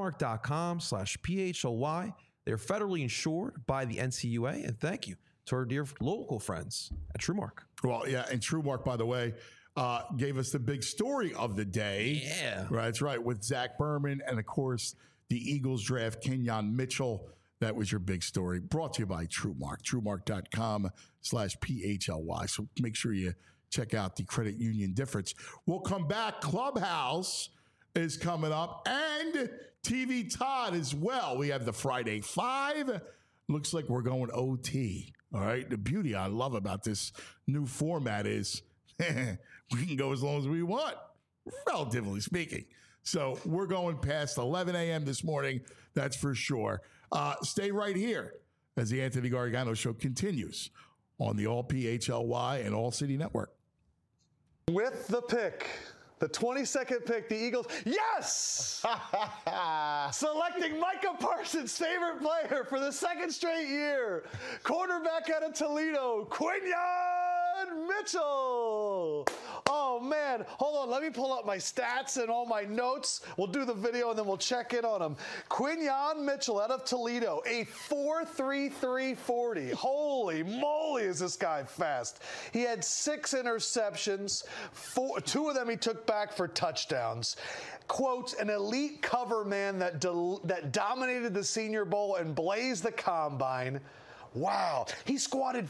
Speaker 3: TrueMark.com/PHLY. They're federally insured by the NCUA. And thank you to our dear local friends at TrueMark.
Speaker 2: Well, yeah, and TrueMark, by the way, gave us the big story of the day.
Speaker 3: Yeah.
Speaker 2: Right, that's right, with Zach Berman and, of course, the Eagles draft Kenyon Mitchell. That was your big story. Brought to you by TrueMark, TrueMark.com/PHLY. So make sure you check out the credit union difference. We'll come back. Clubhouse is coming up, and TV Todd as well. We have the Friday Five. Looks like we're going OT. All right. The beauty I love about this new format is we can go as long as we want, relatively speaking. So we're going past 11 a.m. this morning. That's for sure. Stay right here as the Anthony Gargano Show continues on the All PHLY and All City Network.
Speaker 9: With the pick, the 22nd pick, the Eagles, yes! Selecting Micah Parsons' favorite player for the second straight year, quarterback out of Toledo, Quinyon Mitchell. Oh, man. Hold on. Let me pull up my stats and all my notes. We'll do the video, and then we'll check in on him. Quinyon Mitchell out of Toledo, a 4.33 40. Holy moly, is this guy fast. He had 6 interceptions. 2 of them he took back for touchdowns. Quote, an elite cover man that dominated the Senior Bowl and blazed the combine. Wow. He squatted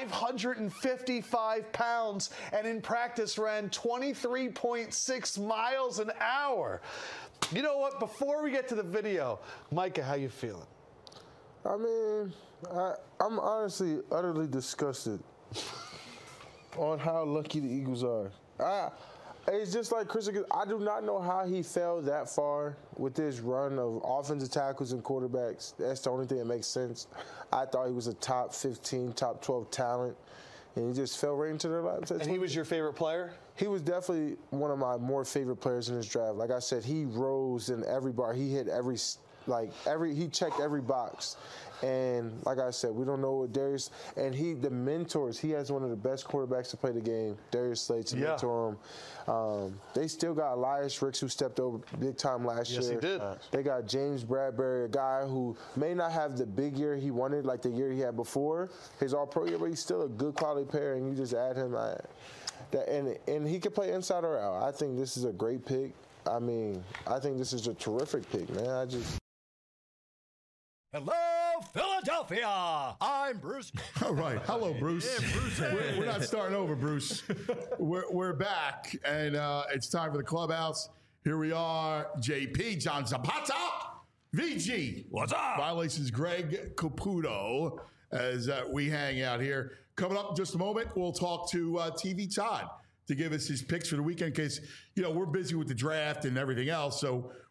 Speaker 9: 555 pounds and in practice ran 23.6 miles an hour. You know what? Before we get to the video, Micah, how you feeling?
Speaker 10: I mean, I'm honestly utterly disgusted on how lucky the Eagles are. It's just like Chris, I do not know how he fell that far with this run of offensive tackles and quarterbacks. That's the only thing that makes sense. I thought he was a top 15, top 12 talent, and he just fell right into their laps.
Speaker 9: And he was your favorite player?
Speaker 10: He was definitely one of my more favorite players in this draft. Like I said, he rose in every bar. He hit he checked every box. And like I said, we don't know what Darius, and the mentors, he has one of the best quarterbacks to play the game, Darius Slade, to mentor him. They still got Elias Ricks, who stepped over big time last year.
Speaker 9: Yes, he did.
Speaker 10: They got James Bradbury, a guy who may not have the big year he wanted, like the year he had before, his all-pro year, but he's still a good quality player, and you just add him. And he can play inside or out. I think this is a great pick. I mean, I think this is a terrific pick, man.
Speaker 1: Hello, Philadelphia. I'm Bruce.
Speaker 2: All right. Hello, Bruce. Yeah, Bruce. We're not starting over, Bruce. We're back, and it's time for the Clubhouse. Here we are. JP, John Zapata, VG.
Speaker 6: What's up?
Speaker 2: Violations, Greg Caputo, as we hang out here. Coming up in just a moment, we'll talk to TV Todd to give us his picks for the weekend in case, we're busy with the draft and everything else. So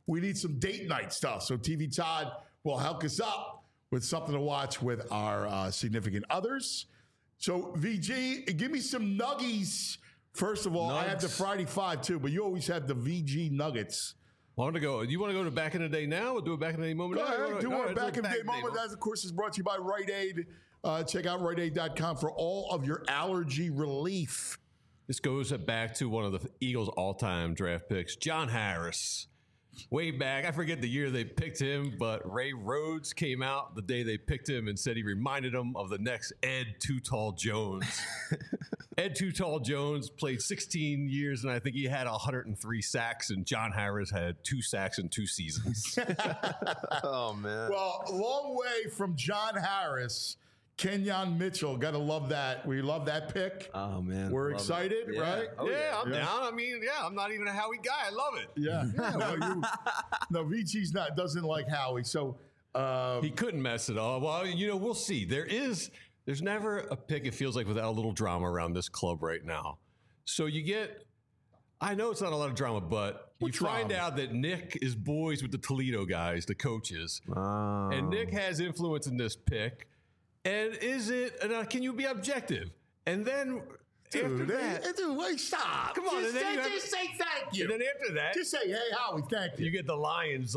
Speaker 2: we need some date night stuff. So TV Todd will help us up with something to watch with our significant others. So VG, give me some nuggies. First of all, I have the Friday Five too, but you always have the VG Nuggets.
Speaker 11: I want to go. Do you want to go to back in the day now or do a back in the day moment?
Speaker 2: Go ahead. Do a back in the day
Speaker 11: moment.
Speaker 2: moment. That, of course, is brought to you by Rite Aid. Check out RiteAid.com for all of your allergy relief.
Speaker 11: This goes back to one of the Eagles' all-time draft picks, John Harris. Way back, I forget the year they picked him, but Ray Rhodes came out the day they picked him and said he reminded him of the next Ed Too Tall Jones. Ed Too Tall Jones played 16 years, and I think he had 103 sacks, and John Harris had 2 sacks in 2 seasons.
Speaker 3: Oh, man.
Speaker 2: Well, a long way from John Harris. Kenyon Mitchell, gotta love that. We love that pick.
Speaker 3: Oh man,
Speaker 2: we're excited, right?
Speaker 11: Oh, yeah, I'm down. I mean, I'm not even a Howie guy. I love it.
Speaker 2: Yeah. Well, no, VG's doesn't like Howie, so
Speaker 11: he couldn't mess it up. Well, we'll see. There's never a pick. It feels like without a little drama around this club right now. So you get. I know it's not a lot of drama, but you find out that Nick is boys with the Toledo guys, the coaches, and Nick has influence in this pick. And is it? Can you be objective? And then after that,
Speaker 2: wait, stop!
Speaker 11: Come on,
Speaker 2: just say thank you.
Speaker 11: And then after that,
Speaker 2: just say, "Hey, Howie, thank you."
Speaker 11: You get the Lions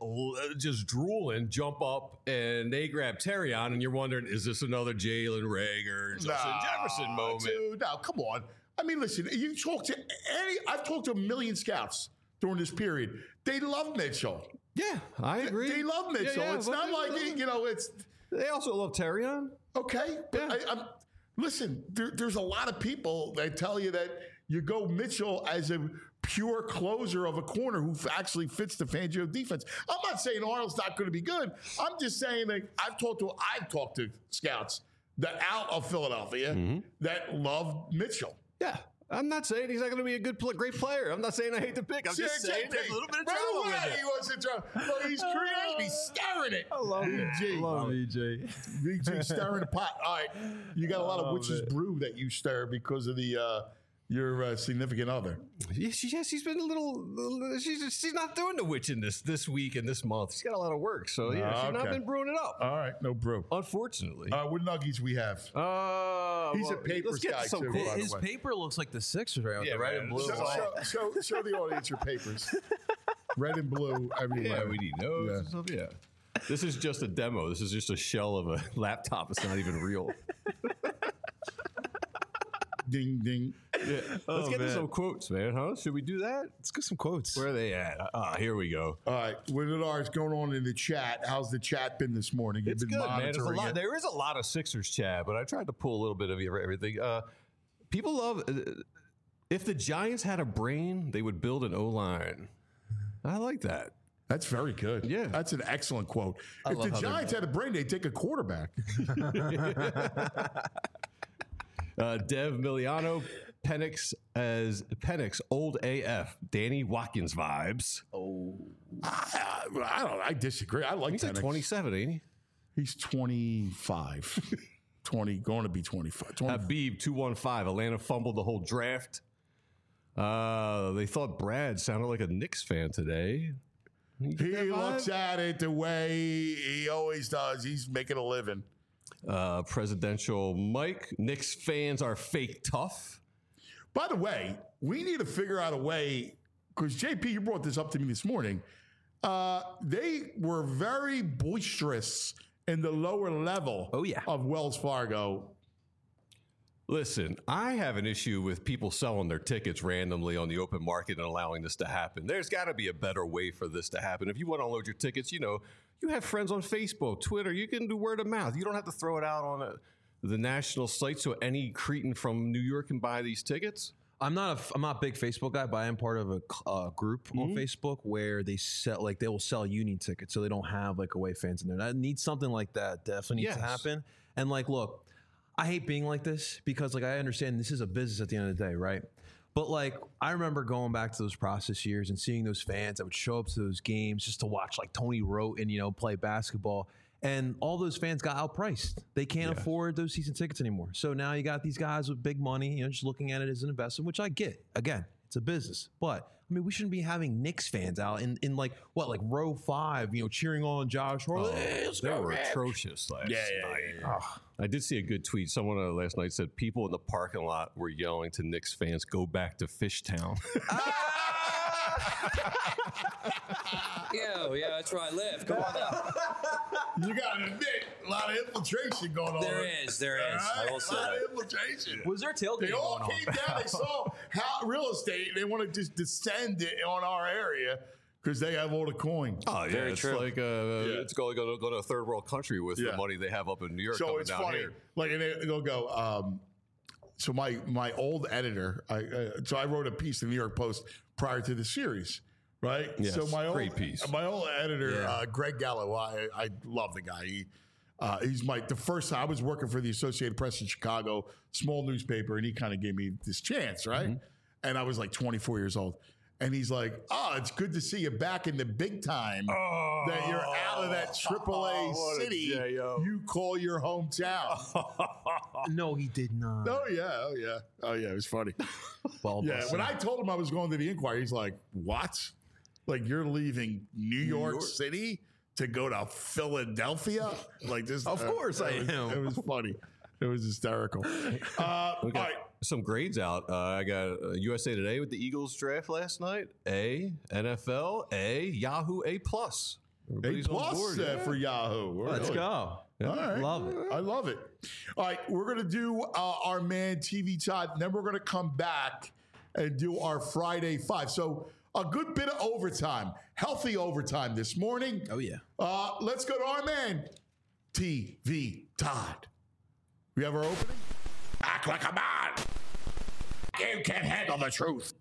Speaker 11: just drooling, jump up, and they grab Terrion, and you're wondering, is this another Jalen Reagor, Justin Jefferson moment?
Speaker 2: Dude, no, come on. I mean, listen, you talk to I've talked to a million scouts during this period. They love Mitchell.
Speaker 11: Yeah, I agree.
Speaker 2: They love Mitchell. It's not like it's.
Speaker 11: They also love Terrion.
Speaker 2: Okay, but listen, there's a lot of people that tell you that you go Mitchell as a pure closer of a corner who actually fits the Fangio defense. I'm not saying Arnold's not going to be good. I'm just saying that I've talked to scouts that out of Philadelphia that love Mitchell.
Speaker 11: Yeah. I'm not saying he's not going to be a great player. I'm not saying I hate the pick. I'm just saying there's a little bit of drama with it.
Speaker 2: He wasn't drama. Well, he's creative. He's stirring it.
Speaker 3: I love VG. Love VG.
Speaker 2: VG stirring the pot. All right. You got a lot of witch's brew that you stir because of your significant other.
Speaker 11: She's been a little. She's not doing the witching this week and this month. She's got a lot of work, so she's not been brewing it up.
Speaker 2: All right, no brew.
Speaker 11: Unfortunately.
Speaker 2: What nuggies we have? He's a papers guy too.
Speaker 3: His paper looks like the Sixers right with the red and blue.
Speaker 2: Show the audience your papers. Red and blue everywhere.
Speaker 11: Yeah, we need those and stuff. Yeah. This is just a demo. This is just a shell of a laptop. It's not even real.
Speaker 2: Ding, ding.
Speaker 11: Yeah. Let's get to some quotes, man, huh? Should we do that?
Speaker 3: Let's get some quotes.
Speaker 11: Where are they at? Here we go.
Speaker 2: All right. What is going on in the chat? How's the chat been this morning?
Speaker 11: It's good, man. There is a lot of Sixers chat, but I tried to pull a little bit of everything. People love... if the Giants had a brain, they would build an O-line. I like that.
Speaker 2: That's very good.
Speaker 11: Yeah.
Speaker 2: That's an excellent quote. If the Giants had a brain, they'd take a quarterback.
Speaker 11: Dev Miliano, Penix, old AF, Danny Watkins vibes.
Speaker 2: Oh, I don't know. I disagree. I like
Speaker 11: He's
Speaker 2: Penix.
Speaker 11: like 27, ain't he?
Speaker 2: He's 25. 20, going to be 25.
Speaker 11: Habib 215. Atlanta fumbled the whole draft. They thought Brad sounded like a Knicks fan today.
Speaker 2: He looks at it the way he always does. He's making a living.
Speaker 11: Presidential Mike, Knicks fans are fake tough.
Speaker 2: By the way, we need to figure out a way, because JP, you brought this up to me this morning. They were very boisterous in the lower level of Wells Fargo.
Speaker 11: Listen, I have an issue with people selling their tickets randomly on the open market and allowing this to happen. There's got to be a better way for this to happen. If you want to unload your tickets, you have friends on Facebook, Twitter. You can do word of mouth. You don't have to throw it out on the national site so any cretin from New York can buy these tickets.
Speaker 3: I'm not a big Facebook guy, but I am part of a group on Facebook where they will sell union tickets, so they don't have away fans in there. That needs something like that. Definitely needs to happen. And look, I hate being like this because I understand this is a business at the end of the day, right? But I remember going back to those process years and seeing those fans that would show up to those games just to watch Tony Roten, play basketball. And all those fans got outpriced. They can't afford those season tickets anymore. So now you got these guys with big money, just looking at it as an investment, which I get. Again, It's a business. But I mean, we shouldn't be having Knicks fans out in like row 5, cheering on Josh Hart.
Speaker 11: They were atrocious last night. I did see a good tweet. Someone last night said people in the parking lot were yelling to Knicks fans, "Go back to Fishtown."
Speaker 12: Yeah, that's where I live. Come on now.
Speaker 2: You got to admit, a lot of infiltration going on.
Speaker 12: There is. I will say
Speaker 2: a lot
Speaker 12: that.
Speaker 2: of infiltration.
Speaker 3: Was there tailgate
Speaker 2: They all
Speaker 3: going on?
Speaker 2: came down. They saw how real estate. They want to just descend it on our area because they have all the coin.
Speaker 11: Oh, yeah.
Speaker 12: Very
Speaker 11: it's
Speaker 12: true.
Speaker 11: like it's going to go to a third world country with the money they have up in New York
Speaker 2: So
Speaker 11: coming
Speaker 2: it's
Speaker 11: down
Speaker 2: funny.
Speaker 11: here.
Speaker 2: Like, and they'll go, so my old editor, so I wrote a piece in the New York Post prior to the series, right?
Speaker 11: Yes,
Speaker 2: So
Speaker 11: great piece.
Speaker 2: My old editor, Greg Gallo, I love the guy. He's the first time I was working for the Associated Press in Chicago, small newspaper, and he kind of gave me this chance, right? Mm-hmm. And I was like 24 years old. And he's like, it's good to see you back in the big time. That you're out of that AAA city you call your hometown.
Speaker 3: No, he did not.
Speaker 2: Oh, yeah. It was funny.
Speaker 3: Well,
Speaker 2: when I told him I was going to the Inquirer, he's like, what? Like, you're leaving New York City to go to Philadelphia? Like this?
Speaker 11: Of course I am.
Speaker 2: It was funny. It was hysterical. All right.
Speaker 11: Some grades out. I got USA Today with the Eagles draft last night. A. NFL. A. Yahoo. A+. Everybody's on board,
Speaker 2: for Yahoo.
Speaker 3: Let's go.
Speaker 2: Yeah. All right.
Speaker 3: Love it.
Speaker 2: I love it. All right. We're going to do our man TV Todd. And then we're going to come back and do our Friday 5. So a good bit of overtime. Healthy overtime this morning.
Speaker 3: Oh, yeah.
Speaker 2: Let's go to our man TV Todd. We have our opening?
Speaker 6: Act like a man. You can't handle the truth.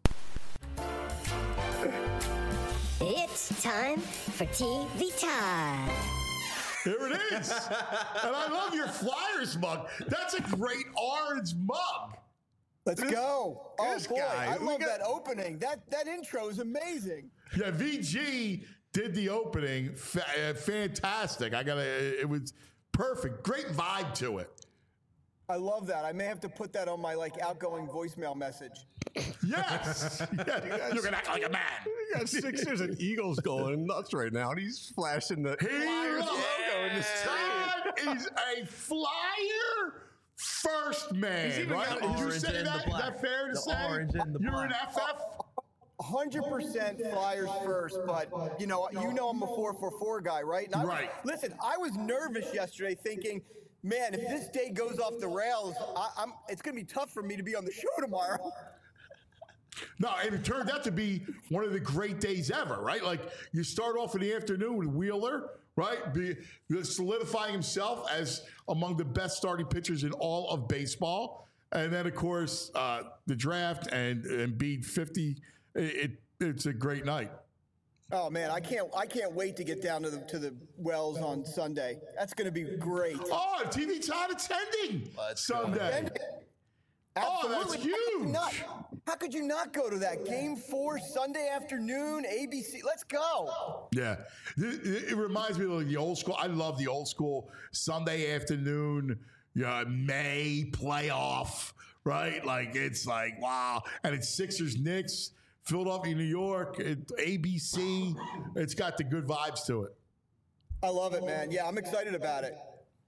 Speaker 13: It's time for TV time.
Speaker 2: Here it is. And I love your Flyers mug. That's a great orange mug.
Speaker 14: Let's go. Oh, boy.
Speaker 2: Guy.
Speaker 14: I love that opening. That intro is amazing.
Speaker 2: Yeah, VG did the opening. Fantastic. It was perfect. Great vibe to it.
Speaker 14: I love that. I may have to put that on my outgoing voicemail message.
Speaker 2: Yes.
Speaker 6: You can act like a man.
Speaker 11: You got Sixers and Eagles going nuts right now, and he's flashing the Flyers logo in the screen.
Speaker 2: Todd is a Flyer first man, right? Did you say that? Is that fair to say? You're an FF?
Speaker 14: 100% Flyers first, but you know I'm a 4-4-4 guy, right? And listen, I was nervous yesterday thinking, man, if this day goes off the rails, it's going to be tough for me to be on the show tomorrow.
Speaker 2: No, and it turned out to be one of the great days ever, right? Like, you start off in the afternoon with Wheeler, right? Solidifying himself as among the best starting pitchers in all of baseball. And then, of course, the draft and Embiid 50. It's a great night.
Speaker 14: Oh man, I can't wait to get down to the Wells on Sunday. That's going to be great.
Speaker 2: Oh, TV Todd attending Sunday. Oh, that's huge.
Speaker 14: How could you not go to that? Game 4, Sunday afternoon, ABC. Let's go.
Speaker 2: Yeah. It reminds me of the old school. I love the old school Sunday afternoon, May playoff, right? Like, it's like, wow. And it's Sixers, Knicks, Philadelphia, New York, ABC. It's got the good vibes to it.
Speaker 14: I love it, man. Yeah, I'm excited about it.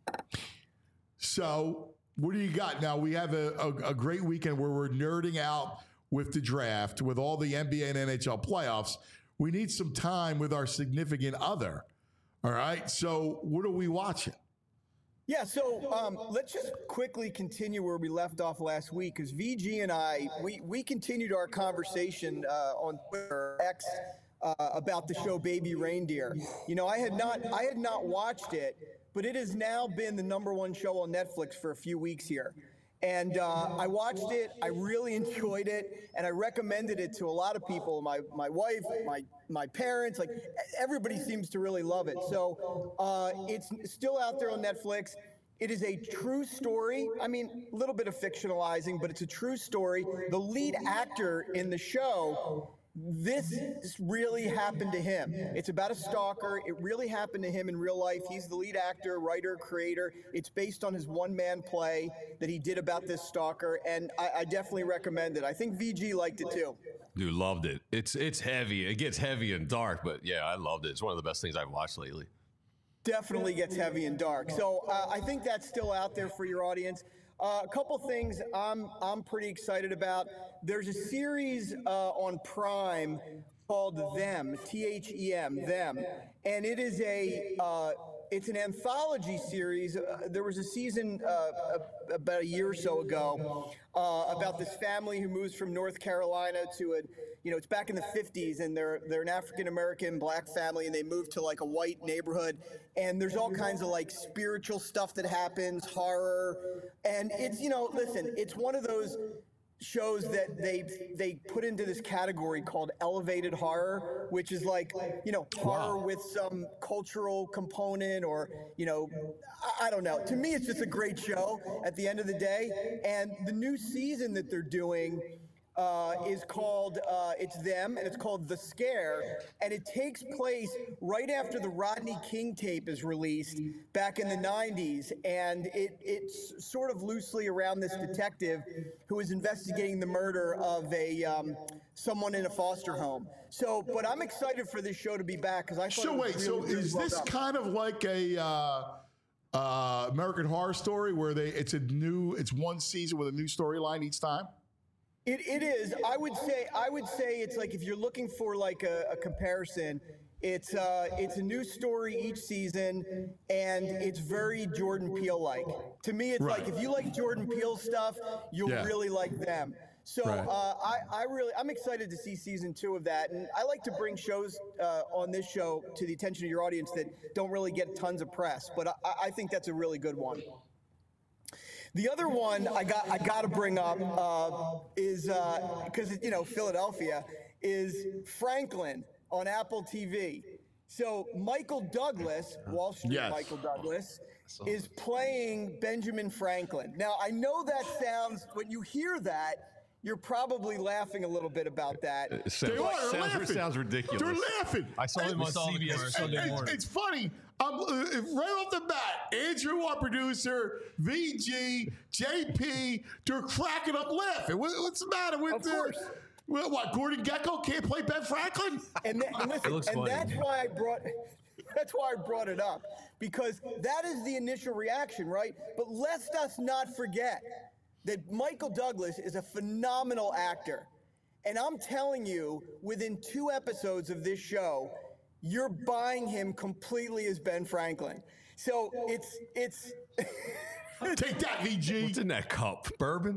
Speaker 2: So, what do you got now? We have a great weekend where we're nerding out with the draft, with all the NBA and NHL playoffs. We need some time with our significant other. All right. So what are we watching?
Speaker 14: Yeah, so let's just quickly continue where we left off last week, because VG and I, we continued our conversation on Twitter X about the show Baby Reindeer. You know, I had not watched it, but it has now been the #1 show on Netflix for a few weeks here. And I watched it, I really enjoyed it, and I recommended it to a lot of people, my wife, my parents, like everybody seems to really love it. So it's still out there on Netflix. It is a true story. I mean, a little bit of fictionalizing, but it's a true story. The lead actor in the show this really happened to him. It's about a stalker. It really happened to him in real life. He's the lead actor, writer, creator. It's based on his one-man play that he did about this stalker, and I definitely recommend it. I think VG liked it too.
Speaker 11: Dude, loved it. It's heavy. It gets heavy and dark, but yeah, I loved it. It's one of the best things I've watched lately.
Speaker 14: Definitely gets heavy and dark. So I think that's still out there for your audience. A couple things I'm pretty excited about. There's a series on Prime called Them, T-H-E-M, Them, and it is it's an anthology series. There was a season about a year or so ago about this family who moves from North Carolina to it's back in the 50s, and they're an African-American black family, and they move to like a white neighborhood, and there's all kinds of like spiritual stuff that happens, horror, and it's, listen, it's one of those shows that they put into this category called elevated horror, which is like, horror with some cultural component, or, I don't know. To me, it's just a great show at the end of the day. And the new season that they're doing is called, it's Them, and it's called The Scare, and it takes place right after the Rodney King tape is released back in the 90s, and it's sort of loosely around this detective who is investigating the murder of someone in a foster home. So, but I'm excited for this show to be back, because I thought it was really, really
Speaker 2: is
Speaker 14: well
Speaker 2: this
Speaker 14: done.
Speaker 2: kind of like a American Horror Story where it's one season with a new storyline each time?
Speaker 14: It is. I would say it's like, if you're looking for like a comparison, it's a new story each season, and it's very Jordan Peele-like. To me, it's like, if you like Jordan Peele stuff, you'll really like Them. So I'm excited to see season 2 of that, and I like to bring shows on this show to the attention of your audience that don't really get tons of press, but I think that's a really good one. The other one I got to bring up is because Philadelphia, is Franklin on Apple TV. So Michael Douglas, Wall Street Michael Douglas, is playing Benjamin Franklin. Now I know that sounds, when you hear that, you're probably laughing a little bit about that.
Speaker 11: It sounds ridiculous.
Speaker 2: They're laughing.
Speaker 11: I saw him on CBS Sunday morning.
Speaker 2: It's funny. Right off the bat, Andrew, our producer, VG, JP, they're cracking up laughing. What's the matter with what? Gordon Gekko can't play Ben Franklin?
Speaker 14: And listen, that's why I brought it up, because that is the initial reaction, right? But let us not forget that Michael Douglas is a phenomenal actor. And I'm telling you, within 2 episodes of this show, you're buying him completely as Ben Franklin. So it's
Speaker 2: Take that, VG.
Speaker 11: What's in that cup? Bourbon?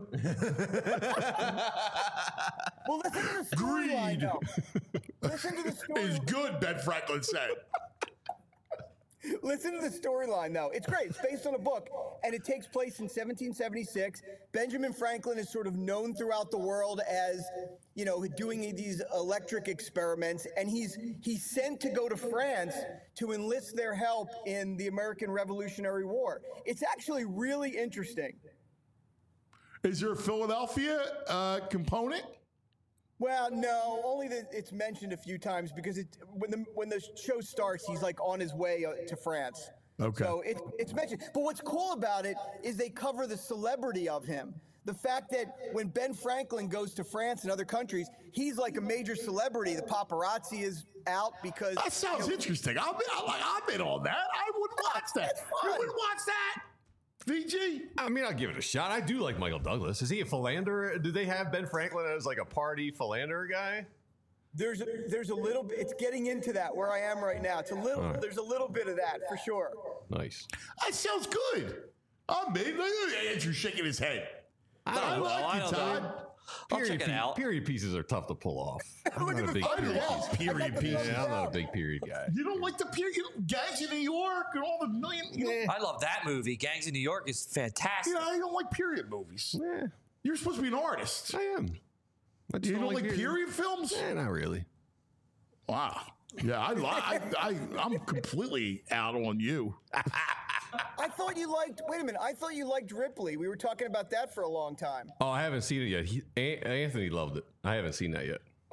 Speaker 14: Well, listen to the storyline, though. Listen to the story.
Speaker 2: It's good, Ben Franklin said.
Speaker 14: Listen to the storyline, though. It's great. It's based on a book, and it takes place in 1776. Benjamin Franklin is sort of known throughout the world as, doing these electric experiments, and he's sent to go to France to enlist their help in the American Revolutionary War. It's actually really interesting.
Speaker 2: Is there a Philadelphia component?
Speaker 14: Well, no, only that it's mentioned a few times, because when the show starts, he's like on his way to France.
Speaker 2: Okay.
Speaker 14: So it's mentioned. But what's cool about it is they cover the celebrity of him. The fact that when Ben Franklin goes to France and other countries, he's like a major celebrity. The paparazzi is out because
Speaker 2: that sounds interesting. I'm in on that. I would watch that. You would watch that. VG?
Speaker 11: I mean, I'll give it a shot. I do like Michael Douglas. Is he a philanderer? Do they have Ben Franklin as like a party philanderer guy?
Speaker 14: There's a little bit. It's getting into that where I am right now. It's a little. Right. There's a little bit of that for sure.
Speaker 11: Nice.
Speaker 2: That sounds good. I'm in. Look at Andrew shaking his head. I like it, Todd.
Speaker 11: Period pieces are tough to pull off. I'm not a big
Speaker 2: period pieces.
Speaker 11: Yeah, I'm not a big period guy.
Speaker 2: You don't like the period? Gangs in New York and all the million.
Speaker 12: I love that movie. Gangs in New York is fantastic.
Speaker 2: Yeah, I don't like period movies.
Speaker 11: Yeah.
Speaker 2: You're supposed to be an artist.
Speaker 11: I am.
Speaker 2: You don't like period films?
Speaker 11: Not really.
Speaker 2: Wow. Yeah, I'm completely out on you.
Speaker 14: I thought you liked. Wait a minute. I thought you liked Ripley. We were talking about that for a long time.
Speaker 11: Oh, I haven't seen it yet. Anthony loved it. I haven't seen that yet.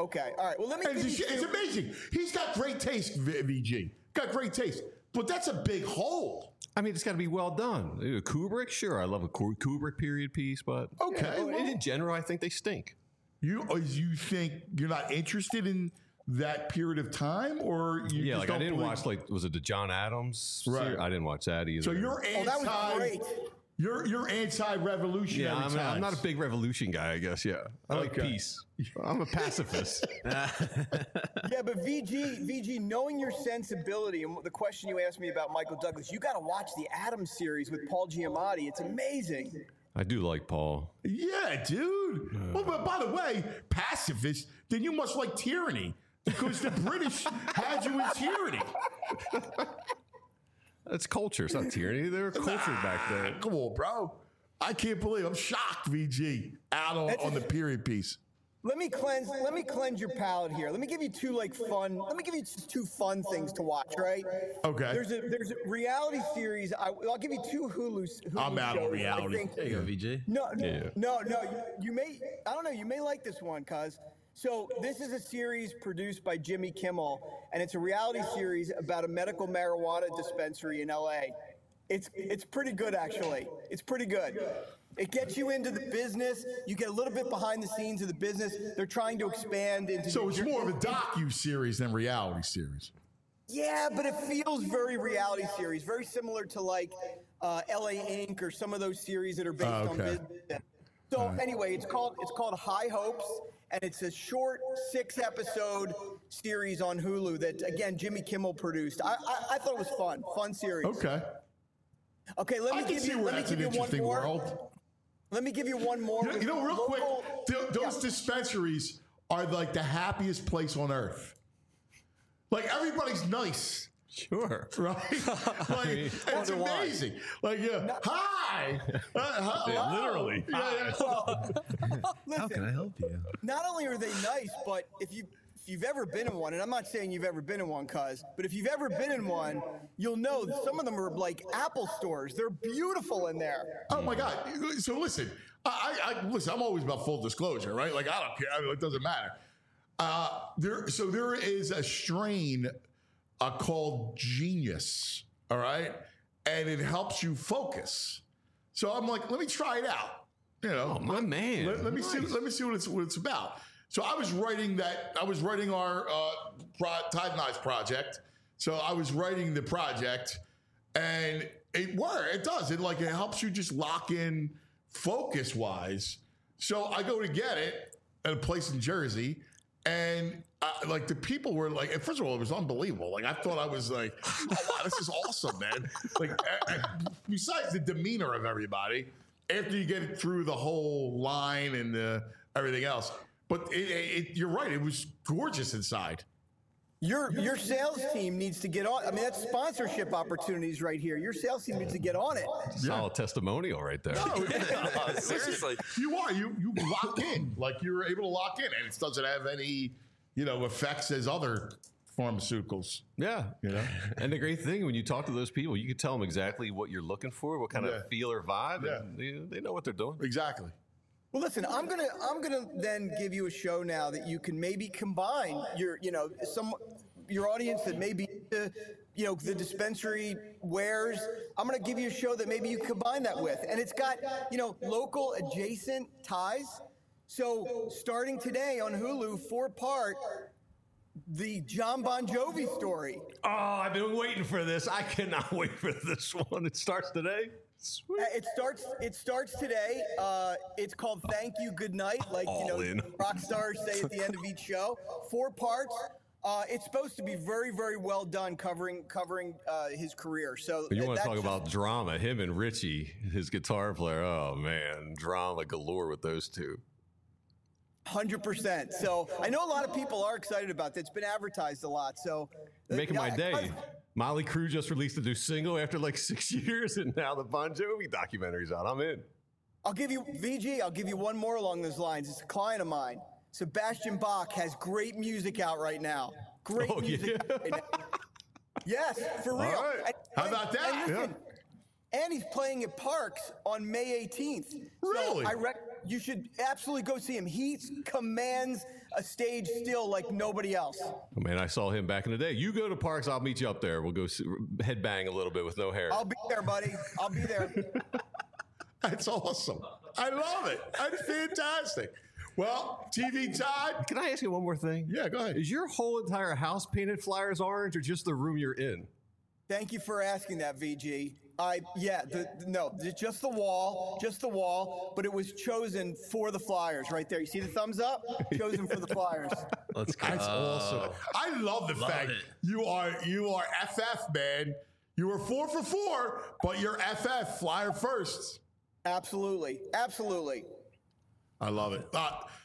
Speaker 14: Okay. All right. Well, let me.
Speaker 2: It's amazing. He's got great taste, VG. Got great taste, but that's a big hole.
Speaker 11: I mean, it's got to be well done. Kubrick, sure, I love a Kubrick period piece, but in general, I think they stink.
Speaker 2: You think you're not interested in that period of time, or you just
Speaker 11: like
Speaker 2: don't
Speaker 11: I didn't
Speaker 2: believe-
Speaker 11: watch was it the John Adams?
Speaker 2: Right.
Speaker 11: I didn't watch that either.
Speaker 2: So you're anti.
Speaker 14: that was great.
Speaker 2: You're anti-revolutionary.
Speaker 11: Yeah, I'm not a big revolution guy, I guess. Yeah, I like peace. I'm a pacifist.
Speaker 14: Yeah, but VG, knowing your sensibility and the question you asked me about Michael Douglas, you got to watch the Adams series with Paul Giamatti. It's amazing.
Speaker 11: I do like Paul.
Speaker 2: Yeah, dude. Well, but by the way, pacifist, then you must like tyranny because the British had you in tyranny.
Speaker 11: That's culture. It's not tyranny. They were cultured back then.
Speaker 2: Come on, bro. I can't believe I'm shocked, VG, out on the period piece.
Speaker 14: Let me cleanse your palate here. Let me give you two two fun things to watch, right?
Speaker 2: Okay.
Speaker 14: There's a reality series. I'll give you two Hulu
Speaker 2: I'm out
Speaker 14: shows,
Speaker 2: on reality.
Speaker 14: I think.
Speaker 3: There you go, VJ.
Speaker 14: No. You may. I don't know. You may like this one, cuz. So this is a series produced by Jimmy Kimmel, and it's a reality series about a medical marijuana dispensary in LA. It's pretty good, actually. It's pretty good. It gets you into the business. You get a little bit behind the scenes of the business. They're trying to expand into.
Speaker 2: So it's more of a docu-series than reality series.
Speaker 14: Yeah, but it feels very reality series, very similar to like LA Inc. or some of those series that are based on business. So anyway, it's called High Hopes, and it's a short 6-episode series on Hulu that again Jimmy Kimmel produced. I thought it was fun series. Okay, let me give you one more.
Speaker 2: World.
Speaker 14: Let me give you one more.
Speaker 2: You know, real quick, those dispensaries are like the happiest place on earth. Like everybody's nice.
Speaker 11: Sure.
Speaker 2: Right? Like, it's amazing. Like, hi.
Speaker 11: Literally.
Speaker 14: Listen,
Speaker 3: How can I help you?
Speaker 14: Not only are they nice, but if you've ever been in one, and I'm not saying you've ever been in one, cuz, but if you've ever been in one, you'll know that some of them are like Apple stores. They're beautiful in there.
Speaker 2: Oh my God! So listen, listen. I'm always about full disclosure, right? Like I don't care. I mean, it doesn't matter. There is a strain called Genius, all right, and it helps you focus. So I'm like, let me try it out. You know,
Speaker 11: my man.
Speaker 2: Let me see. Let me see what it's about. So I was writing our Tide and Eyes project. So I was writing the project, and it worked. It does. It helps you just lock in focus wise. So I go to get it at a place in Jersey, and the people were like, first of all, it was unbelievable. Like I thought I was like, oh, wow, this is awesome, man. Like besides the demeanor of everybody, after you get through the whole line and everything else. But you're right. It was gorgeous inside.
Speaker 14: Your sales team needs to get on. I mean, that's sponsorship opportunities right here. Your sales team needs to get on it.
Speaker 11: Solid testimonial right there.
Speaker 2: No, seriously, you are. You lock in. Like you're able to lock in, and it doesn't have any, effects as other pharmaceuticals.
Speaker 11: Yeah, And the great thing when you talk to those people, you can tell them exactly what you're looking for, what kind of feel or vibe, and they know what they're doing.
Speaker 2: Exactly.
Speaker 14: Well, listen, I'm gonna then give you a show now that you can maybe combine your audience that may be the dispensary wares. I'm gonna give you a show that maybe you combine that with, and it's got local adjacent ties. So starting today on Hulu, 4-part, the John Bon Jovi story.
Speaker 11: Oh, I've been waiting for this. I cannot wait for this one. It starts today. Sweet.
Speaker 14: It starts today. It's called Thank You, Good Night, like rock stars say at the end of each show. 4 parts. It's supposed to be very, very well done, covering his career. So
Speaker 11: but you want to talk about drama? Him and Richie, his guitar player. Oh man, drama galore with those two.
Speaker 14: 100%. So I know a lot of people are excited about that. It's been advertised a lot. So
Speaker 11: making my day. Molly Crew just released a new single after 6 years, and now the Bon Jovi documentary's out. I'm in.
Speaker 14: I'll give you one more along those lines. It's a client of mine. Sebastian Bach has great music out right now. Great music out right now. Yes, for real.
Speaker 2: All right. How about that?
Speaker 14: And he's playing at Parks on May 18th.
Speaker 2: Really?
Speaker 14: So You should absolutely go see him. He commands a stage still like nobody else.
Speaker 11: Oh, man, I saw him back in the day. You go to Parks, I'll meet you up there. We'll go headbang a little bit with no hair.
Speaker 14: I'll be there, buddy. I'll be there.
Speaker 2: That's awesome. I love it. That's fantastic. Well, TV Todd.
Speaker 11: Can I ask you one more thing?
Speaker 2: Yeah, go ahead.
Speaker 11: Is your whole entire house painted Flyers orange or just the room you're in?
Speaker 14: Thank you for asking that, VG. Just the wall, but it was chosen for the Flyers right there. You see the thumbs up? Chosen for the Flyers.
Speaker 3: Let's go.
Speaker 2: That's awesome. I love the fact you are FF, man. You were 4 for 4, but you're FF, Flyer first.
Speaker 14: Absolutely.
Speaker 2: I love it.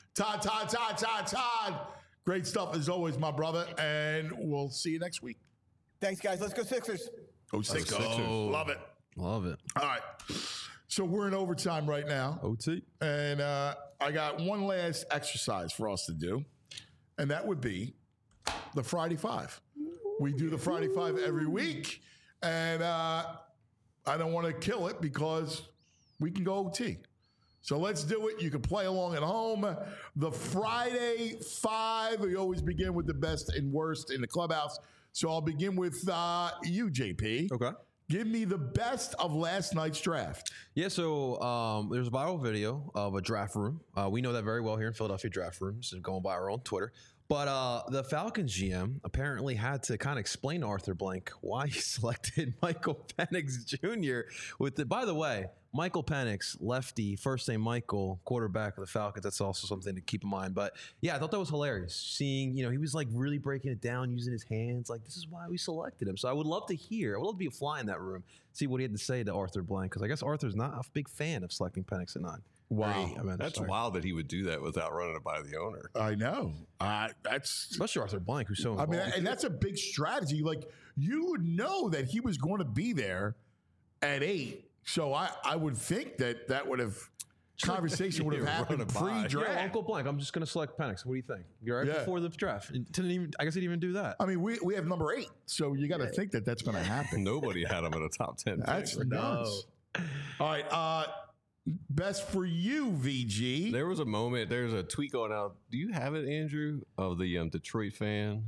Speaker 2: Todd. Great stuff as always, my brother. And we'll see you next week.
Speaker 14: Thanks, guys. Let's go Sixers.
Speaker 2: Go Sixers. Love it.
Speaker 3: Love it.
Speaker 2: All right. So we're in overtime right now.
Speaker 3: OT.
Speaker 2: And I got one last exercise for us to do. And that would be the Friday Five. We do the Friday Five every week. And I don't want to kill it because we can go OT. So let's do it. You can play along at home. The Friday Five, we always begin with the best and worst in the clubhouse. So I'll begin with you, JP.
Speaker 3: Okay.
Speaker 2: Give me the best of last night's draft.
Speaker 3: Yeah, so there's a viral video of a draft room. We know that very well here in Philadelphia, draft rooms, and going viral on Twitter. But the Falcons GM apparently had to kind of explain to Arthur Blank why he selected Michael Penix Jr. By the way, Michael Penix, lefty, first name Michael, quarterback of the Falcons. That's also something to keep in mind. But yeah, I thought that was hilarious. Seeing, he was like really breaking it down, using his hands. Like, this is why we selected him. So I would love to be a fly in that room, see what he had to say to Arthur Blank. Because I guess Arthur's not a big fan of selecting Penix at 9.
Speaker 2: Wow.
Speaker 11: That's wild that he would do that without running it by the owner.
Speaker 2: I know. That's
Speaker 3: especially Arthur Blank, who's so involved.
Speaker 2: and that's a big strategy. Like, you would know that he was going to be there at 8. So I would think that would have conversation would have happened pre-draft.
Speaker 3: Yeah, Uncle Blank, I'm just going to select Penix. What do you think? You're right before the draft. I guess he didn't even do that.
Speaker 2: I mean, we have number 8, so you got to think that that's going to happen.
Speaker 11: Nobody had him in a top 10.
Speaker 2: That's nuts. All right. Best for you, VG.
Speaker 11: There was a moment. There's a tweet going out. Do you have it, Andrew, of the Detroit fan?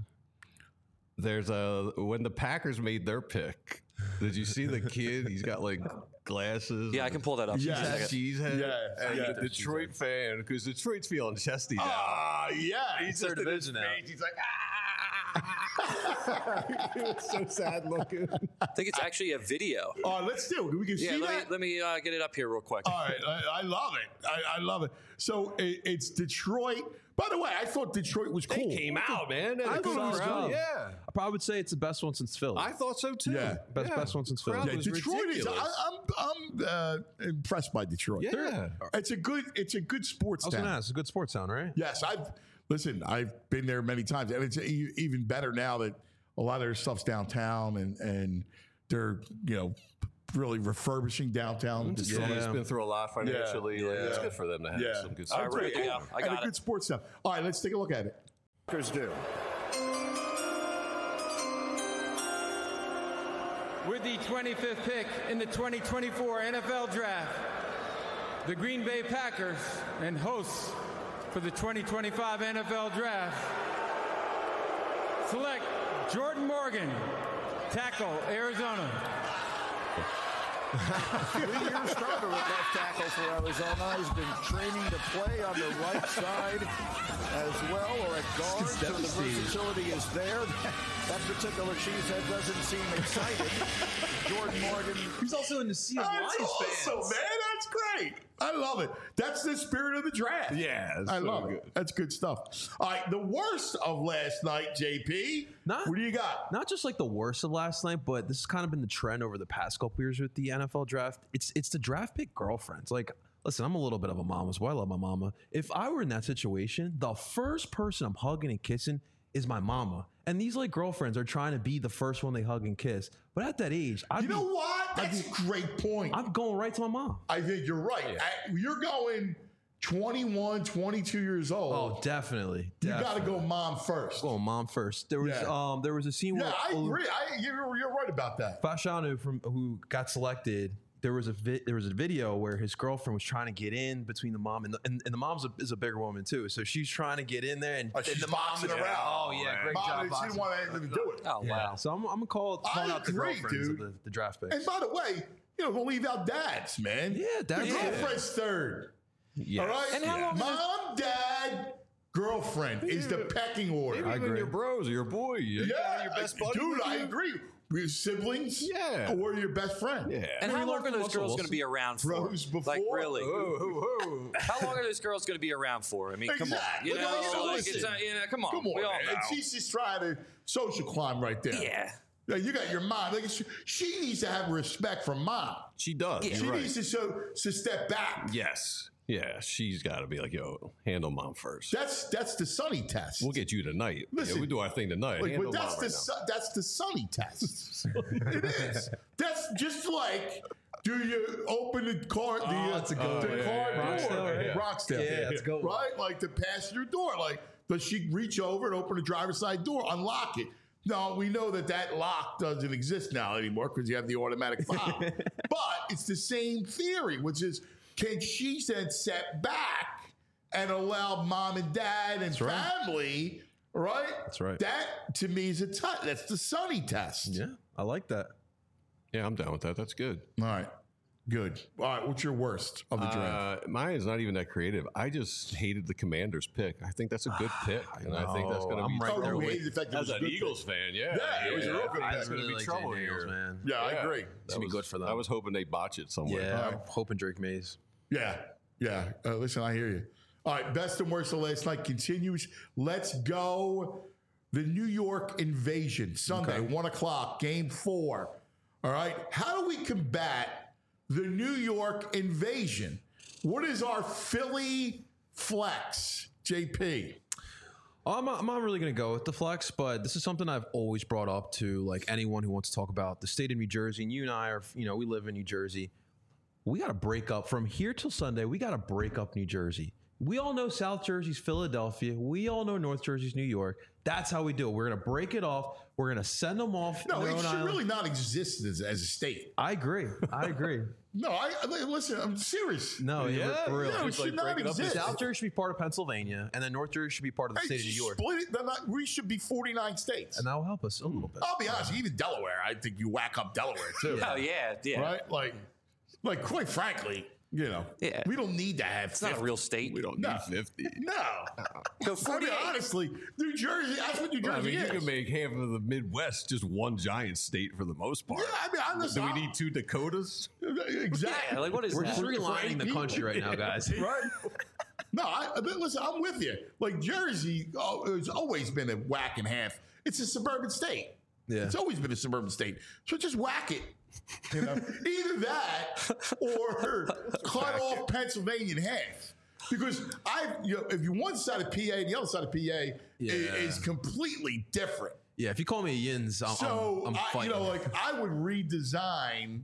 Speaker 11: There's when the Packers made their pick. Did you see the kid? He's got like glasses.
Speaker 12: Yeah, I can pull that up.
Speaker 11: Cheesehead.
Speaker 2: Yeah.
Speaker 11: The Detroit fan, because Detroit's feeling chesty now.
Speaker 2: Yeah.
Speaker 3: He's third division now.
Speaker 2: He's like,
Speaker 11: He was so sad looking.
Speaker 12: I think it's actually a video.
Speaker 2: Let's do it. We can see that.
Speaker 12: Let me get it up here real quick.
Speaker 2: All right. I love it. I love it. So it's Detroit. By the way, I thought Detroit was cool.
Speaker 11: They came out, man.
Speaker 3: I thought it was good.
Speaker 11: Yeah.
Speaker 3: I probably would say it's the best one since Philly.
Speaker 11: I thought so too.
Speaker 2: Yeah.
Speaker 3: Best one since Philly.
Speaker 11: Crowd
Speaker 2: Yeah,
Speaker 11: was
Speaker 2: Detroit is.
Speaker 11: ridiculous.
Speaker 2: I'm impressed by Detroit.
Speaker 11: Yeah.
Speaker 2: It's a good sports
Speaker 3: I was
Speaker 2: town.
Speaker 3: going to ask. It's a good sports town, right?
Speaker 2: Yes, I've been there many times, and it's even better now that a lot of their stuff's downtown, and they're really refurbishing downtown. Detroit.
Speaker 11: It's been through a lot financially. Like, it's good for them to have some good stuff.
Speaker 12: All right, ready to go. I got
Speaker 2: a good sports town. All right, let's take a look at it.
Speaker 10: Do.
Speaker 15: With the 25th pick in the 2024 NFL Draft, the Green Bay Packers and hosts for the 2025 NFL Draft select Jordan Morgan, tackle, Arizona.
Speaker 16: 3-year starter at left tackle for Arizona. He's been training to play on the right side as well, or at guard, so the versatility is there. That particular cheesehead doesn't seem excited. Jordan Morgan.
Speaker 3: He's also in the Sea of Lions fans.
Speaker 2: Awesome, man. That's great. I love it. That's the spirit of the draft.
Speaker 11: Yeah,
Speaker 2: I love it. That's good stuff. All right, the worst of last night, JP. What do you got?
Speaker 3: Not just like the worst of last night, but this has kind of been the trend over the past couple years with the NFL draft. It's the draft pick girlfriends. Like, listen, I'm a little bit of a mama's boy. I love my mama. If I were in that situation, the first person I'm hugging and kissing is my mama. And these like girlfriends are trying to be the first one they hug and kiss. But at that age,
Speaker 2: You know what? That's a great point.
Speaker 3: I'm going right to my mom.
Speaker 2: I think you're right. You're going 21, 22 years old.
Speaker 3: Oh, definitely.
Speaker 2: You got to go mom first.
Speaker 3: Go mom first. There was a scene where
Speaker 2: I agree. You're right about that.
Speaker 3: Fashanu who got selected, there was a video where his girlfriend was trying to get in between the mom and the mom's is a bigger woman too, so she's trying to get in there and
Speaker 2: she's
Speaker 3: the mom's
Speaker 2: boxing around.
Speaker 3: Oh yeah, great job.
Speaker 2: She didn't want anything to do it.
Speaker 12: Oh wow.
Speaker 3: So I'm gonna calling out the girlfriends of the draft picks.
Speaker 2: And by the way, don't leave out dads, man.
Speaker 3: Yeah, dads.
Speaker 2: The girlfriend's third.
Speaker 11: Yes.
Speaker 2: All right.
Speaker 12: And how long
Speaker 2: Mom, dad, girlfriend is the pecking order.
Speaker 11: Maybe even your bros or your boy. Your best buddy.
Speaker 2: Dude, I agree. Your siblings, or your best friend.
Speaker 11: Yeah.
Speaker 12: And how long are those girls going to be around for?
Speaker 2: Bros before.
Speaker 12: Like really? How long are those girls going to be around for? I mean, come on. You know,
Speaker 2: listen.
Speaker 12: Come on.
Speaker 2: Come on,
Speaker 12: we all
Speaker 2: man.
Speaker 12: know.
Speaker 2: And she's just trying to social climb right there.
Speaker 12: Yeah.
Speaker 2: Now, you got your mom. Like, she needs to have respect for mom.
Speaker 11: She does.
Speaker 2: She needs to step back.
Speaker 11: Yes. Yeah, she's got to be like, yo, handle mom first.
Speaker 2: That's the Sonny test.
Speaker 11: We'll get you tonight.
Speaker 2: Listen,
Speaker 11: we do our thing tonight.
Speaker 2: Like,
Speaker 11: Handle
Speaker 2: but that's the Sonny test. It is. That's just like, do you open the car?
Speaker 3: That's a good one.
Speaker 2: The car door, Rocksdale.
Speaker 3: Yeah, that's a good one.
Speaker 2: Right, like the passenger door. Like, does she reach over and open the driver's side door, unlock it? No, we know that lock doesn't exist now anymore because you have the automatic fob. But it's the same theory, which is, can she then set back and allow mom and dad and family, right?
Speaker 3: That's right.
Speaker 2: That, to me, is that's the Sonny test.
Speaker 3: Yeah, I like that.
Speaker 11: Yeah, I'm down with that. That's good.
Speaker 2: All right. Good. All right. What's your worst of the draft?
Speaker 11: Mine is not even that creative. I just hated the Commanders pick. I think that's a good pick. And I think that's going to be
Speaker 3: right there with
Speaker 11: as an Eagles fan, yeah.
Speaker 2: Yeah, it was a real good pick.
Speaker 11: It's going to be trouble here,
Speaker 3: man.
Speaker 2: Yeah, I agree.
Speaker 3: It's going to be good for them.
Speaker 11: I was hoping they botch it somewhere.
Speaker 3: Yeah, I'm hoping Drake Mays.
Speaker 2: Yeah. Listen, I hear you. All right, best and worst of last night continues. Let's go. The New York Invasion, Sunday, 1 o'clock, Game 4. All right, how do we combat the New York Invasion? What is our Philly flex, JP?
Speaker 3: I'm not really going to go with the flex, but this is something I've always brought up to like anyone who wants to talk about the state of New Jersey. And you and I are, we live in New Jersey. We got to break up from here till Sunday. We got to break up New Jersey. We all know South Jersey's Philadelphia. We all know North Jersey's New York. That's how we do it. We're going to break it off. We're going to send them off.
Speaker 2: No, it should really not exist as a state.
Speaker 3: I agree.
Speaker 2: No, listen, I'm serious.
Speaker 3: No, for real.
Speaker 2: No, it should not exist.
Speaker 3: South Jersey should be part of Pennsylvania, and then North Jersey should be part of the state of New York.
Speaker 2: Split it, we should be 49 states.
Speaker 3: And that will help us a little bit.
Speaker 2: I'll be honest, even Delaware, I think you whack up Delaware too.
Speaker 12: Oh, yeah.
Speaker 2: Right? Like quite frankly, we don't need to have
Speaker 12: It's not a real state.
Speaker 11: We don't need 50.
Speaker 2: No.
Speaker 12: Go 48.
Speaker 2: Honestly, New Jersey, that's what New Jersey is.
Speaker 11: You can make half of the Midwest just one giant state for the most part.
Speaker 2: Yeah,
Speaker 11: Do we need 2 Dakotas?
Speaker 2: Exactly.
Speaker 12: Yeah, what is
Speaker 3: We're
Speaker 12: that?
Speaker 3: just realigning the country right now, guys.
Speaker 2: Right? No, listen, I'm with you. Like Jersey, it's always been a whack and half. It's a suburban state.
Speaker 3: Yeah.
Speaker 2: It's always been a suburban state. So just whack it. Either that or cut off Pennsylvania in half. Because if you one side of PA and the other side of PA is completely different.
Speaker 3: Yeah, if you call me a Yins, I'm fighting.
Speaker 2: I would redesign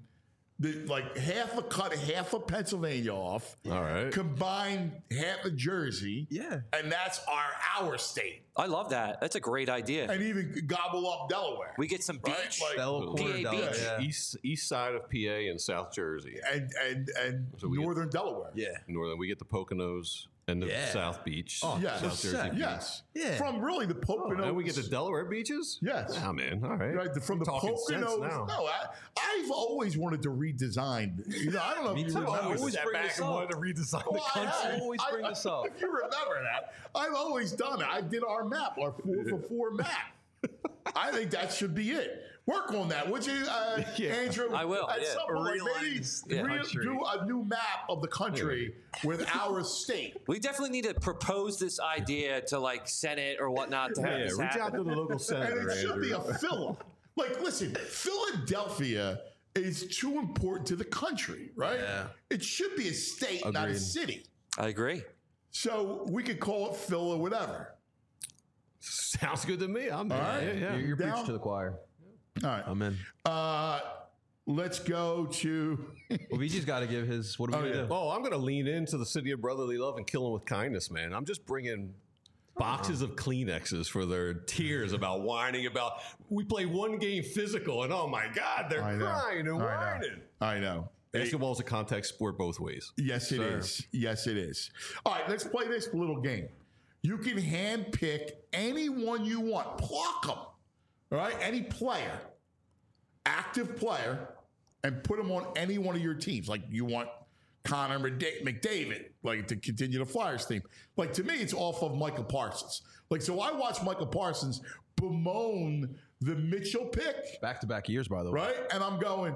Speaker 2: half of Pennsylvania off.
Speaker 11: All right.
Speaker 2: Combine half of Jersey.
Speaker 3: Yeah.
Speaker 2: And that's our state.
Speaker 12: I love that. That's a great idea.
Speaker 2: And even gobble up Delaware.
Speaker 12: We get some beach.
Speaker 3: Corner,
Speaker 12: PA beach.
Speaker 3: Yeah.
Speaker 11: East side of PA and South Jersey.
Speaker 2: And
Speaker 11: So we
Speaker 2: northern Delaware.
Speaker 3: Yeah.
Speaker 11: Northern, we get the Poconos and the South Beach.
Speaker 3: Oh,
Speaker 2: yes.
Speaker 11: South Jersey Beach.
Speaker 2: Yes.
Speaker 3: Yeah.
Speaker 2: From really the Poconos.
Speaker 11: And we get the Delaware beaches?
Speaker 2: Yes.
Speaker 11: Oh, man. All right.
Speaker 2: Right, from the
Speaker 11: Talking sense
Speaker 2: Poconos.
Speaker 11: now.
Speaker 2: No, I've always wanted to redesign. I don't know if you remember.
Speaker 3: I always bring this up.
Speaker 11: wanted to redesign the country.
Speaker 3: I always bring this up.
Speaker 2: If you remember that, I've always done it. I did our map, our 4-for-4 map. I think that should be it. Work on that, would you, Andrew?
Speaker 12: I will.
Speaker 2: At some point, maybe do a new map of the country with our state.
Speaker 12: We definitely need to propose this idea to Senate or whatnot to have this
Speaker 11: reach
Speaker 12: happen.
Speaker 11: out to the local senator,
Speaker 2: And it should be a
Speaker 11: Andrew.
Speaker 2: filler. Listen, Philadelphia is too important to the country, right?
Speaker 3: Yeah.
Speaker 2: It should be a state, not a
Speaker 3: Agreed.
Speaker 2: city.
Speaker 12: I agree.
Speaker 2: So we could call it Phil or whatever.
Speaker 11: Sounds good to me. I'm
Speaker 2: All right.
Speaker 11: yeah.
Speaker 3: You're
Speaker 2: Down?
Speaker 3: preaching to the choir.
Speaker 2: All right.
Speaker 3: I'm in.
Speaker 2: Let's go to.
Speaker 3: Well, VG's got to give his. What are we going to do?
Speaker 11: Oh, I'm going to lean into the city of brotherly love and kill them with kindness, man. I'm just bringing boxes of Kleenexes for their tears about whining about we play one game physical and oh my God, they're crying and whining.
Speaker 2: I know.
Speaker 11: Basketball is a contact sport both ways.
Speaker 2: Yes, it is. Yes, it is. All right, let's play this little game. You can hand pick anyone you want. Pluck them. All right? Any player, active player, and put them on any one of your teams. Like you want Connor McDavid, like to continue the Flyers theme. Like to me, it's off of Michael Parsons. Like, so I watched Michael Parsons bemoan the Mitchell pick.
Speaker 3: Back-to-back years, by the way.
Speaker 2: Right? And I'm going,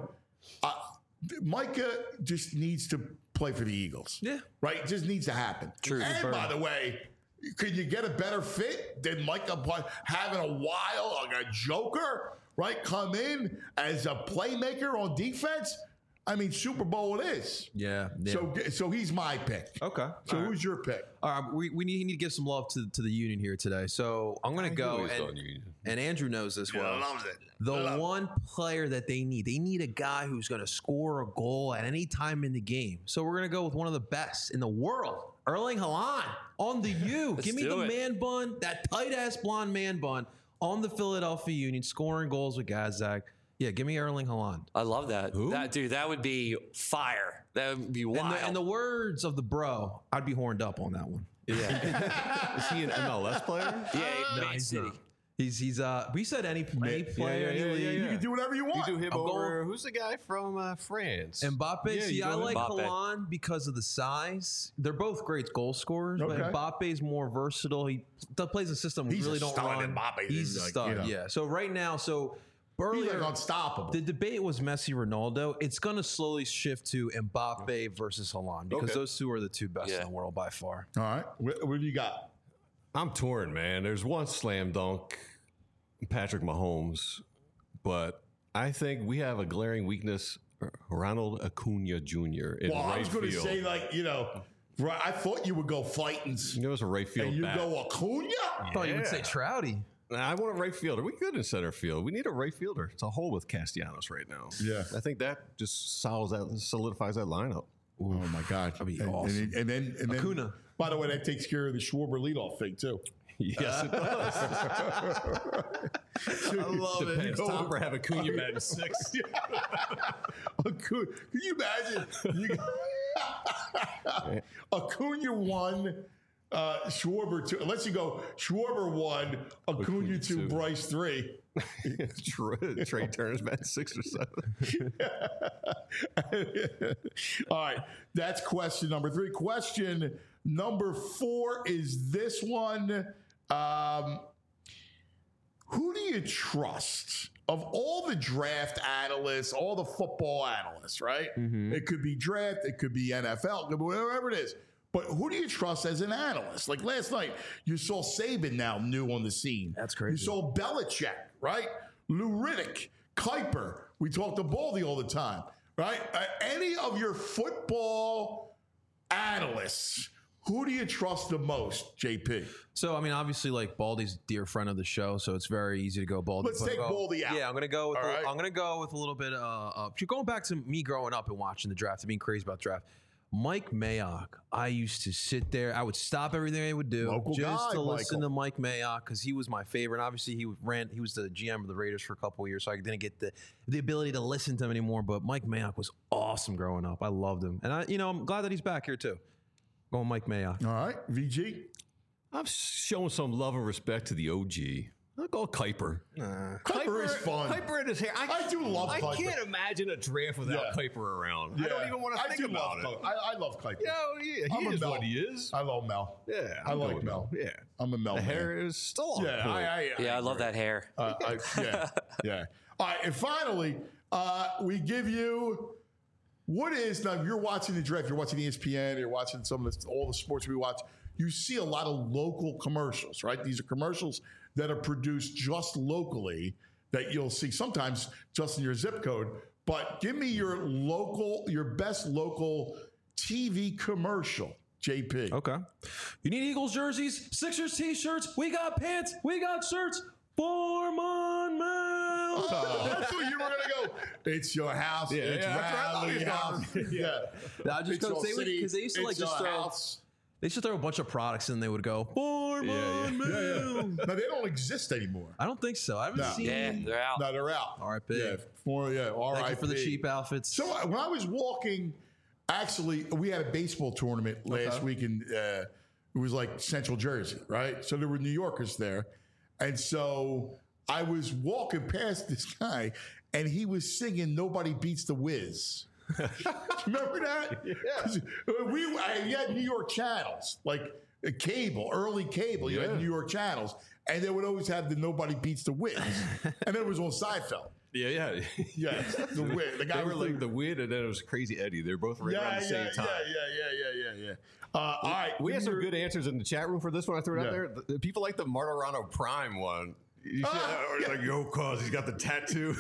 Speaker 2: Micah just needs to play for the Eagles.
Speaker 3: Yeah.
Speaker 2: Right? It just needs to happen.
Speaker 12: True.
Speaker 2: And by the way, could you get a better fit than Micah having a while, like a joker, right? Come in as a playmaker on defense? I mean, Super Bowl it is.
Speaker 3: Yeah.
Speaker 2: So he's my pick.
Speaker 3: Okay.
Speaker 2: So who's your pick?
Speaker 3: All right, we need to give some love to the Union here today. So I'm going to go, and Andrew knows this well.
Speaker 2: Loves it.
Speaker 3: The one player that they need a guy who's going to score a goal at any time in the game. So we're going to go with one of the best in the world, Erling Haaland on the U. Give me the man bun, that tight-ass blonde man bun on the Philadelphia Union, scoring goals with Gazdag. Yeah, give me Erling Haaland.
Speaker 12: I love that.
Speaker 3: Who?
Speaker 12: That would be fire. That would be wild.
Speaker 3: In the words of the bro, I'd be horned up on that one.
Speaker 11: Yeah. Is he an MLS player?
Speaker 12: Yeah, Man City.
Speaker 3: He's we said any player, any league.
Speaker 2: You can do whatever you want.
Speaker 11: You do him over. Who's the guy from France?
Speaker 3: Mbappe.
Speaker 11: Yeah,
Speaker 3: See, I like Haaland because of the size. They're both great goal scorers, but Mbappe's more versatile. He plays a system we really don't run. He's a stud. Yeah. So right now, earlier,
Speaker 2: he's like unstoppable.
Speaker 3: The debate was Messi, Ronaldo. It's going to slowly shift to Mbappe versus Haaland because those two are the two best in the world by far.
Speaker 2: All right. What do you got?
Speaker 11: I'm torn, man. There's one slam dunk, Patrick Mahomes, but I think we have a glaring weakness, Ronald Acuna Jr. in right
Speaker 2: I was going to
Speaker 11: field.
Speaker 2: say, right, I thought you would go Fightins.
Speaker 11: There was a right field
Speaker 2: and you
Speaker 11: bat.
Speaker 2: go Acuna?
Speaker 3: I thought you would say Trouty.
Speaker 11: I want a right fielder. We good in center field. We need a right fielder. It's a hole with Castellanos right now.
Speaker 2: Yeah.
Speaker 11: I think that just solidifies that lineup.
Speaker 2: Oh, my God.
Speaker 3: That'd be awesome.
Speaker 2: And then
Speaker 3: Acuna.
Speaker 2: By the way, that takes care of the Schwarber leadoff thing, too.
Speaker 11: Yes, it does.
Speaker 3: I love it.
Speaker 11: Depends. Tom for have Acuna bat in 6.
Speaker 2: Acuna. Can you imagine? Acuna 1, Schwarber 2. Unless you go Schwarber 1, Acuna 2, Bryce 3.
Speaker 11: Trey Turner's bat 6 or 7.
Speaker 2: All right. That's question number 3. Question number 4 is this one. Who do you trust of all the draft analysts, all the football analysts, right? Mm-hmm. It could be draft, it could be NFL, it could be whatever it is. But who do you trust as an analyst? Like last night, you saw Saban now new on the scene.
Speaker 3: That's crazy.
Speaker 2: You saw Belichick, right? Lou Riddick, Kuiper. We talk to Baldy all the time, right? Any of your football analysts, who do you trust the most, JP?
Speaker 3: So, I mean, obviously, like Baldy's a dear friend of the show, so it's very easy to go Baldy.
Speaker 2: Let's take Baldy out.
Speaker 3: Yeah, I'm gonna go with. I'm gonna go with a little bit. Going back to me growing up and watching the draft and being crazy about the draft. Mike Mayock, I used to sit there. I would stop everything I would do to listen to Mike Mayock because he was my favorite. And obviously, he was the GM of the Raiders for a couple of years, so I didn't get the ability to listen to him anymore. But Mike Mayock was awesome growing up. I loved him, and I'm glad that he's back here too. Going Mike Mayock.
Speaker 2: All right, VG.
Speaker 11: I'm showing some love and respect to the OG. I'll go Kuiper.
Speaker 2: Kuiper is fun.
Speaker 11: Kuiper in his hair.
Speaker 2: I do love Kuiper.
Speaker 11: I can't imagine a draft without Kuiper around. Yeah. I don't even want to think about it.
Speaker 2: I love Kuiper.
Speaker 11: He is what he is.
Speaker 2: I love Mel.
Speaker 11: Yeah,
Speaker 2: I like Mel.
Speaker 11: Yeah,
Speaker 2: I'm a Mel.
Speaker 11: The
Speaker 2: man.
Speaker 11: hair is still on.
Speaker 12: Yeah, I love that hair.
Speaker 2: Yeah. All right, and finally, we give you what is now. If you're watching the draft, you're watching ESPN, you're watching all the sports we watch. You see a lot of local commercials, right? These are commercials that are produced just locally that you'll see sometimes just in your zip code. But give me your best local TV commercial, JP.
Speaker 3: Okay. You need Eagles jerseys, Sixers t-shirts. We got pants. We got shirts. Foreman Mill.
Speaker 2: That's what you were going to go. It's your house. It's Rally House.
Speaker 3: I just go say because they used to like just throw.
Speaker 2: House.
Speaker 3: They should throw a bunch of products and they would go, for my meal.
Speaker 2: No, they don't exist anymore.
Speaker 3: I don't think so. I haven't seen.
Speaker 12: Yeah, they're out.
Speaker 2: No, they're out.
Speaker 3: R.I.P.
Speaker 2: Yeah,
Speaker 3: Thank you for the cheap outfits.
Speaker 2: So when I was walking, actually, we had a baseball tournament last week in it was like Central Jersey, right? So there were New Yorkers there, and so I was walking past this guy, and he was singing "Nobody Beats the Wiz." Remember that? Yeah. You had New York channels, like early cable. You had New York channels, and they would always have the "Nobody Beats the Wiz," and it was on Seinfeld.
Speaker 11: Yeah.
Speaker 2: Yes, the Wiz. The guy
Speaker 11: they were
Speaker 2: was
Speaker 11: like the Wiz, and then it was Crazy Eddie. They're both right around the same time.
Speaker 2: Yeah. All right,
Speaker 11: we had some good answers in the chat room for this one. I threw it out there. The people like the Martirano Prime one. You said, like, yo, cause he's got the tattoo.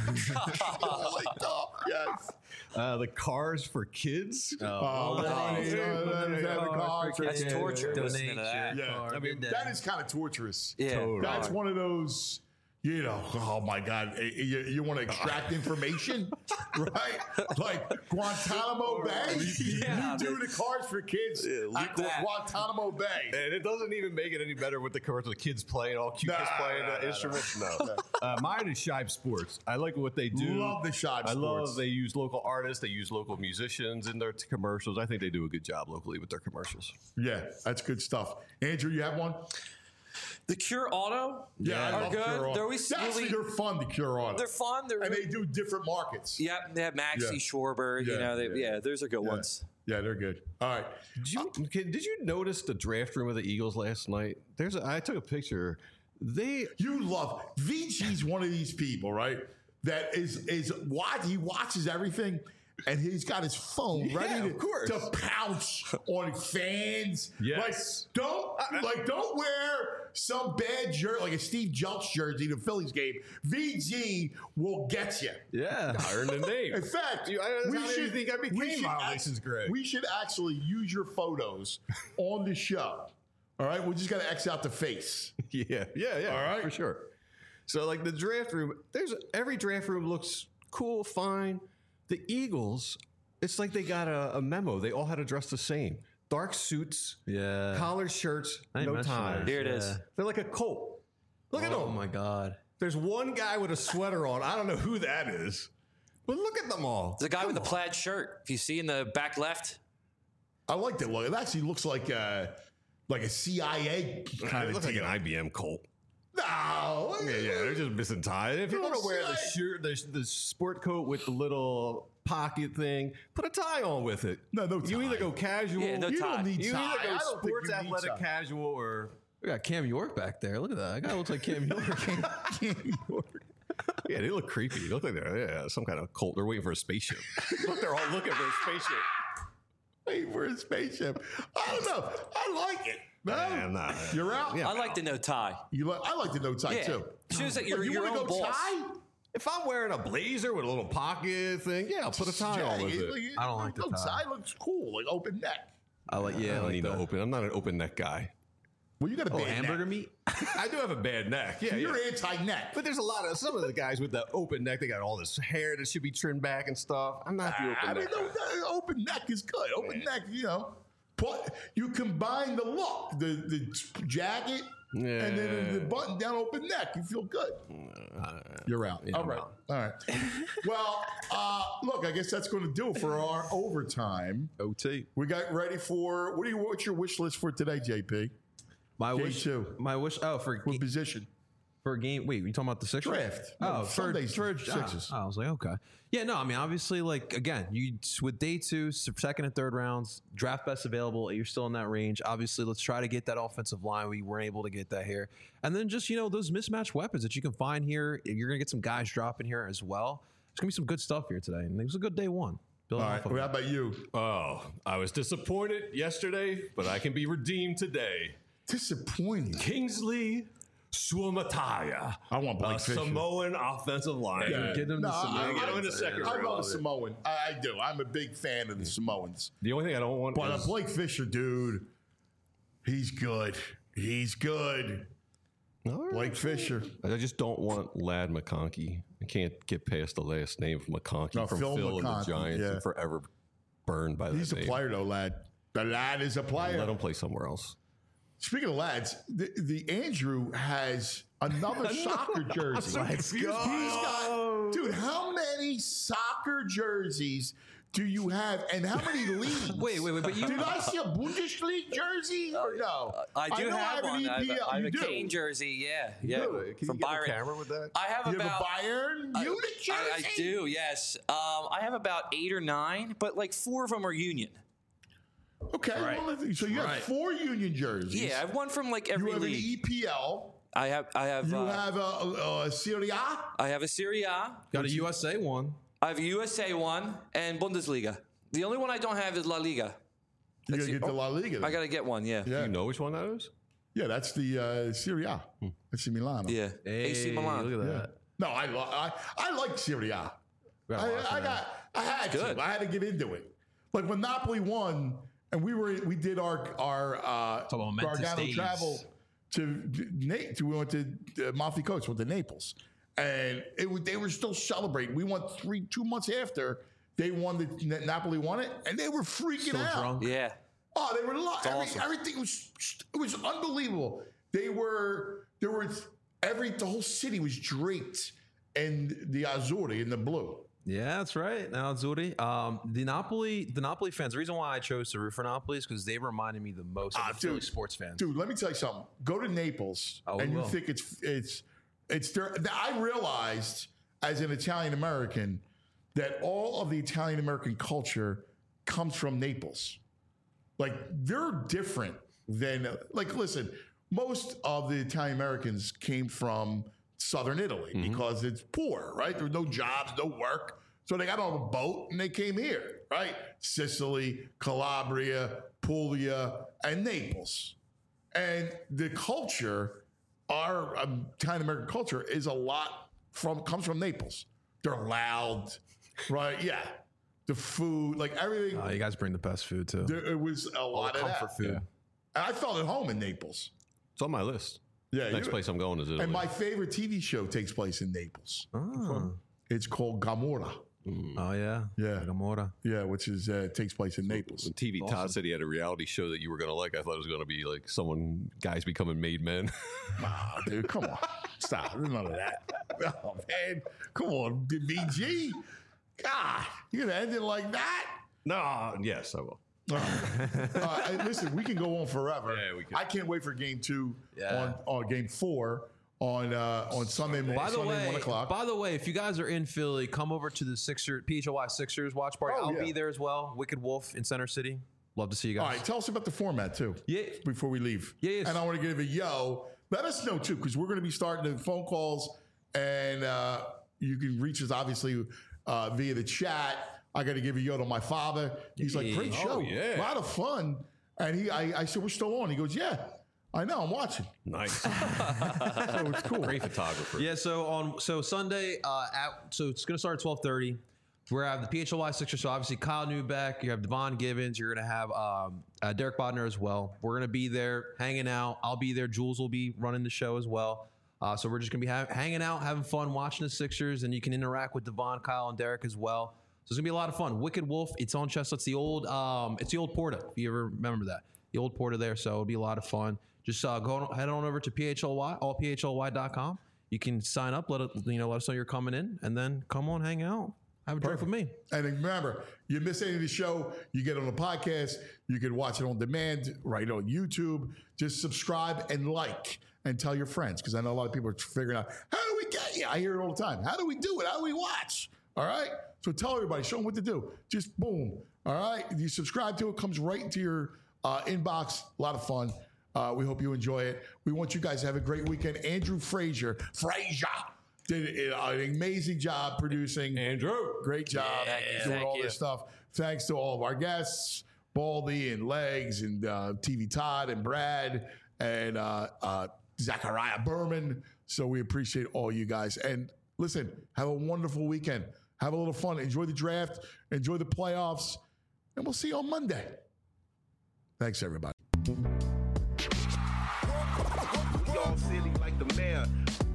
Speaker 2: Yes.
Speaker 11: The Cars for Kids.
Speaker 2: That's
Speaker 12: torture.
Speaker 3: Donate
Speaker 12: that.
Speaker 2: Yeah, I mean that is kind of torturous.
Speaker 12: Yeah,
Speaker 11: totally.
Speaker 2: That's one of those. You know, oh my God, you want to extract information, right? Like Guantanamo Bay. You do the Cars for Kids at Guantanamo Bay.
Speaker 11: And it doesn't even make it any better with the commercial. The kids playing, all cute kids playing instruments. No. Mine is Shibe Sports. I like what they do.
Speaker 2: Love the Shibe Sports.
Speaker 11: I love they use local artists. They use local musicians in their commercials. I think they do a good job locally with their commercials.
Speaker 2: Yeah, that's good stuff. Andrew, you have one?
Speaker 12: The Cure Auto
Speaker 2: I
Speaker 12: are
Speaker 2: love
Speaker 12: good.
Speaker 2: Cure Auto.
Speaker 12: They're always
Speaker 2: They're fun, the Cure Auto.
Speaker 12: They're fun.
Speaker 2: And they do different markets.
Speaker 12: Yep, they have Maxie Schwarber. Those are good ones.
Speaker 2: Yeah, they're good. All right.
Speaker 11: Did you notice the draft room of the Eagles last night? I took a picture.
Speaker 2: You love VG's one of these people, right? That is what he watches everything. And he's got his phone ready to pounce on fans.
Speaker 11: Yes.
Speaker 2: Like, don't wear some bad jersey, like a Steve Jeltz jersey to the Phillies game. VG will get you.
Speaker 11: Yeah. I earned a name.
Speaker 2: In fact, we should actually use your photos on the show. All right? We just got to X out the face.
Speaker 11: Yeah.
Speaker 2: All right?
Speaker 11: For sure. So, like, the draft room, every draft room looks cool, fine. The Eagles, it's like they got a memo. They all had to dress the same. Dark suits, collared shirts, no ties.
Speaker 12: Here it is.
Speaker 11: They're like a cult. Look at them.
Speaker 3: Oh, my God.
Speaker 11: There's one guy with a sweater on. I don't know who that is. But look at them all.
Speaker 12: There's a guy with a plaid shirt. If you see in the back left.
Speaker 2: I like that look. It actually looks like a CIA kind of
Speaker 11: looks like an IBM cult.
Speaker 2: No.
Speaker 11: Yeah, they're just missing ties. If you want to wear the shirt, the sport coat with the little pocket thing, put a tie on with it.
Speaker 2: No tie.
Speaker 11: You either go casual.
Speaker 12: Yeah, no
Speaker 2: you
Speaker 12: tie.
Speaker 2: Don't need
Speaker 11: You
Speaker 2: tie.
Speaker 11: either go sports athletic casual or...
Speaker 3: We got Cam York back there. Look at that. That guy looks like Cam York.
Speaker 2: Cam York.
Speaker 11: Yeah, they look creepy. They look like they're some kind of cult. They're waiting for a spaceship. Look, they're all looking for a spaceship.
Speaker 2: Waiting for a spaceship. I don't know. I like it. No, you're out.
Speaker 12: Yeah, I like the no tie.
Speaker 2: I like the no tie too.
Speaker 12: Shows that you're your own boss.
Speaker 2: Tie?
Speaker 11: If I'm wearing a blazer with a little pocket thing, I'll put a tie on with it.
Speaker 3: I don't like the tie.
Speaker 2: Tie looks cool, like open neck.
Speaker 11: I don't need to open. I'm not an open neck guy.
Speaker 2: Well, you got a bad
Speaker 3: hamburger
Speaker 2: neck.
Speaker 3: meat.
Speaker 11: I do have a bad neck. Yeah,
Speaker 2: you're anti-neck.
Speaker 11: But there's some of the guys with the open neck. They got all this hair that should be trimmed back and stuff. I'm not the open neck.
Speaker 2: Open neck is good. Open neck, But you combine the look, the jacket, and then the button down open neck. You feel good. You're out.
Speaker 11: Yeah,
Speaker 2: All right. All right. Well, look, I guess that's going to do it for our overtime.
Speaker 3: OT.
Speaker 2: We got ready for what's your wish list for today, JP?
Speaker 3: My wish. For
Speaker 2: what position?
Speaker 3: For a game. Wait, you talking about the Sixers?
Speaker 2: Draft.
Speaker 3: Oh,
Speaker 2: for Sixers.
Speaker 3: I was like, okay. Yeah, no, I mean, obviously, like, again, with day 2, second and third rounds, draft best available, you're still in that range. Obviously, let's try to get that offensive line. We weren't able to get that here. And then just, those mismatched weapons that you can find here. You're going to get some guys dropping here as well. There's going to be some good stuff here today. And it was a good day 1.
Speaker 2: All right. How about you?
Speaker 11: Oh, I was disappointed yesterday, but I can be redeemed today.
Speaker 2: Disappointing.
Speaker 11: Kingsley Suamataia.
Speaker 2: I want Blake Fisher.
Speaker 11: Samoan offensive line.
Speaker 2: Yeah.
Speaker 11: Get him in the second round.
Speaker 2: I love the Samoan. I do. I'm a big fan of the Samoans.
Speaker 11: The only thing I don't want
Speaker 2: is... Blake Fisher, dude, he's good. He's good. Right. Blake Fisher.
Speaker 11: I just don't want Lad McConkey. I can't get past the last name of McConkey from Phil and the Giants and forever burned by that name.
Speaker 2: He's a player, though, Lad. The lad is a player.
Speaker 11: Let him play somewhere else.
Speaker 2: Speaking of lads, the Andrew has another soccer jersey.
Speaker 11: Let's go.
Speaker 2: Dude, how many soccer jerseys do you have, and how many leagues?
Speaker 12: Wait, but you
Speaker 2: did I see a Bundesliga jersey or no?
Speaker 12: I do
Speaker 2: know
Speaker 12: have
Speaker 2: an
Speaker 12: one. I have
Speaker 2: You
Speaker 12: a
Speaker 2: do.
Speaker 12: Kane jersey. Yeah.
Speaker 11: Can you
Speaker 12: From
Speaker 11: get
Speaker 12: Byron.
Speaker 11: a camera with that?
Speaker 12: I have
Speaker 2: You have
Speaker 12: about
Speaker 2: a Bayern Munich jersey?
Speaker 12: I do. Yes. I have about 8 or 9, but like 4 of them are Union.
Speaker 2: Okay, well, so you have 4 Union jerseys.
Speaker 12: Yeah, I have one from like every
Speaker 2: You have
Speaker 12: league.
Speaker 2: an EPL.
Speaker 12: I have.
Speaker 2: You have a Serie A.
Speaker 12: I have a Serie A.
Speaker 3: Got a USA one.
Speaker 12: I have a USA one and Bundesliga. The only one I don't have is La Liga.
Speaker 2: You got to get the La Liga.
Speaker 12: I got to get one. Yeah.
Speaker 11: Do you know which one that is?
Speaker 2: Yeah, that's the Serie A. That's the Milano.
Speaker 12: Yeah. AC Milan.
Speaker 3: Look at that.
Speaker 2: No, I like Serie A. I had
Speaker 12: Good.
Speaker 2: to. I had to get into it. Like when Napoli won, and we did our Gargano travel to we went to Amalfi Coast, went to Naples, and they were still celebrating. We won 2 months after they won Napoli won it, and they were freaking out.
Speaker 3: Drunk.
Speaker 12: Yeah.
Speaker 2: Oh, they were
Speaker 12: awesome.
Speaker 2: everything was unbelievable. The whole city was draped in the azzurri, in the blue.
Speaker 3: Yeah, that's right. Now, Azzurri. The Napoli fans, the reason why I chose to root for Napoli is because they reminded me the most of the Philly sports fans.
Speaker 2: Dude, let me tell you something. Go to Naples, and you think it's there. I realized as an Italian American that all of the Italian American culture comes from Naples. Like, they're different than, like, listen, most of the Italian Americans came from Southern Italy because it's poor, right? There were no jobs, no work. So they got on a boat and they came here, right? Sicily, Calabria, Puglia, and Naples. And the culture, our Italian American culture, is comes from Naples. They're loud, right? Yeah. The food, like everything.
Speaker 3: You guys bring the best food too.
Speaker 2: It was a lot of
Speaker 3: comfort food.
Speaker 2: Yeah. And I felt at home in Naples.
Speaker 11: It's on my list.
Speaker 2: Yeah,
Speaker 11: Next place I'm going is Italy.
Speaker 2: And my favorite TV show takes place in Naples.
Speaker 3: Oh,
Speaker 2: It's called Gomorrah.
Speaker 3: oh yeah.
Speaker 2: Yeah.
Speaker 3: Gomorrah.
Speaker 2: Yeah, which is takes place in Naples.
Speaker 11: When TV Todd said he had a reality show that you were going to like, I thought it was going to be like guys becoming made men.
Speaker 2: Nah, dude, come on. Stop. There's none of that. Oh, man. Come on, VG. God, you're going to end it like that?
Speaker 11: No, yes, I will.
Speaker 2: Listen, we can go on forever.
Speaker 11: Yeah, we can.
Speaker 2: I can't wait for game 2
Speaker 3: Yeah.
Speaker 2: on game 4 on Sunday morning.
Speaker 3: By the way,
Speaker 2: 1 o'clock.
Speaker 3: if you guys are in Philly, come over to the PHLY Sixers watch party. I'll be there as well. Wicked Wolf in Center City. Love to see you guys.
Speaker 2: All right, tell us about the format too.
Speaker 3: Yeah.
Speaker 2: Before we leave.
Speaker 3: Yes.
Speaker 2: And I want to give a let us know too, because we're going to be starting the phone calls, and you can reach us obviously via the chat. I got to give a yo to my father. He's like, great show.
Speaker 11: Oh, yeah.
Speaker 2: A lot of fun. And I said, we're still on. He goes, yeah, I know, I'm watching.
Speaker 11: Nice.
Speaker 2: So it's cool.
Speaker 11: Great photographer.
Speaker 3: Yeah, so Sunday, so it's going to start at 12:30. We're going to have the PHLY Sixers. So obviously Kyle Neubeck, you have Devon Givens, you're going to have Derek Bodner as well. We're going to be there hanging out. I'll be there. Jules will be running the show as well. So we're just going to be hanging out, having fun, watching the Sixers, and you can interact with Devon, Kyle, and Derek as well. So it's going to be a lot of fun. Wicked Wolf, it's on Chestnut. It's the old Porta, if you ever remember that. The old Porta there, so it'll be a lot of fun. Just head on over to PHLY, allphly.com. You can sign up, let us know you're coming in, and then come on, hang out, have a drink with me.
Speaker 2: And remember, you miss any of the show, you get on the podcast, you can watch it on demand right on YouTube. Just subscribe and like and tell your friends, because I know a lot of people are figuring out, how do we get you? I hear it all the time. How do we do it? How do we watch? All right? So tell everybody, show them what to do. Just boom. All right? You subscribe to it, comes right into your inbox. A lot of fun. We hope you enjoy it. We want you guys to have a great weekend. Andrew Frazier did an amazing job producing.
Speaker 11: Andrew.
Speaker 2: Great job doing all this stuff. Thanks to all of our guests, Baldy and Legs and TV Todd and Brad and Zachariah Berman. So we appreciate all you guys. And listen, have a wonderful weekend. Have a little fun. Enjoy the draft. Enjoy the playoffs. And we'll see you on Monday. Thanks, everybody.
Speaker 17: Y'all silly like the mayor.